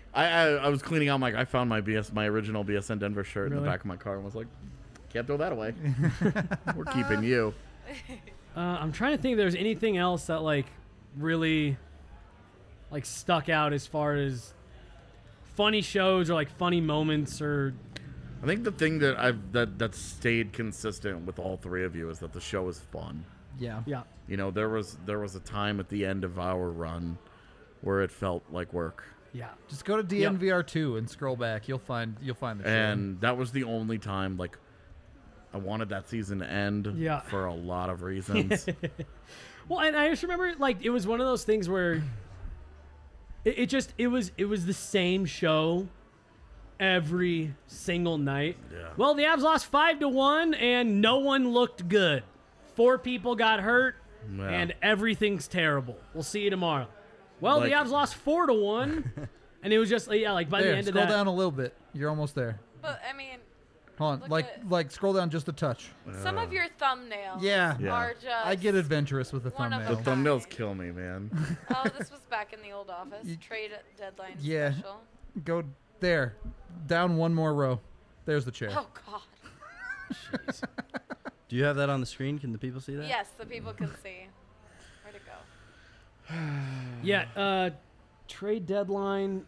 I was cleaning out my. I found my original BSN Denver shirt in Really? the back of my car and was like, can't throw that away. We're keeping you. I'm trying to think if there's anything else that like really like stuck out as far as funny shows or like funny moments or I think the thing that stayed consistent with all three of you is that the show is fun. Yeah. yeah. You know, there was a time at the end of our run where it felt like work. Yeah. Just go to DNVR2 and scroll back. You'll find the chair. And that was the only time like I wanted that season to end Yeah. for a lot of reasons. Well, and I just remember like it was one of those things where it was the same show every single night. Yeah. Well, the Avs lost 5-1 and no one looked good. 4 people got hurt Yeah. and everything's terrible. We'll see you tomorrow. Well, Like- the Avs lost 4-1 and it was just yeah, like by there, the end of scroll that. down a little bit. You're almost there. But I mean, Hold on, Look at- like scroll down just a touch. some of your thumbnails Yeah. Yeah. are just. I get adventurous with the One of The thumbnail. them. thumbnails kill me, man. Oh, this was back in the old office. Trade deadline Yeah. special. Go there, down one more row. There's the chair. Oh God. Do you have that on the screen? Can the people see that? Yes, the people can see. Where'd it go? Yeah, trade deadline.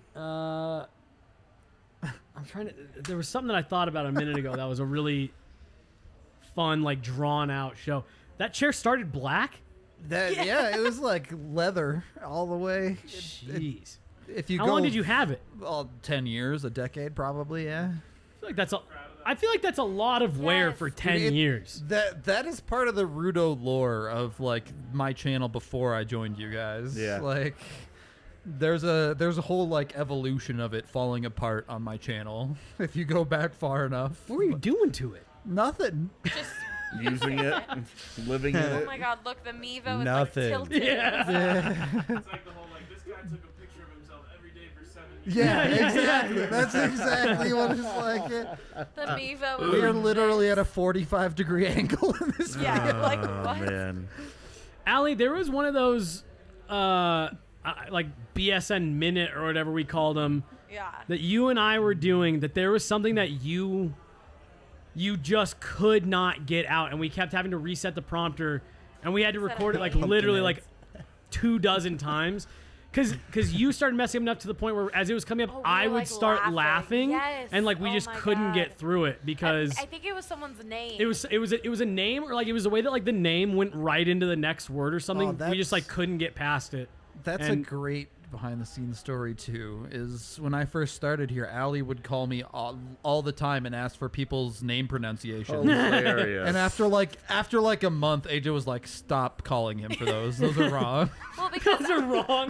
I'm trying to. There was something that I thought about a minute ago that was a really fun, like drawn out show. That chair started black. Yeah, it was like leather all the way. Jeez. If you How go, long did you have it? 10 years, a decade probably. Yeah. I feel like that's a lot of wear Yes. for 10 It- years. That is part of the Rudo lore of like my channel before I joined you guys. Yeah. Like there's a whole like evolution of it falling apart on my channel if you go back far enough. What were you doing to it? Nothing. Just. Using it, living in Oh it. my God! Look, the Mevo is Nothing. like tilted. Yeah. It's like the whole like this guy took a picture of himself every day for 7 years. Yeah, exactly. That's exactly what it's like. The Mevo. We are is literally at a 45-degree angle in this. Yeah. Like Oh what? man. Allie, there was one of those like BSN minute or whatever we called them Yeah. that you and I were doing, that there was something that you just could not get out, and we kept having to reset the prompter, and we had to Set it record it like again. literally like 24 times because you started messing up to the point where as it was coming up, Oh, we I were, would like, start laughing, Yes. and like we Oh just my couldn't God. get through it because I think it was someone's name. it was a name, or like it was the way that like the name went right into the next word or something. We that's- just like couldn't get past it. That's And- a great behind-the-scenes story too. Is when I first started here, Allie would call me all the time and ask for people's name pronunciations. Hilarious. And after like a month, AJ was like, "Stop calling him for those. Those are wrong." well, because Those are wrong.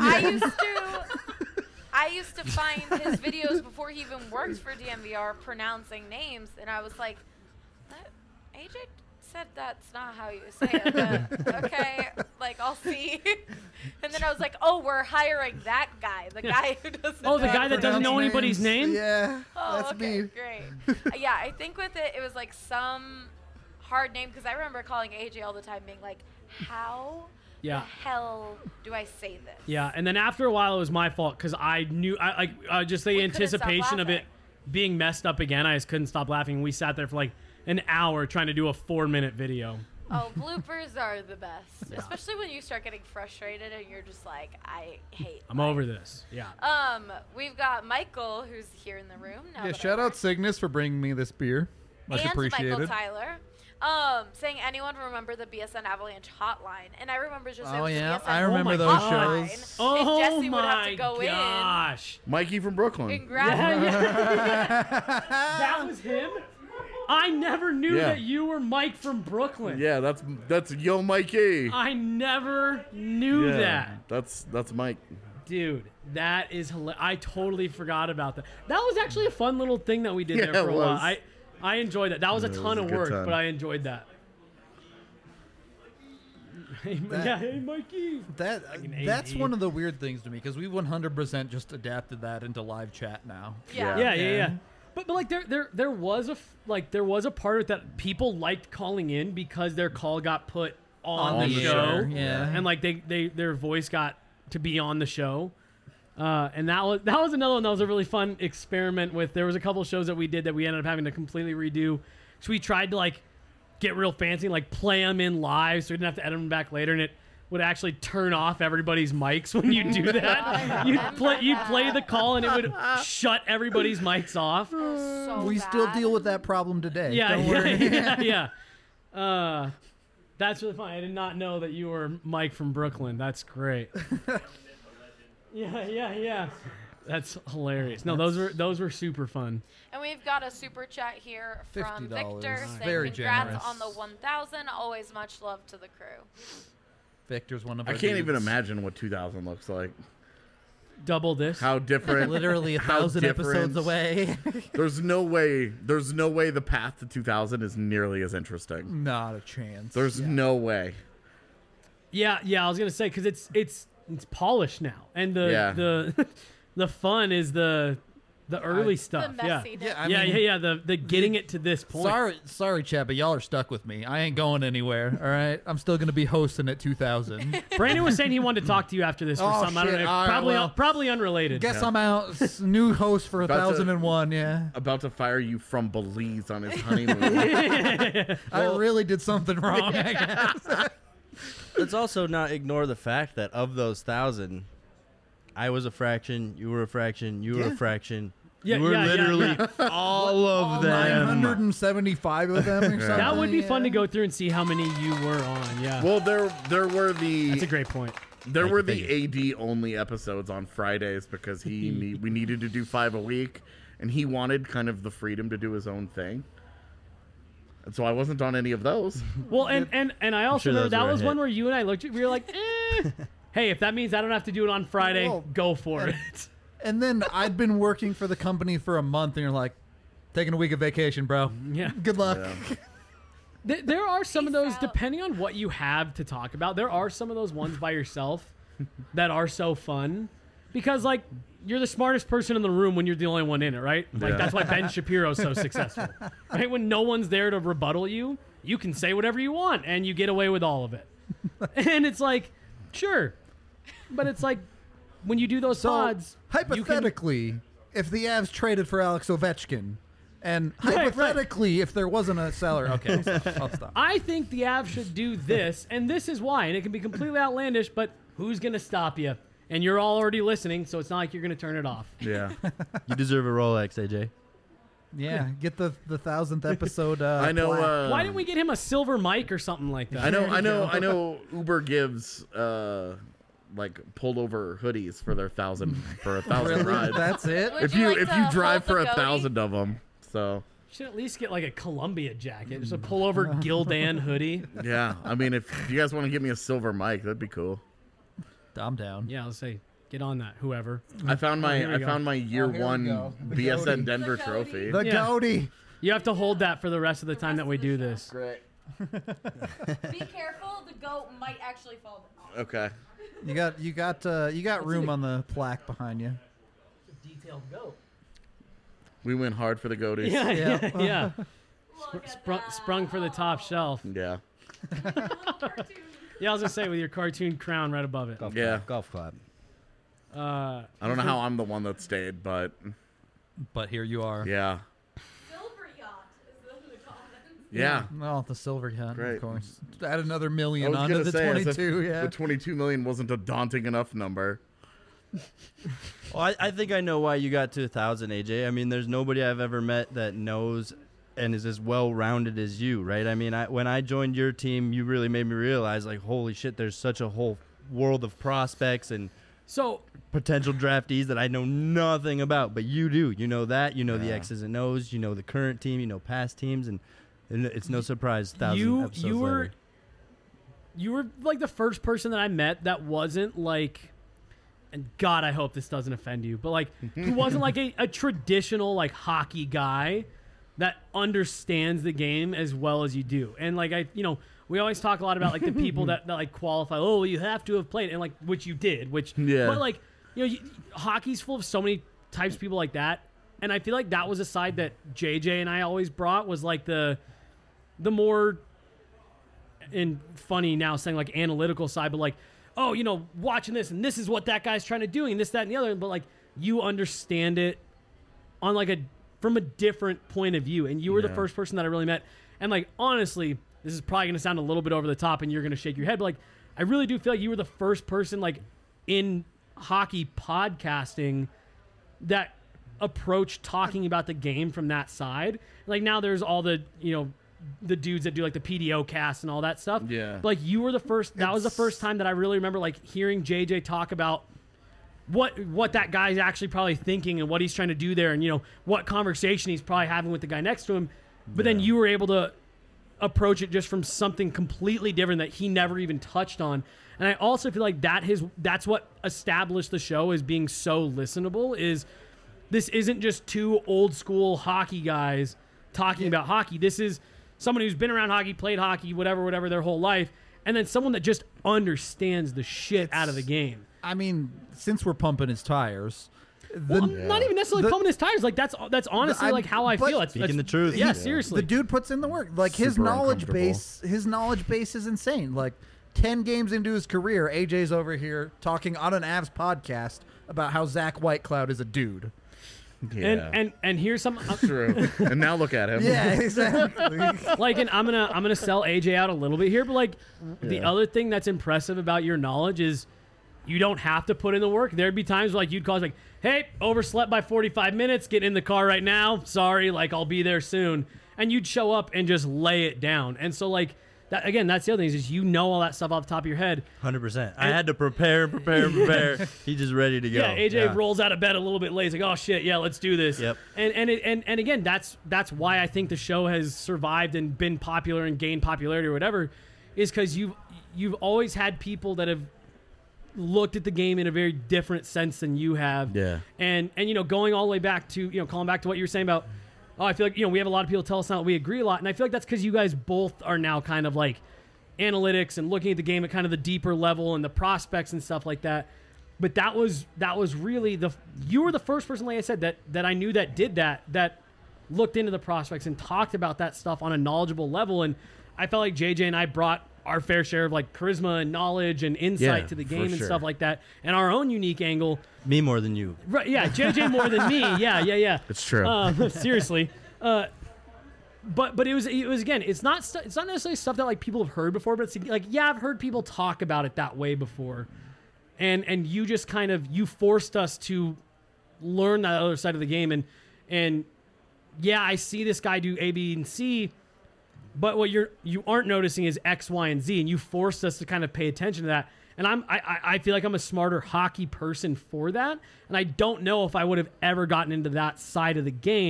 I used to find his videos before he even worked for DMVR pronouncing names, and I was like, that AJ said that's not how you say it. But okay, like I'll see. And then I was like, oh, we're hiring that guy, the guy who doesn't. Oh, the know guy that doesn't know anybody's name? Yeah, Oh, that's okay, me. great. Yeah, I think with it was like some hard name because I remember calling AJ all the time, being like, how Yeah. the hell do I say this? Yeah, and then after a while, it was my fault because I knew, just the We couldn't stop anticipation of it laughing. being messed up again. I just couldn't stop laughing. We sat there for like an hour trying to do a 4-minute video. Oh, bloopers are the best, especially when you start getting frustrated and you're just like, I hate. I'm life. over this. Yeah. We've got Michael who's here in the room now. Yeah, that I shout out work. Cygnus for bringing me this beer. Much and Michael appreciated. Tyler. Saying anyone remember the BSN Avalanche hotline, and I remember just it Oh, was yeah, BSN I remember my those hotline, shows. Oh and Jesse my would have to go gosh. Mikey from Brooklyn. in and grab That was him? I never knew Yeah. that you were Mike from Brooklyn. Yeah, that's Yo Mikey. I never knew Yeah, that. that's Mike. Dude, that is hilarious. I totally forgot about that. That was actually a fun little thing that we did Yeah, there for it a while. was. I enjoyed that. That was a Yeah, it ton was a of good work, time. but I enjoyed that. Hey, That- yeah, hey, Mikey. That's AD. one of the weird things to me because we 100% just adapted that into live chat now. Yeah. Yeah. But like there was a part of it that people liked calling in because their call got put on On the the show, air, yeah. and like their voice got to be on the show. And that was another one that was a really fun experiment with. There was a couple shows that we did that we ended up having to completely redo. So we tried to like get real fancy and like play them in live so we didn't have to edit them back later, and it would actually turn off everybody's mics when you do that. You'd play the call and it would shut everybody's mics off. So We still bad. deal with that problem today. Yeah, Don't worry. yeah. That's really fun. I did not know that you were Mike from Brooklyn. That's great. Yeah. That's hilarious. No, those were super fun. And we've got a super chat here from $50. Victor saying Very congrats generous. on the 1,000. Always much love to the crew. Victor's one of I our can't even dudes. imagine what 2000 looks like. Double this. How different. Literally how 1,000 episodes different. away. There's no way the path to 2000 is nearly as interesting. Not a chance. There's no way. Yeah. I was gonna say because it's polished now, and the the fun is the early stuff. The Yeah. messiness. Yeah, I mean, Yeah. The getting it to this point. Sorry, Chad, but y'all are stuck with me. I ain't going anywhere. All right, I'm still gonna be hosting at 2000. Brandon was saying he wanted to talk to you after this for Oh, something. I don't shit. know. All right, well, Probably unrelated. Guess I'm out. New host for About to- 1001. Yeah, About to fire you from Belize on his honeymoon. I really did something wrong. I guess. Let's also not ignore the fact that of those 1,000, I was a fraction, you were a fraction, you were a fraction. Yeah, you were yeah, literally yeah. all of them. 975 of them. Or something. That would be fun to yeah. go through and see how many you were on. Yeah. Well, there were That's a the great point. AD only episodes on Fridays because we needed to do 5 a week, and he wanted kind of the freedom to do his own thing. And so I wasn't on any of those. Well, and I also sure remember those that were a was hit. one where you and I looked at we were like, hey, if that means I don't have to do it on Friday, Well, go for it. And then I'd been working for the company for a month, and you're like, taking a week of vacation, bro. Yeah. Good luck. Yeah. There are some of Peace those, out. depending on what you have to talk about, there are some of those ones by yourself that are so fun because, like, you're the smartest person in the room when you're the only one in it, right? Like, Yeah. that's why Ben Shapiro's so successful, right? When no one's there to rebuttal you, you can say whatever you want and you get away with all of it. And it's like, sure. But it's like, when you do those So, pods, you can- hypothetically, if the Avs traded for Alex Ovechkin, and Right, right. hypothetically, if there wasn't a seller, okay, I'll stop. I think the Avs should do this, and this is why. And it can be completely outlandish, but who's going to stop you? And you're all already listening, so it's not like you're going to turn it off. Yeah. You deserve a Rolex, AJ. Yeah, get the 1,000th episode. I know. plaque. Why didn't we get him a silver mic or something like that? I know. Uber gives like pulled over hoodies for their 1,000 for 1,000 Really? rides. That's it. Would if you you like if to you drive hold for the goatee? 1,000 of them. So Should at least get like a Columbia jacket, just a pullover Gildan hoodie. yeah, I mean, if you guys want to give me a silver mic, that'd be cool. I'm down. Yeah, let's say get on that, whoever. I found here we go. my year Oh, here we one go. The BSN goatee. Denver trophy. The Yeah. goatee. You have to hold that for the rest of the time that we do this. Great. Be careful, the goat might actually fall down. Okay. You got room on the plaque behind you. Detailed goat. We went hard for the goaties. Yeah, Yeah. yeah. Look at that. Sprung for the top shelf. Yeah. Little cartoon. Yeah, I was gonna say with your cartoon crown right above it. Yeah. Golf clap. I don't know how I'm the one that stayed, but But here you are. yeah. Silver yacht is the comments. Yeah. Well, the silver yacht, Great. of course. Add another I million was onto gonna the say, as if 22. Yeah. the 22 million wasn't a daunting enough number. Well, I think I know why you got to 1,000, AJ. I mean, there's nobody I've ever met that knows and is as well-rounded as you, right? I mean, when I joined your team, you really made me realize, like, holy shit, there's such a whole world of prospects and So potential draftees that I know nothing about, but you do. You know that. You know the Yeah. X's and O's. You know the current team. You know past teams, and it's no surprise. 1,000 you episodes you were later. you were like the first person that I met that wasn't like, and God, I hope this doesn't offend you, but like who wasn't like a traditional like hockey guy that understands the game as well as you do. And like we always talk a lot about like the people that like qualify. Oh, you have to have played, and like which you did. Which Yeah. but like hockey's full of so many types of people like that, and I feel like that was a side that JJ and I always brought was like the more, and funny now saying like analytical side, but like, oh, watching this and this is what that guy's trying to do and this, that, and the other. But like you understand it on like from a different point of view. And you were the Yeah. first person that I really met. And like, honestly, this is probably going to sound a little bit over the top and you're going to shake your head, but like, I really do feel like you were the first person like in hockey podcasting that approached talking about the game from that side. Like now there's all the, the dudes that do like the PDO cast and all that stuff. Yeah. But like you were the first, that was the first time that I really remember like hearing JJ talk about what that guy's actually probably thinking and what he's trying to do there and what conversation he's probably having with the guy next to him. But then you were able to approach it just from something completely different that he never even touched on. And I also feel like that's what established the show as being so listenable. Is this isn't just two old school hockey guys talking about hockey. This is someone who's been around hockey, played hockey, whatever their whole life, and then someone that just understands the shit out of the game. I mean, since we're pumping his tires, Well, I'm not even necessarily pumping his tires. Like that's honestly like how I but feel. Speaking the truth. Yeah, Yeah. seriously. the dude puts in the work. Like his Super knowledge uncomfortable. base is insane. Like 10 games into his career, AJ's over here talking on an Avs podcast about how Zach Whitecloud is a dude. Yeah. And here's some True. And now look at him. Yeah, exactly. like, and I'm gonna sell AJ out a little bit here, but like the Yeah. other thing that's impressive about your knowledge is you don't have to put in the work. There'd be times like you'd call us like, hey, overslept by 45 minutes, get in the car right now. Sorry, like I'll be there soon. And you'd show up and just lay it down. And so like that again, that's the other thing is you know all that stuff off the top of your head. 100%. I had to prepare. He's just ready to go. Yeah, AJ rolls out of bed a little bit late. He's like, "Oh shit, yeah, let's do this." Yep. And again, that's why I think the show has survived and been popular and gained popularity or whatever, is because you've always had people that have looked at the game in a very different sense than you have. Yeah. And going all the way back to calling back to what you were saying about, I feel like we have a lot of people tell us now that we agree a lot, and I feel like that's because you guys both are now kind of like analytics and looking at the game at kind of the deeper level and the prospects and stuff like that. But that was really you were the first person, like I said, that I knew that did that looked into the prospects and talked about that stuff on a knowledgeable level. And I felt like JJ and I brought our fair share of like charisma and knowledge and insight Yeah, to the for game and sure. stuff like that, and our own unique angle. Me more than you. Right? Yeah, JJ more than me. Yeah. It's true. Seriously. But it was again, it's not necessarily stuff that like people have heard before, but it's like, yeah, I've heard people talk about it that way before, and you just kind of you forced us to learn that other side of the game, and yeah, I see this guy do A, B, and C, but what you aren't noticing is X, Y, and Z, and you forced us to kind of pay attention to that. And I feel like I'm a smarter hockey person for that, and I don't know if I would have ever gotten into that side of the game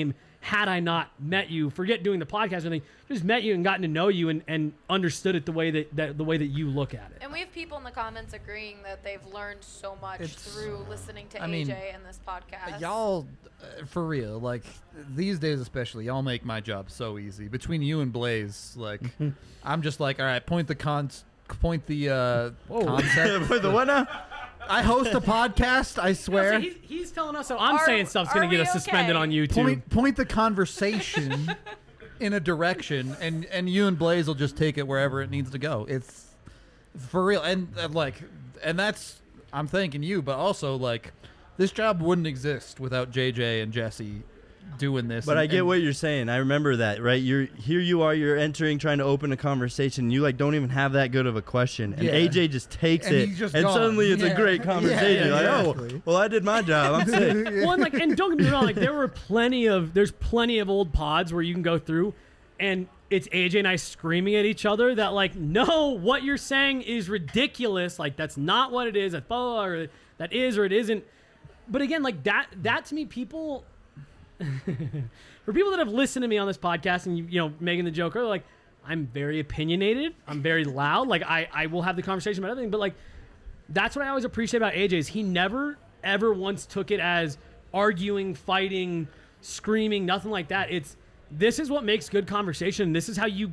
had I not met you, forget doing the podcast or anything, just met you and gotten to know you and understood it the way that you look at it. And we have people in the comments agreeing that they've learned so much through listening to AJ and this podcast. Y'all, for real, like these days especially, y'all make my job so easy. Between you and Blaze, like I'm just like, all right, point the concept. Wait, the what now? I host a podcast, I swear. So he's telling us, so I'm saying stuff's going to get us suspended on YouTube. Point the conversation in a direction, and you and Blaze will just take it wherever it needs to go. It's for real. And that's, I'm thanking you, but also, like, this job wouldn't exist without JJ and Jesse doing this. But I get what you're saying. I remember that, right? You're entering, trying to open a conversation. You like don't even have that good of a question, and AJ just takes it, and suddenly it's a great conversation. Exactly. Oh, well, I did my job. I'm sick. Well, and don't get me wrong, like there's plenty of old pods where you can go through, and it's AJ and I screaming at each other that like, no, what you're saying is ridiculous. Like that's not what it is. Or that is or it isn't. But again, like that to me, people. For people that have listened to me on this podcast and you know making the joke earlier, like I'm very opinionated, I'm very loud, like I will have the conversation about everything, but like that's what I always appreciate about AJ is he never ever once took it as arguing, fighting, screaming, nothing like that. This is what makes good conversation. This is how you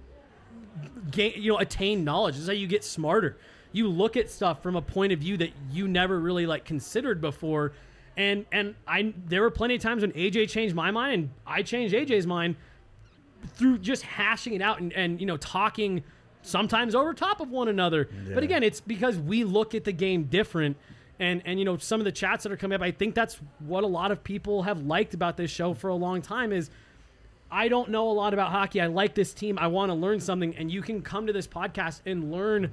attain knowledge. This is how you get smarter. You look at stuff from a point of view that you never really like considered before. And there were plenty of times when AJ changed my mind and I changed AJ's mind through just hashing it out and talking sometimes over top of one another. Yeah. But again, it's because we look at the game different. And some of the chats that are coming up, I think that's what a lot of people have liked about this show for a long time is I don't know a lot about hockey. I like this team. I want to learn something. And you can come to this podcast and learn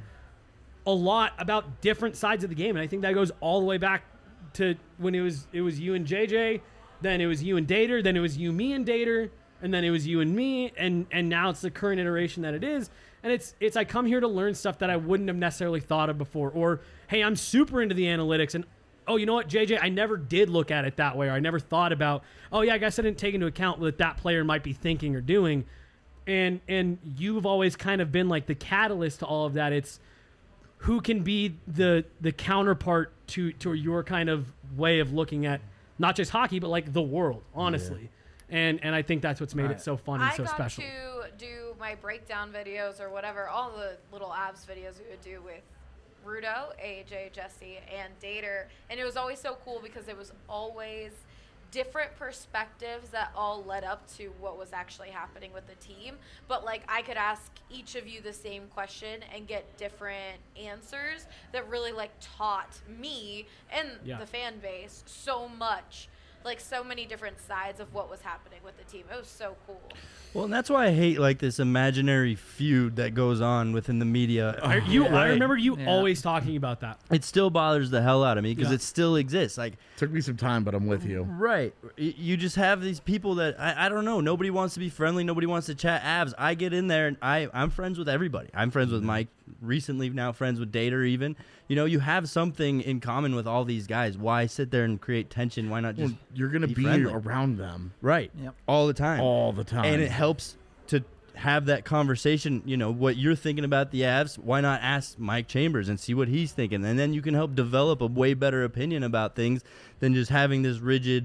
a lot about different sides of the game. And I think that goes all the way back to when it was you and JJ, then it was you and Dater, then it was you, me and Dater, and then it was you and me, and now it's the current iteration that it is. And it's I come here to learn stuff that I wouldn't have necessarily thought of before. Or, hey, I'm super into the analytics, and oh, you know what, JJ, I never did look at it that way, or I never thought about, oh yeah, I guess I didn't take into account what that player might be thinking or doing. And you've always kind of been like the catalyst to all of that. It's who can be the counterpart to your kind of way of looking at not just hockey, but like the world, honestly. Yeah. And I think that's what's made it so fun and so special. I got to do my breakdown videos or whatever, all the little abs videos we would do with Rudo, AJ, Jesse, and Dater. And it was always so cool because it was always different perspectives that all led up to what was actually happening with the team. But like I could ask each of you the same question and get different answers that really like taught me and the fan base so much, like so many different sides of what was happening with the team. It was so cool. Well, and that's why I hate like this imaginary feud that goes on within the media. I remember you always talking about that. It still bothers the hell out of me because it still exists. Like, took me some time, but I'm with you. Right. You just have these people that I don't know. Nobody wants to be friendly. Nobody wants to chat abs. I get in there and I'm friends with everybody. I'm friends with Mike. Recently, now friends with Dater even. You have something in common with all these guys. Why sit there and create tension? Why not just you're going to be around them. Right. Yep. All the time. All the time. And it helps to have that conversation, what you're thinking about the Avs. Why not ask Mike Chambers and see what he's thinking? And then you can help develop a way better opinion about things than just having this rigid,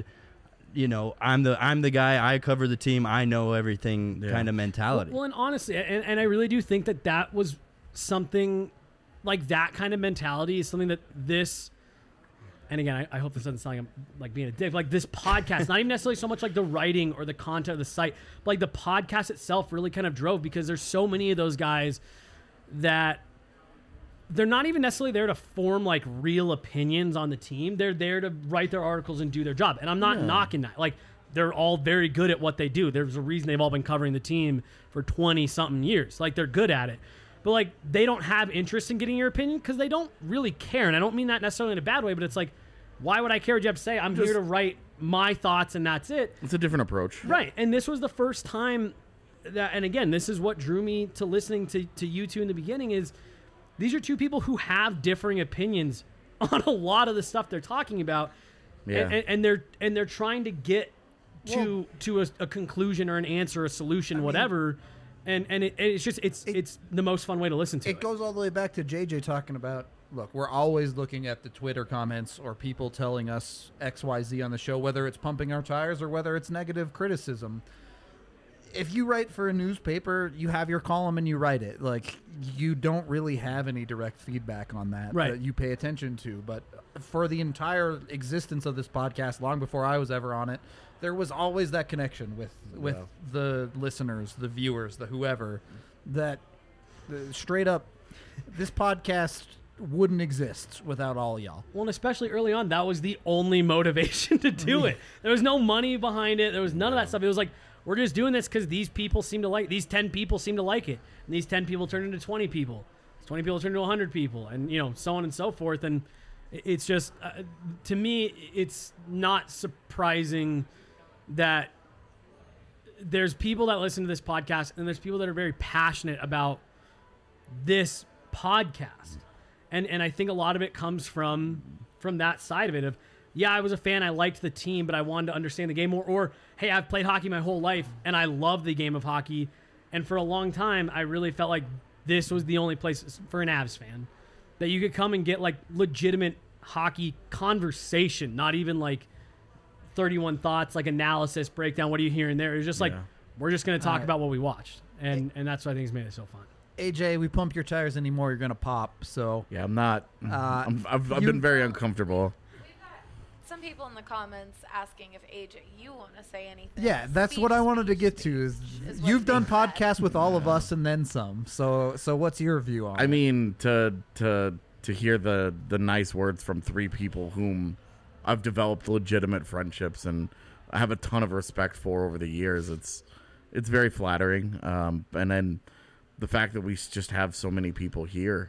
I'm the guy, I cover the team, I know everything kind of mentality. Well, and honestly, and I really do think that was something like that kind of mentality is something that this, and again, I hope this doesn't sound like I'm like being a dick, like this podcast, not even necessarily so much like the writing or the content of the site, but like the podcast itself really kind of drove, because there's so many of those guys that they're not even necessarily there to form like real opinions on the team. They're there to write their articles and do their job. And I'm not knocking that. Like, they're all very good at what they do. There's a reason they've all been covering the team for 20 something years. Like, they're good at it. But like, they don't have interest in getting your opinion because they don't really care. And I don't mean that necessarily in a bad way, but it's like, why would I care what you have to say? I'm here to write my thoughts and that's it. It's a different approach. Right. And this was the first time that, and again, this is what drew me to listening to you two in the beginning, is these are two people who have differing opinions on a lot of the stuff they're talking about. Yeah. And they're trying to get to a conclusion or an answer, a solution, whatever. And it's the most fun way to listen to it. It goes all the way back to JJ talking about, look, we're always looking at the Twitter comments or people telling us XYZ on the show, whether it's pumping our tires or whether it's negative criticism. If you write for a newspaper, you have your column and you write it. Like, you don't really have any direct feedback on that that you pay attention to. But for the entire existence of this podcast, long before I was ever on it, there was always that connection with the listeners, the viewers, the whoever, that straight up, this podcast wouldn't exist without all y'all. Well, and especially early on, that was the only motivation to do it. There was no money behind it. There was none of that stuff. It was like, we're just doing this because these people seem to like, these 10 people seem to like it. And these 10 people turn into 20 people. 20 people turn into 100 people, and, so on and so forth. And it's just, to me, it's not surprising that there's people that listen to this podcast, and there's people that are very passionate about this podcast. And I think a lot of it comes from that side of it of, yeah, I was a fan, I liked the team, but I wanted to understand the game more. Or, hey, I've played hockey my whole life, and I love the game of hockey. And for a long time, I really felt like this was the only place for an Avs fan that you could come and get, like, legitimate hockey conversation, not even, like, 31 thoughts, like, analysis, breakdown, what are you hearing there? It was just like, we're just going to talk about what we watched. And that's what I think has made it so fun. AJ, we pump your tires anymore, you're going to pop. So yeah, I'm not. I've been very uncomfortable. Some people in the comments asking if AJ, you want to say anything. Yeah, that's what I wanted to get to. Is you've done podcasts with all of us and then some. So what's your view on it? I mean, to hear the nice words from three people whom I've developed legitimate friendships and I have a ton of respect for over the years, it's very flattering. And then the fact that we just have so many people here,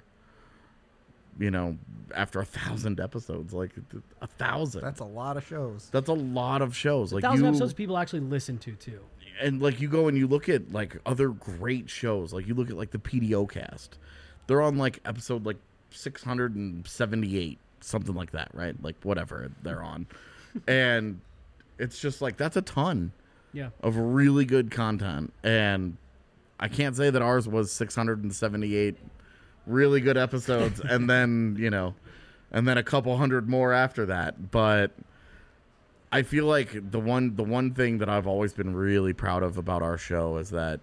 after 1,000 episodes, like 1,000. That's a lot of shows. That's a lot of shows. Like 1,000 episodes people actually listen to too. And like you go and you look at like other great shows, like you look at like the PDO cast. They're on like episode like 678, something like that, right? Like whatever they're on. And it's just like that's a ton of really good content. And I can't say that ours was 678 really good episodes and then a couple hundred more after that. But I feel like the one thing that I've always been really proud of about our show is that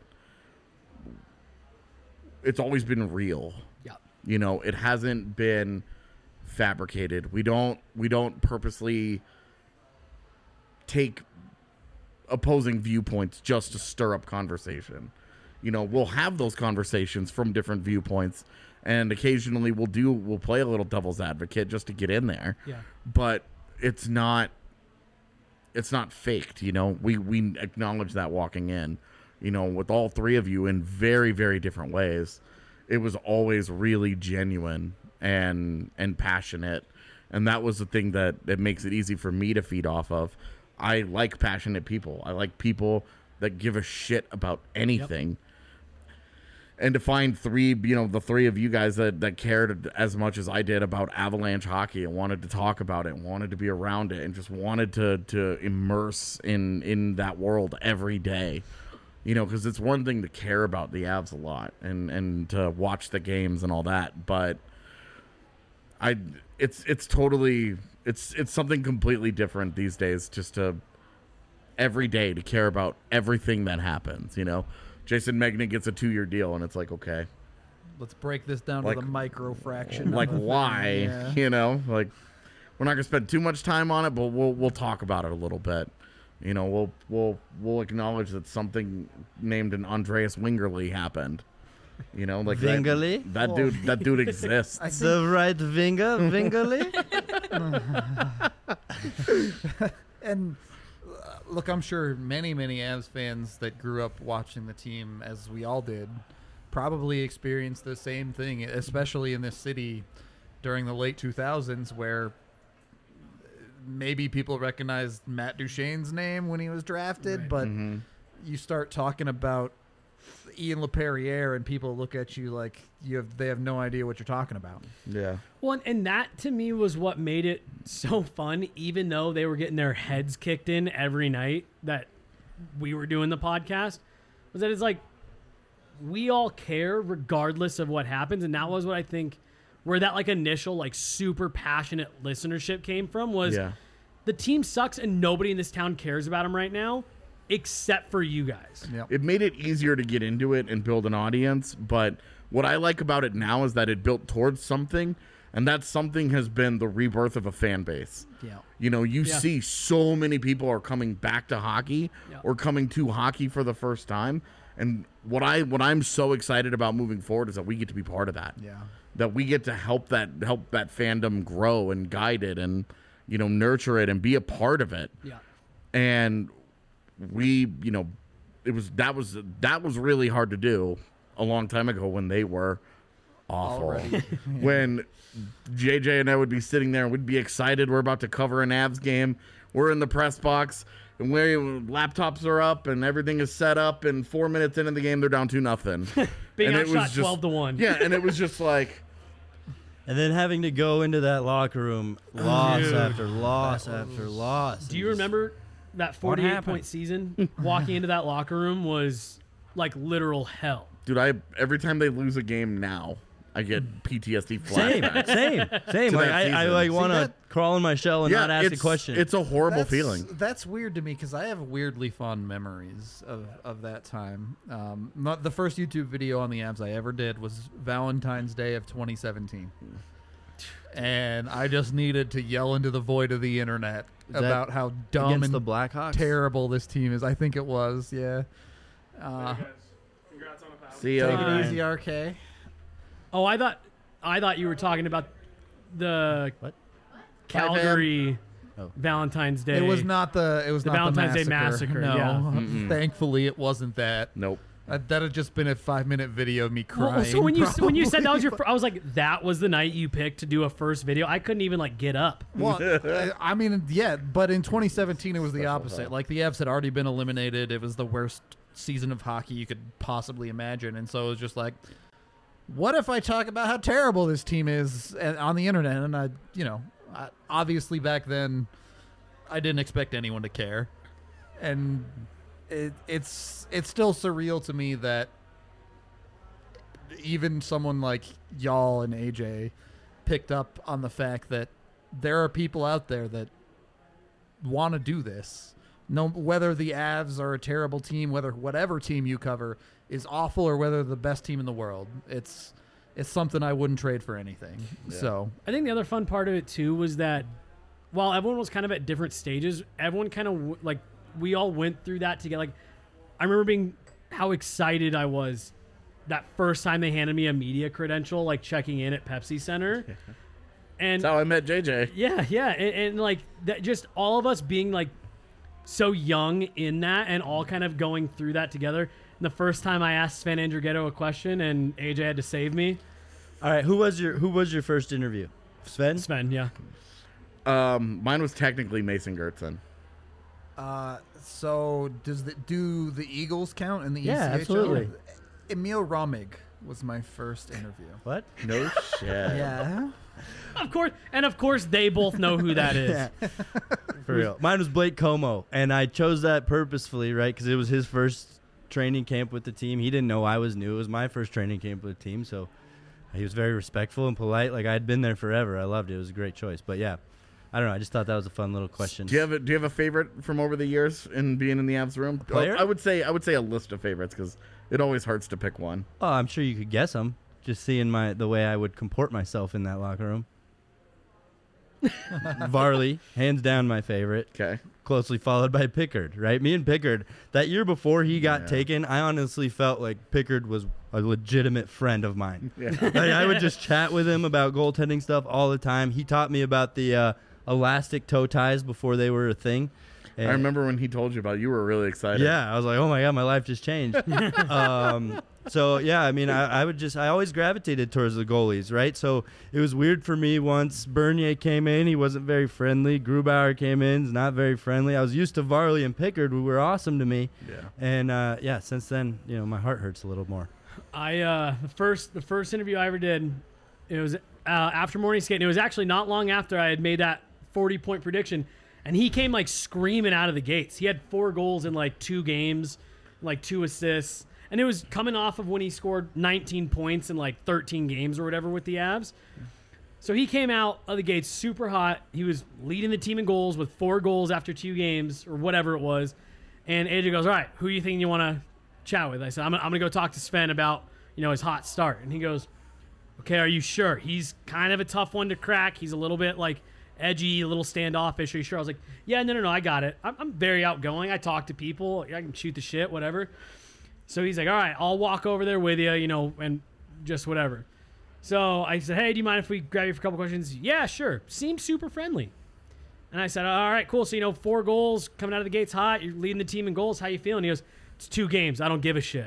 it's always been real. Yeah. It hasn't been fabricated. We don't purposely take opposing viewpoints just to stir up conversation. We'll have those conversations from different viewpoints, and occasionally we'll play a little devil's advocate just to get in there. Yeah. But it's not faked, We acknowledge that walking in, with all three of you in very, very different ways. It was always really genuine and passionate, and that was the thing that makes it easy for me to feed off of. I like passionate people. I like people that give a shit about anything. Yep. And to find the three of you guys that cared as much as I did about Avalanche hockey and wanted to talk about it and wanted to be around it and just wanted to immerse in that world every day. Because it's one thing to care about the Avs a lot and to watch the games and all that, but it's totally something completely different these days just to every day to care about everything that happens, Jason Megna gets a 2-year deal, and it's like, okay. Let's break this down to the micro fraction. Like, why? Yeah. Like, we're not going to spend too much time on it, but we'll talk about it a little bit. We'll acknowledge that something named an Andreas Wingerly happened. Like Wingerly? That dude exists. The right winger, Wingerly? And look, I'm sure many Avs fans that grew up watching the team, as we all did, probably experienced the same thing, especially in this city during the late 2000s, where maybe people recognized Matt Duchene's name when he was drafted, but you start talking about Ian LePerriere and people look at you like they have no idea what you're talking about. Yeah. Well, and that to me was what made it so fun, even though they were getting their heads kicked in every night that we were doing the podcast, was that it's like we all care regardless of what happens. And that was what I think where that like initial like super passionate listenership came from was the team sucks and nobody in this town cares about them right now except for you guys. Yep. It made it easier to get into it and build an audience, but what I like about it now is that it built towards something, and that something has been the rebirth of a fan base. Yeah. You know, you see so many people are coming back to hockey or coming to hockey for the first time, and what I'm so excited about moving forward is that we get to be part of that. Yeah. That we get to help that fandom grow and guide it and, you know, nurture it and be a part of it. Yeah. And we, you know, that was really hard to do a long time ago when they were awful. When JJ and I would be sitting there and we'd be excited, we're about to cover an Avs game, we're in the press box, and laptops are up and everything is set up, and 4 minutes into the game they're down 2-0. Being and outshot 12-1. Yeah, and it was just like, And then having to go into that locker room, loss after loss after loss. Do you remember that 48-point season? Walking into that locker room was like literal hell. dude, every time they lose a game now, I get PTSD flashbacks. Same. To Like, that I season. like want to that- crawl in my shell and not ask a question. It's a horrible feeling. That's weird to me because I have weirdly fond memories of that time. The first YouTube video on the Avs I ever did was Valentine's Day of 2017. And I just needed to yell into the void of the internet Is that about how dumb against and the Blackhawks. terrible this team is. I think it was, yeah. Guys, congrats on the power. See ya. Take it Fine. easy, RK. Oh, I thought you were talking about the What? Calgary Oh. Valentine's Day. It was not the Valentine's Day the massacre, No, yeah. Mm-mm. thankfully it wasn't that. Nope. That had just been a 5-minute video of me crying. Well, so when you said that was probably. I was like, that was the night you picked to do a first video. I couldn't even like get up. Well, I mean, yeah, but in 2017 it was the opposite. Like the Avs had already been eliminated. It was the worst season of hockey you could possibly imagine, and so it was just like, what if I talk about how terrible this team is on the internet? And obviously back then, I didn't expect anyone to care, and it's still surreal to me that even someone like y'all and AJ picked up on the fact that there are people out there that want to do this. No, whether the Avs are a terrible team, whether whatever team you cover is awful, or whether the best team in the world, it's something I wouldn't trade for anything. Yeah. So I think the other fun part of it too was that while everyone was kind of at different stages, everyone kind of like we all went through that together. Like I remember how excited I was that first time they handed me a media credential, like checking in at Pepsi Center. And That's how I met JJ. yeah, and like that, just all of us being like so young in that, and all kind of going through that together. And the first time I asked Sven Andrighetto a question, and AJ had to save me. All right, who was your first interview? Sven? Yeah. Mine was technically Mason Gertzen. So do the Eagles count in the Yeah, ECHL? absolutely. Emil Romig was my first interview. What? No shit. Yeah. Of course, they both know who that is. For real. Mine was Blake Como, and I chose that purposefully, right? Because it was his first training camp with the team. He didn't know I was new. It was my first training camp with the team, so he was very respectful and polite. Like I'd been there forever. I loved it. It was a great choice. But yeah, I don't know. I just thought that was a fun little question. Do you have a favorite from over the years in being in the Avs room? Player? I would say a list of favorites because it always hurts to pick one. Oh, I'm sure you could guess them. Just seeing the way I would comport myself in that locker room. Varley, hands down my favorite. Okay. Closely followed by Pickard, right? Me and Pickard, that year before he got taken, I honestly felt like Pickard was a legitimate friend of mine. Yeah. Like, I would just chat with him about goaltending stuff all the time. He taught me about the elastic toe ties before they were a thing. I And- remember when he told you about it, you were really excited. yeah, I was like, oh my God, my life just changed. So yeah, I mean, I always gravitated towards the goalies, right? So it was weird for me once Bernier came in. He wasn't very friendly. Grubauer came in, he's not very friendly. I was used to Varley and Pickard, who were awesome to me. Yeah. And since then, my heart hurts a little more. The first interview I ever did, it was after morning skate. And it was actually not long after I had made that 40-point prediction, and he came like screaming out of the gates. He had 4 goals in like 2 games, like 2 assists. And it was coming off of when he scored 19 points in like 13 games or whatever with the Avs. So he came out of the gates super hot. He was leading the team in goals with 4 goals after 2 games or whatever it was. And AJ goes, all right, who do you think you want to chat with? I said, I'm going to go talk to Sven about, his hot start. And he goes, okay, are you sure? He's kind of a tough one to crack. He's a little bit like edgy, a little standoffish. Are you sure? I was like, yeah, no, I got it. I'm very outgoing. I talk to people. I can shoot the shit, whatever. So he's like, all right, I'll walk over there with you, and just whatever. So I said, hey, do you mind if we grab you for a couple questions? Yeah, sure. Seems super friendly. And I said, all right, cool. So, 4 goals coming out of the gates hot. You're leading the team in goals. How you feeling? He goes, it's 2 games. I don't give a shit.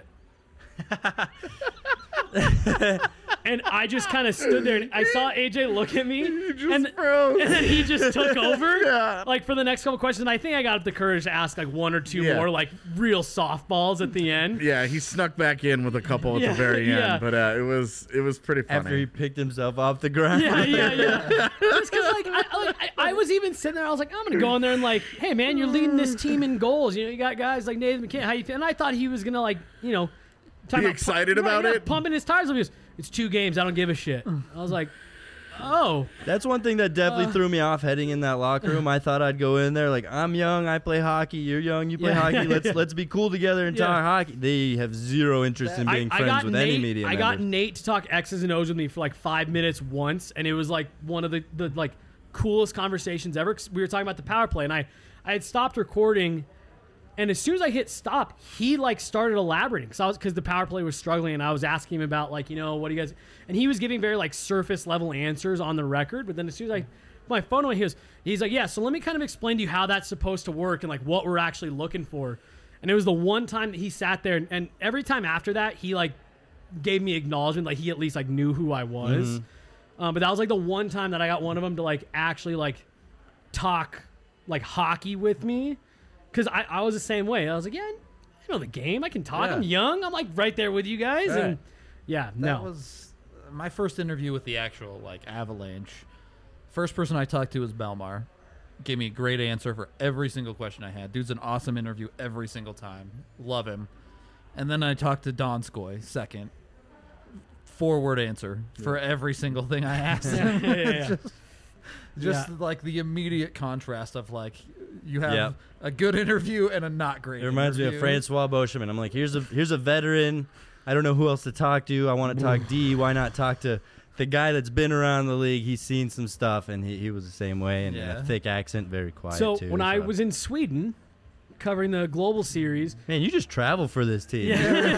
And I just kind of stood there, and I saw AJ look at me, and then he just took over, like for the next couple questions. And I think I got up the courage to ask like 1 or 2 more, like real softballs at the end. Yeah, he snuck back in with a couple at the very end, but it was pretty funny. After he picked himself off the ground. Yeah. Just because I was even sitting there, I was like, I'm gonna go in there and like, hey man, you're leading this team in goals. You got guys like Nathan McKinnon. How you feel? And I thought he was gonna like, be excited about it, pumping his tires. He goes, it's 2 games. I don't give a shit. I was like, oh. That's one thing that definitely threw me off heading in that locker room. I thought I'd go in there like, I'm young, I play hockey. You're young, you play hockey. Let's be cool together and talk hockey. They have zero interest in being friends with any media members. I got Nate to talk X's and O's with me for like 5 minutes once, and it was like one of the like coolest conversations ever. We were talking about the power play, and I had stopped recording. And as soon as I hit stop, he like started elaborating because the power play was struggling, and I was asking him about like, what do you guys, and he was giving very like surface level answers on the record. But then as soon as I put my phone away, he's like, yeah, so let me kind of explain to you how that's supposed to work and like what we're actually looking for. And it was the one time that he sat there, and every time after that, he like gave me acknowledgement, like he at least like knew who I was. But that was like the one time that I got one of them to like actually like talk like hockey with me. Because I was the same way. I was like, yeah, I know the game. I can talk. I'm young. I'm like right there with you guys. Right. And that was my first interview with the actual like Avalanche. First person I talked to was Belmar. Gave me a great answer for every single question I had. Dude's an awesome interview every single time. Love him. And then I talked to Donskoy second. 4-word answer for every single thing I asked him. Just like the immediate contrast of like you have a good interview and a not great. It reminds me of Francois Beauchemin. I'm like, here's a veteran. I don't know who else to talk to. I want to talk D. Why not talk to the guy that's been around the league? He's seen some stuff, and he was the same way, and a thick accent, very quiet so too. When I was in Sweden covering the Global Series, man, you just travel for this team.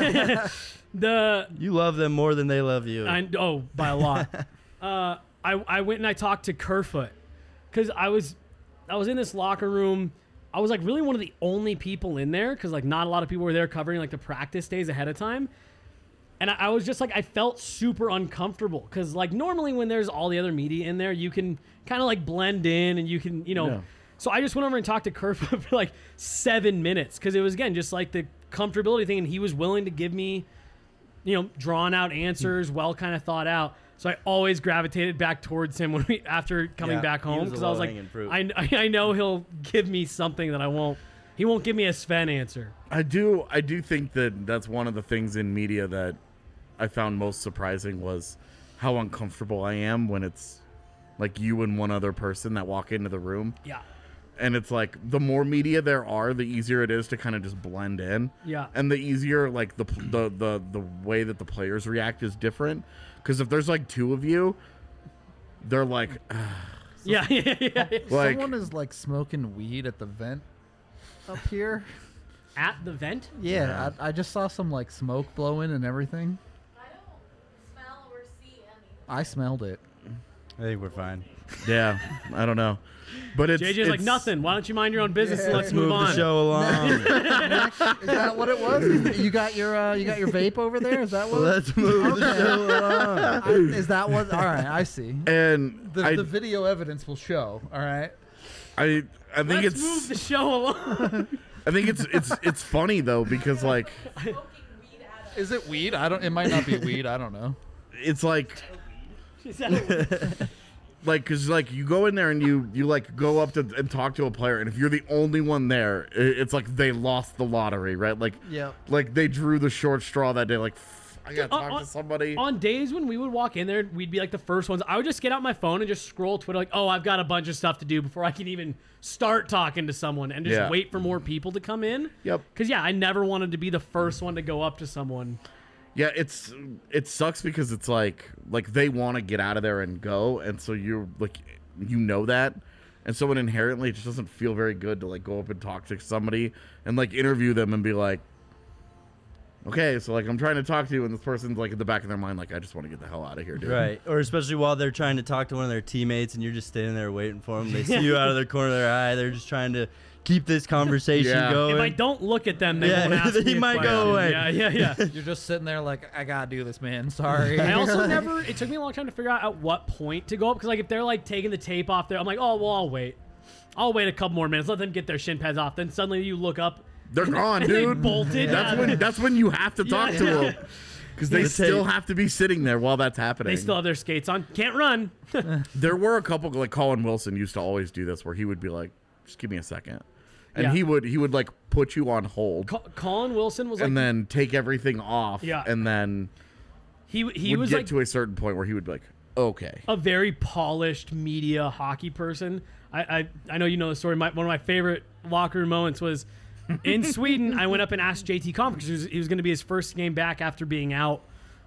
You love them more than they love you. By a lot. I went and I talked to Kerfoot because I was in this locker room. I was like really one of the only people in there because like not a lot of people were there covering like the practice days ahead of time. And I was just like, I felt super uncomfortable because like normally when there's all the other media in there, you can kind of like blend in and you can, So I just went over and talked to Kerfoot for like 7 minutes because it was, again, just like the comfortability thing. And he was willing to give me, drawn out answers, well kind of thought out. So I always gravitated back towards him after coming back home because I was like, I know he'll give me something that he won't give me a Sven answer. I do think that that's one of the things in media that I found most surprising was how uncomfortable I am when it's like you and one other person that walk into the room. Yeah. And it's like the more media there are, the easier it is to kind of just blend in. Yeah. And the easier like the way that the players react is different. Because if there's like 2 of you, they're like, yeah. Like, someone is like smoking weed at the vent up here. At the vent? Yeah. I just saw some like smoke blowing and everything. I don't smell or see anything. I smelled it. I think we're fine. Yeah, I don't know. But JJ's like, nothing. Why don't you mind your own business and let's move Move on. the show along. Is that what it was? You got your vape over there? Is that what? Let's move the show along. Is that what? All right, I see. And The video evidence will show. All right. I think Let's move the show along. I think it's funny though because like Is it weed? I don't. It might not be weed. I don't know. it's like because like you go in there and you like go up to and talk to a player, and if you're the only one there, it's like they lost the lottery, right? Like Yep. like they drew the short straw that day. Like I gotta talk to somebody. On days when we would walk in there, we'd be like the first ones. I would just get out my phone and just scroll Twitter like, oh, I've got a bunch of stuff to do before I can even start talking to someone and just Yeah. wait for more people to come in. Yep. Because, yeah, I never wanted to be the first one to go up to someone. Yeah, it sucks because it's like they want to get out of there and go, and so you're like that, and so it inherently just doesn't feel very good to like go up and talk to somebody and like interview them and be like, okay, so like I'm trying to talk to you, and this person's like in the back of their mind like, I just want to get the hell out of here, dude. Right. Or especially while they're trying to talk to one of their teammates and you're just standing there waiting for them. They see you out of the corner of their eye. They're just trying to keep this conversation Yeah. going. If I don't look at them, they Yeah, won't ask he me a might go question. away. Yeah. You're just sitting there like, I gotta do this, man. Sorry. I also never, it took me a long time to figure out at what point to go up. Because, like, if they're, like, taking the tape off there, I'm like, oh, well, I'll wait. I'll wait a couple more minutes. Let them get their shin pads off. Then suddenly you look up. They're gone, and they dude. bolted. That's when you have to talk to them because they The still tape. have to be sitting there while that's happening. They still have their skates on. Can't run. There were a couple like Colin Wilson used to always do this where he would be like, just give me a second. And Yeah. he would like put you on hold Colin Wilson was like, and then take everything off. Yeah. And then he would was get like to a certain point where he would be like, okay. a very polished media hockey person. I know you know the story. One of my favorite locker room moments was in Sweden. I went up and asked JT Compher because he was going to be his first game back after being out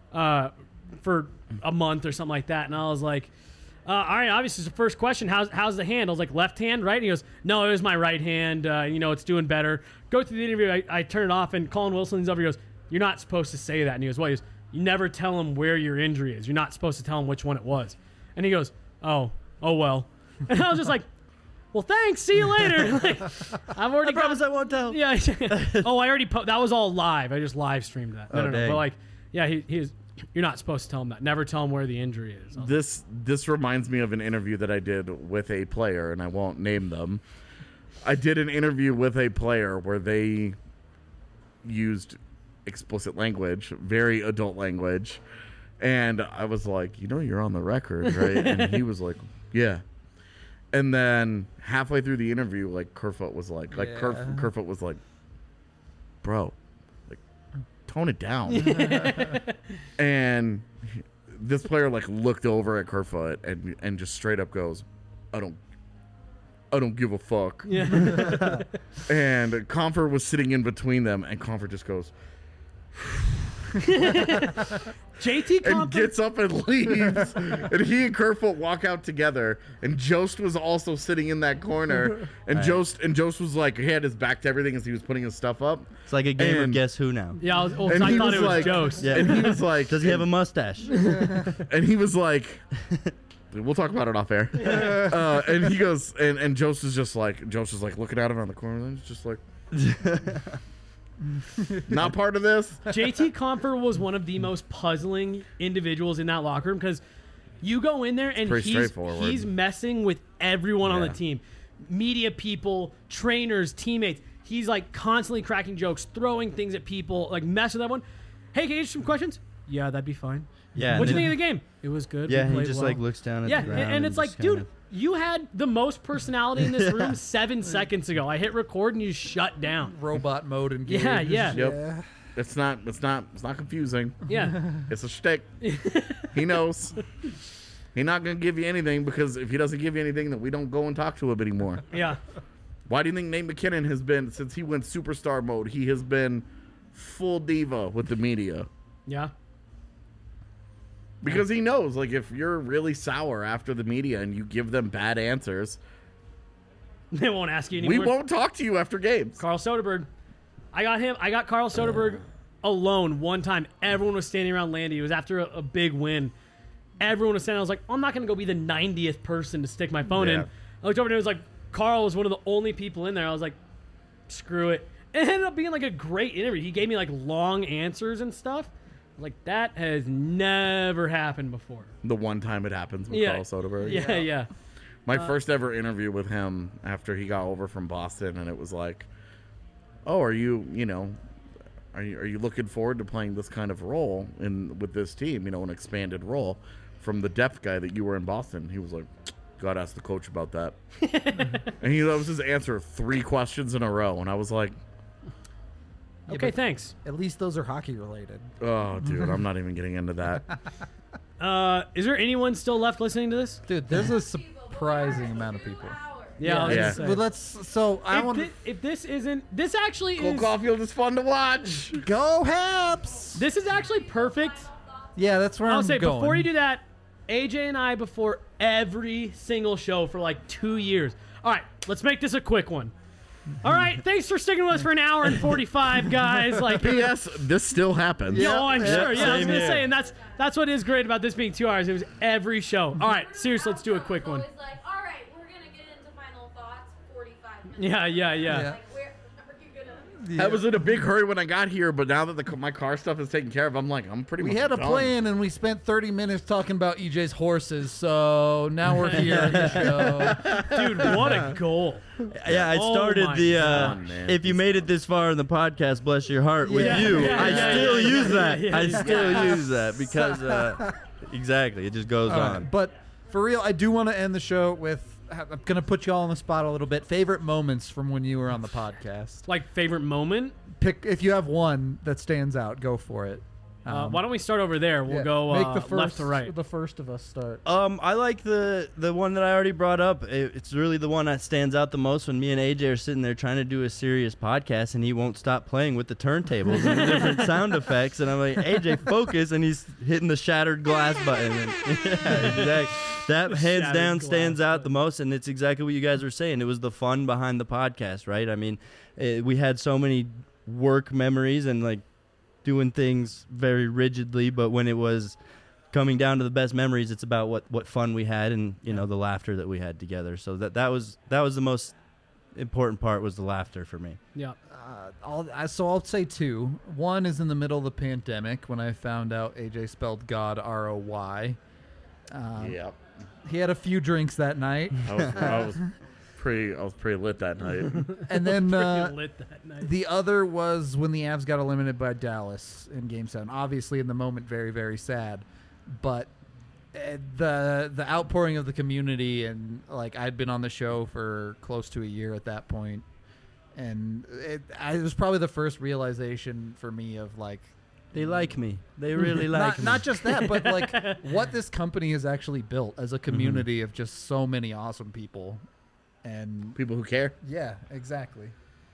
for a month or something like that. And I was like, all right, obviously, it's the first question. How's the hand? I was like, left hand, right? And he goes, no, it was my right hand. It's doing better. Go through the interview. I turn it off, and Colin Wilson's over. He goes, you're not supposed to say that. And he goes, what? He goes, you never tell him where your injury is. You're not supposed to tell him which one it was. And he goes, oh well. And I was just like, well, thanks. See you later. Like, I've already I promise I won't tell. Yeah. Oh, I already that was all live. I just live streamed that. No. dang. But like, yeah, he is. You're not supposed to tell him that. Never tell him where the injury is. This reminds me of an interview that I did with a player, and I won't name them. I did an interview with a player where they used explicit language, very adult language, and I was like, you're on the record, right? And he was like, yeah. And then halfway through the interview, like Kerfoot was like Kerfoot was like, bro, like tone it down. And this player like looked over at Kerfoot and just straight up goes, I don't give a fuck. Yeah. And Compher was sitting in between them, and Compher just goes JT and Compher. gets up and leaves. And he and Kerfoot walk out together. And Jost was also sitting in that corner. And Right. Jost was like, he had his back to everything as he was putting his stuff up. It's like a game of And- Guess Who now. Yeah, I And thought he it was was like- Jost. Yeah. And he was like, Does he have a mustache? And he was like, we'll talk about it off air. And he goes, and Jost is like looking at him on the corner, and he's just like, not part of this. JT Compher was one of the most puzzling individuals in that locker room because you go in there and pretty straightforward. he's messing with everyone on the Yeah. team. Media people, trainers, teammates. He's like constantly cracking jokes, throwing things at people, like messing with everyone. Hey, can you answer some questions? Yeah, that'd be fine. Yeah. What'd you and think of the game? It was good. Yeah, We he played just well. like looks down at Yeah, the ground. and it's like, just dude, kinda- you had the most personality in this room 7 seconds ago. I hit record and you shut down. Robot mode engaged. Yeah. Yep. It's not confusing. Yeah. It's a shtick. He knows. He's not gonna give you anything because if he doesn't give you anything, then we don't go and talk to him anymore. Yeah. Why do you think Nate McKinnon has been, since he went superstar mode, he has been full diva with the media? Yeah. Because he knows, like, if you're really sour after the media and you give them bad answers, They won't ask you anymore. we won't talk to you after games. Carl Soderberg. I got Carl Soderberg alone one time. Everyone was standing around Landy. It was after a big win. everyone was standing. I was like, I'm not going to go be the 90th person to stick my phone in. Yeah. I looked over and it was like, Carl was one of the only people in there. I was like, screw it. It ended up being like a great interview. He gave me like long answers and stuff. Like, that has never happened before. The one time it happens with Carl Soderberg. Yeah. My first ever interview with him after he got over from Boston, and it was like, oh, are you looking forward to playing this kind of role with this team, an expanded role from the depth guy that you were in Boston? He was like, God, ask the coach about that. And that was his answer 3 questions in a row, and I was like, Okay, thanks. At least those are hockey related. oh, dude, I'm not even getting into that. Is there anyone still left listening to this? Dude, there's a surprising amount of people. Yeah, I was Yeah. gonna say. But let's. So I want to If this isn't, this actually Cole is. Caulfield is fun to watch. go Haps. This is actually perfect. Yeah, that's where I'll I'm say going. before you do that, AJ and I before every single show for like 2 years. All right, let's make this a quick one. All right, thanks for sticking with us for an hour and 45, guys. Like, P.S. This still happens. no, I'm sure. Yeah, I was same gonna here. say, and that's what is great about this being 2 hours. It was every show. All right, seriously, let's do a quick one. Always like, all right, we're gonna get into final thoughts. 45 minutes. Yeah. Yeah. Like, where are you gonna? Yeah. I was in a big hurry when I got here, but now that my car stuff is taken care of, I'm like, I'm pretty much We had a done. plan and we spent 30 minutes talking about EJ's horses, so now we're here at the show. Dude, what a goal. Yeah, I Oh started my the. God, man. If you made it this far in the podcast, bless your heart. With Yeah. you, Yeah, I yeah, still yeah, use yeah, that. yeah, I yeah. still use that because exactly, it just goes All right, on. but for real, I do want to end the show with. I'm going to put you all on the spot a little bit. Favorite moments from when you were on the podcast. Like, favorite moment? Pick if you have one that stands out. Go for it. Why don't we start over there? We'll Yeah, go make the first, left to right. The first of us start. I like the one that I already brought up. It's really the one that stands out the most when me and AJ are sitting there trying to do a serious podcast, and he won't stop playing with the turntables and the different sound effects. And I'm like, AJ, focus, and he's hitting the shattered glass button. And, yeah, exactly. That The hands shattered down glass stands out the button. most, and it's exactly what you guys were saying. It was the fun behind the podcast, right? I mean, we had so many work memories and like doing things very rigidly, but when it was coming down to the best memories, it's about what fun we had and the laughter that we had together. So that was the most important part, was the laughter for me. Yeah. I'll say 2. One is in the middle of the pandemic when I found out AJ spelled God ROY. Yep. He had a few drinks that night, I was pretty lit that night. and then Freaking lit that night. the other was when the Avs got eliminated by Dallas in Game 7. Obviously, in the moment, very, very sad. But the outpouring of the community, and like I'd been on the show for close to a year at that point, and it was probably the first realization for me of like They like me. They really like me. not just that, but like what this company has actually built as a community of just so many awesome people, and People who care. yeah, exactly.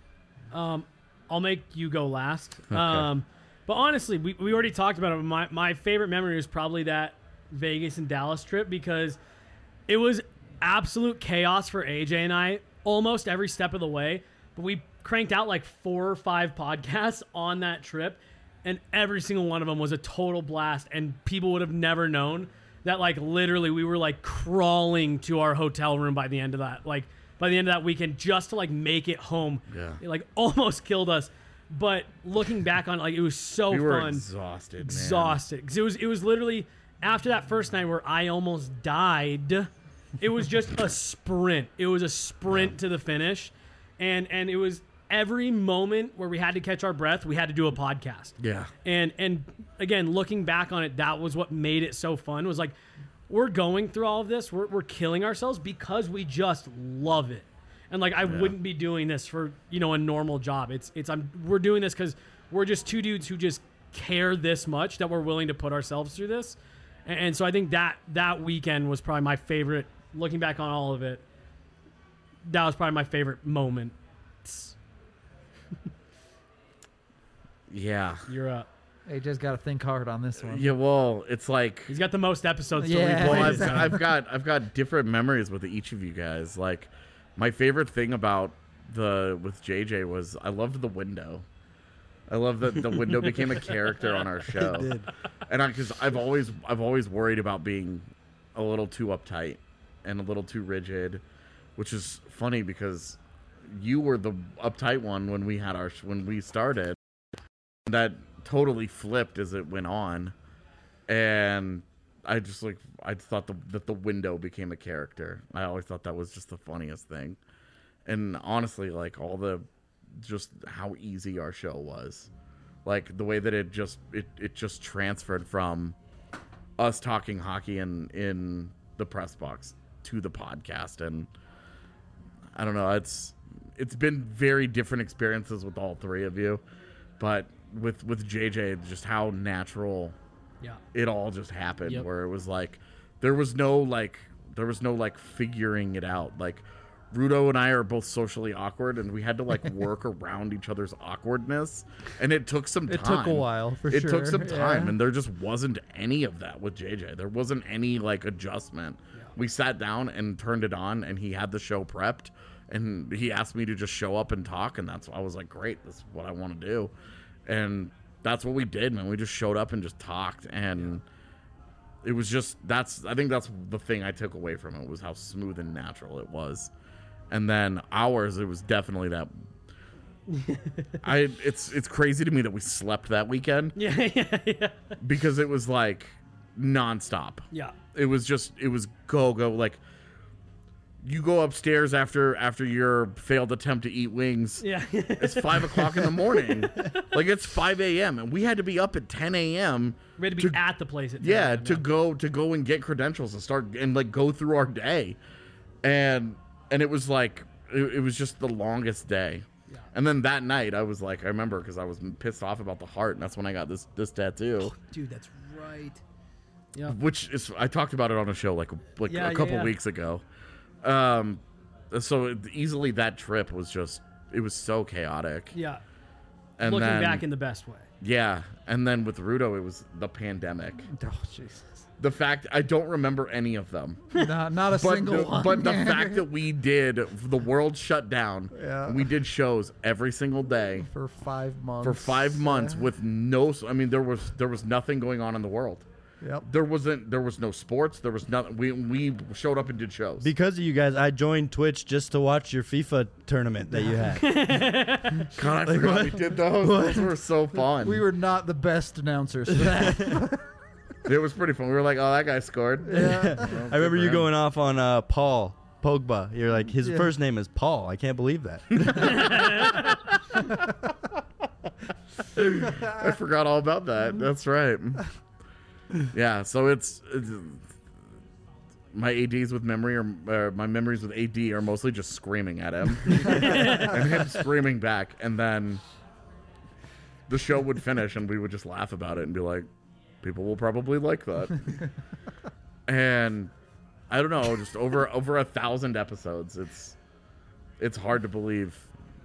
I'll make you go last. But honestly, we already talked about it. My favorite memory was probably that Vegas and Dallas trip, because it was absolute chaos for AJ and I almost every step of the way. But we cranked out like 4 or 5 podcasts on that trip, and every single one of them was a total blast. And people would have never known that, like, literally we were like crawling to our hotel room by the end of that. Like, by the end of that weekend, just to like make it home. Yeah. It like almost killed us. But looking back on it, like, it was so We were fun. exhausted. Exhausted. 'Cause it was literally after that first night where I almost died. It was just a sprint. It was a sprint to the finish. And it was every moment where we had to catch our breath, we had to do a podcast. Yeah. And again, looking back on it, that was what made it so fun. Was like, we're going through all of this, we're killing ourselves because we just love it. And like, I wouldn't be doing this for a normal job. We're doing this because we're just 2 dudes who just care this much that we're willing to put ourselves through this. And so I think that weekend was probably my favorite. Looking back on all of it, that was probably my favorite moment. Yeah. You're up. AJ's got to think hard on this one. Yeah. Well, it's like, He's got the most episodes to Yeah. replay. well, so- I've got different memories with each of you guys. Like, my favorite thing about with JJ was I loved the window. I love that the window became a character on our show. And because I've always worried about being a little too uptight and a little too rigid, which is funny because you were the uptight one when we started. That totally flipped as it went on, and I thought that the window became a character. I always thought that was just the funniest thing, and honestly, like just how easy our show was, like the way that it just transferred from us talking hockey in the press box to the podcast, and I don't know, it's been very different experiences with all three of you, but with JJ, just how natural it all just happened, where it was like there was no figuring it out. Like Rudo and I are both socially awkward, and we had to like work around each other's awkwardness, and it took some time. It took a while, for sure. It took some time, and there just wasn't any of that with JJ. There wasn't any like adjustment. We sat down and turned it on, and he had the show prepped, and he asked me to just show up and talk, and I was like, great, that's what I want to do. And that's what we did, man. We just showed up and just talked, and it was just I think that's the thing I took away from it, was how smooth and natural it was. And then ours, it was definitely that. It's crazy to me that we slept that weekend. Yeah. Because it was like nonstop. Yeah. It was go like. You go upstairs after your failed attempt to eat wings. Yeah. It's 5 o'clock in the morning. Like it's 5 a.m. and we had to be up at 10 a.m. We had to be at the place at 10 yeah, a.m. to go and get credentials and start and like go through our day, and it was like it was just the longest day. Yeah. And then that night I remember because I was pissed off about the heart, and that's when I got this tattoo. Dude, that's right. Yeah. Which is I talked about it on a show like a couple weeks ago. So easily that trip was it was so chaotic. Yeah. And looking then, back in the best way. Yeah. And then with Rudo, it was the pandemic. Oh, Jesus. The fact I don't remember any of them. Not a single one. But the fact that we did, the world shut down. Yeah. And we did shows every single day for 5 months. For 5 months with no. I mean, there was nothing going on in the world. Yep. There was no sports. There was nothing. We showed up and did shows. Because of you guys, I joined Twitch just to watch your FIFA tournament that you had. God, I forgot we did those. Those were so fun. We were not the best announcers for that. It was pretty fun. We were like, oh, that guy scored. Yeah. Well, I remember you him. going off on Paul Pogba. You're like, his first name is Paul. I can't believe that. I forgot all about that. That's right. Yeah, so it's my ADs with memory or my memories with AD are mostly just screaming at him and him screaming back, and then the show would finish and we would just laugh about it and be like, people will probably like that. And I don't know, just over 1,000 episodes. It's hard to believe.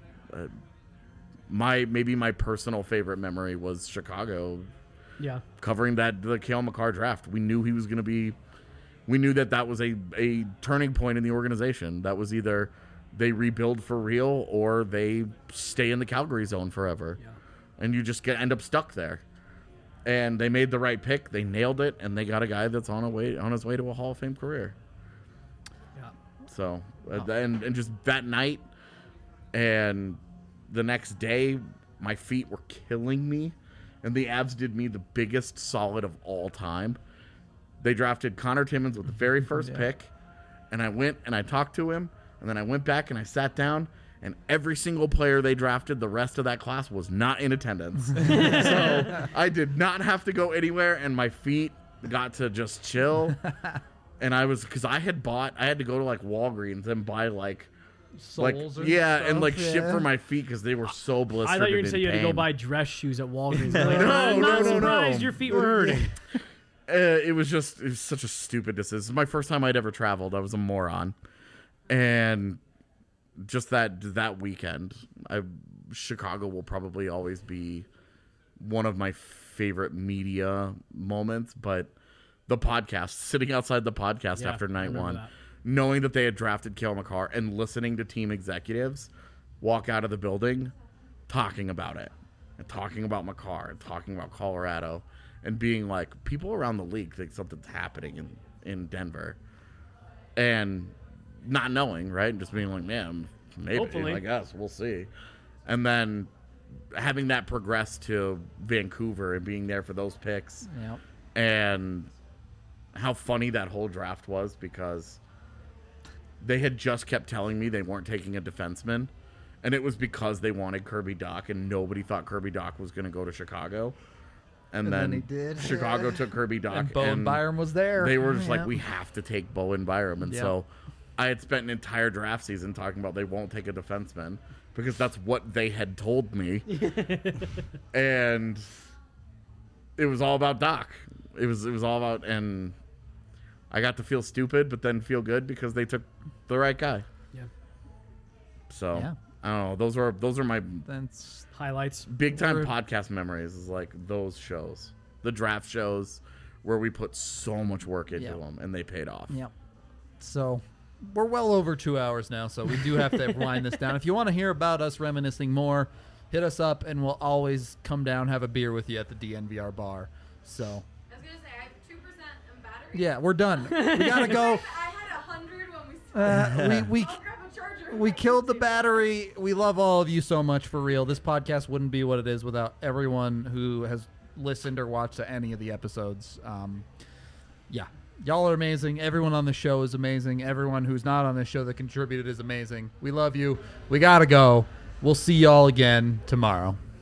Maybe my personal favorite memory was Chicago. Yeah. Covering the Cale Makar draft. We knew he was going to be. We knew that was a turning point in the organization. That was either they rebuild for real or they stay in the Calgary zone forever. Yeah. And you just end up stuck there. And they made the right pick. They nailed it, and they got a guy that's on his way to a Hall of Fame career. Yeah. So and just that night, and the next day, my feet were killing me. And the Avs did me the biggest solid of all time. They drafted Connor Timmins with the very first pick. And I went and I talked to him. And then I went back and I sat down. And every single player they drafted the rest of that class was not in attendance. So I did not have to go anywhere. And my feet got to just chill. And because I had to go to like Walgreens and buy like Soles or and like stuff, ship for my feet because they were so blistered. I thought you were going to say you had to go buy dress shoes at Walgreens. Like, I'm not surprised your feet were hurting. It was such a stupid decision. This is my first time I'd ever traveled. I was a moron. And just that weekend, Chicago will probably always be one of my favorite media moments. But the podcast, sitting outside the podcast after night one, knowing that they had drafted Cale Makar and listening to team executives walk out of the building talking about it. and talking about my car and talking about Colorado and being like, people around the league think something's happening in Denver. And not knowing, right? And just being like, man, maybe, Hopefully. I guess, we'll see. And then having that progress to Vancouver and being there for those picks. Yep. And how funny that whole draft was, because they had just kept telling me they weren't taking a defenseman, and it was because they wanted Kirby Dach, and nobody thought Kirby Dach was going to go to Chicago. And then he did. Chicago took Kirby Dach, And Bowen Byram was there. they were just Yeah. like, we have to take Bowen Byram. And Yep. so I had spent an entire draft season talking about they won't take a defenseman because that's what they had told me. And it was all about Dach. It was all about, and I got to feel stupid, but then feel good because they took the right guy. Yeah. So Yeah. I don't know. Those are my That's Highlights. big time We're- podcast memories. Is like those shows, the draft shows, where we put so much work into Yeah. them and they paid off. Yep. So we're well over 2 hours now, so we do have to wind this down. If you want to hear about us reminiscing more, hit us up, and we'll always come down, have a beer with you at the DNVR bar. So, I was gonna say I have 2% in battery. yeah, we're done. We gotta go. I had 100 when we started. We I'll grab a charger. we killed the battery. We love all of you so much, for real. This podcast wouldn't be what it is without everyone who has listened or watched to any of the episodes. Yeah, y'all are amazing. Everyone on the show is amazing. Everyone who's not on this show that contributed is amazing. We love you. We gotta go. We'll see y'all again tomorrow.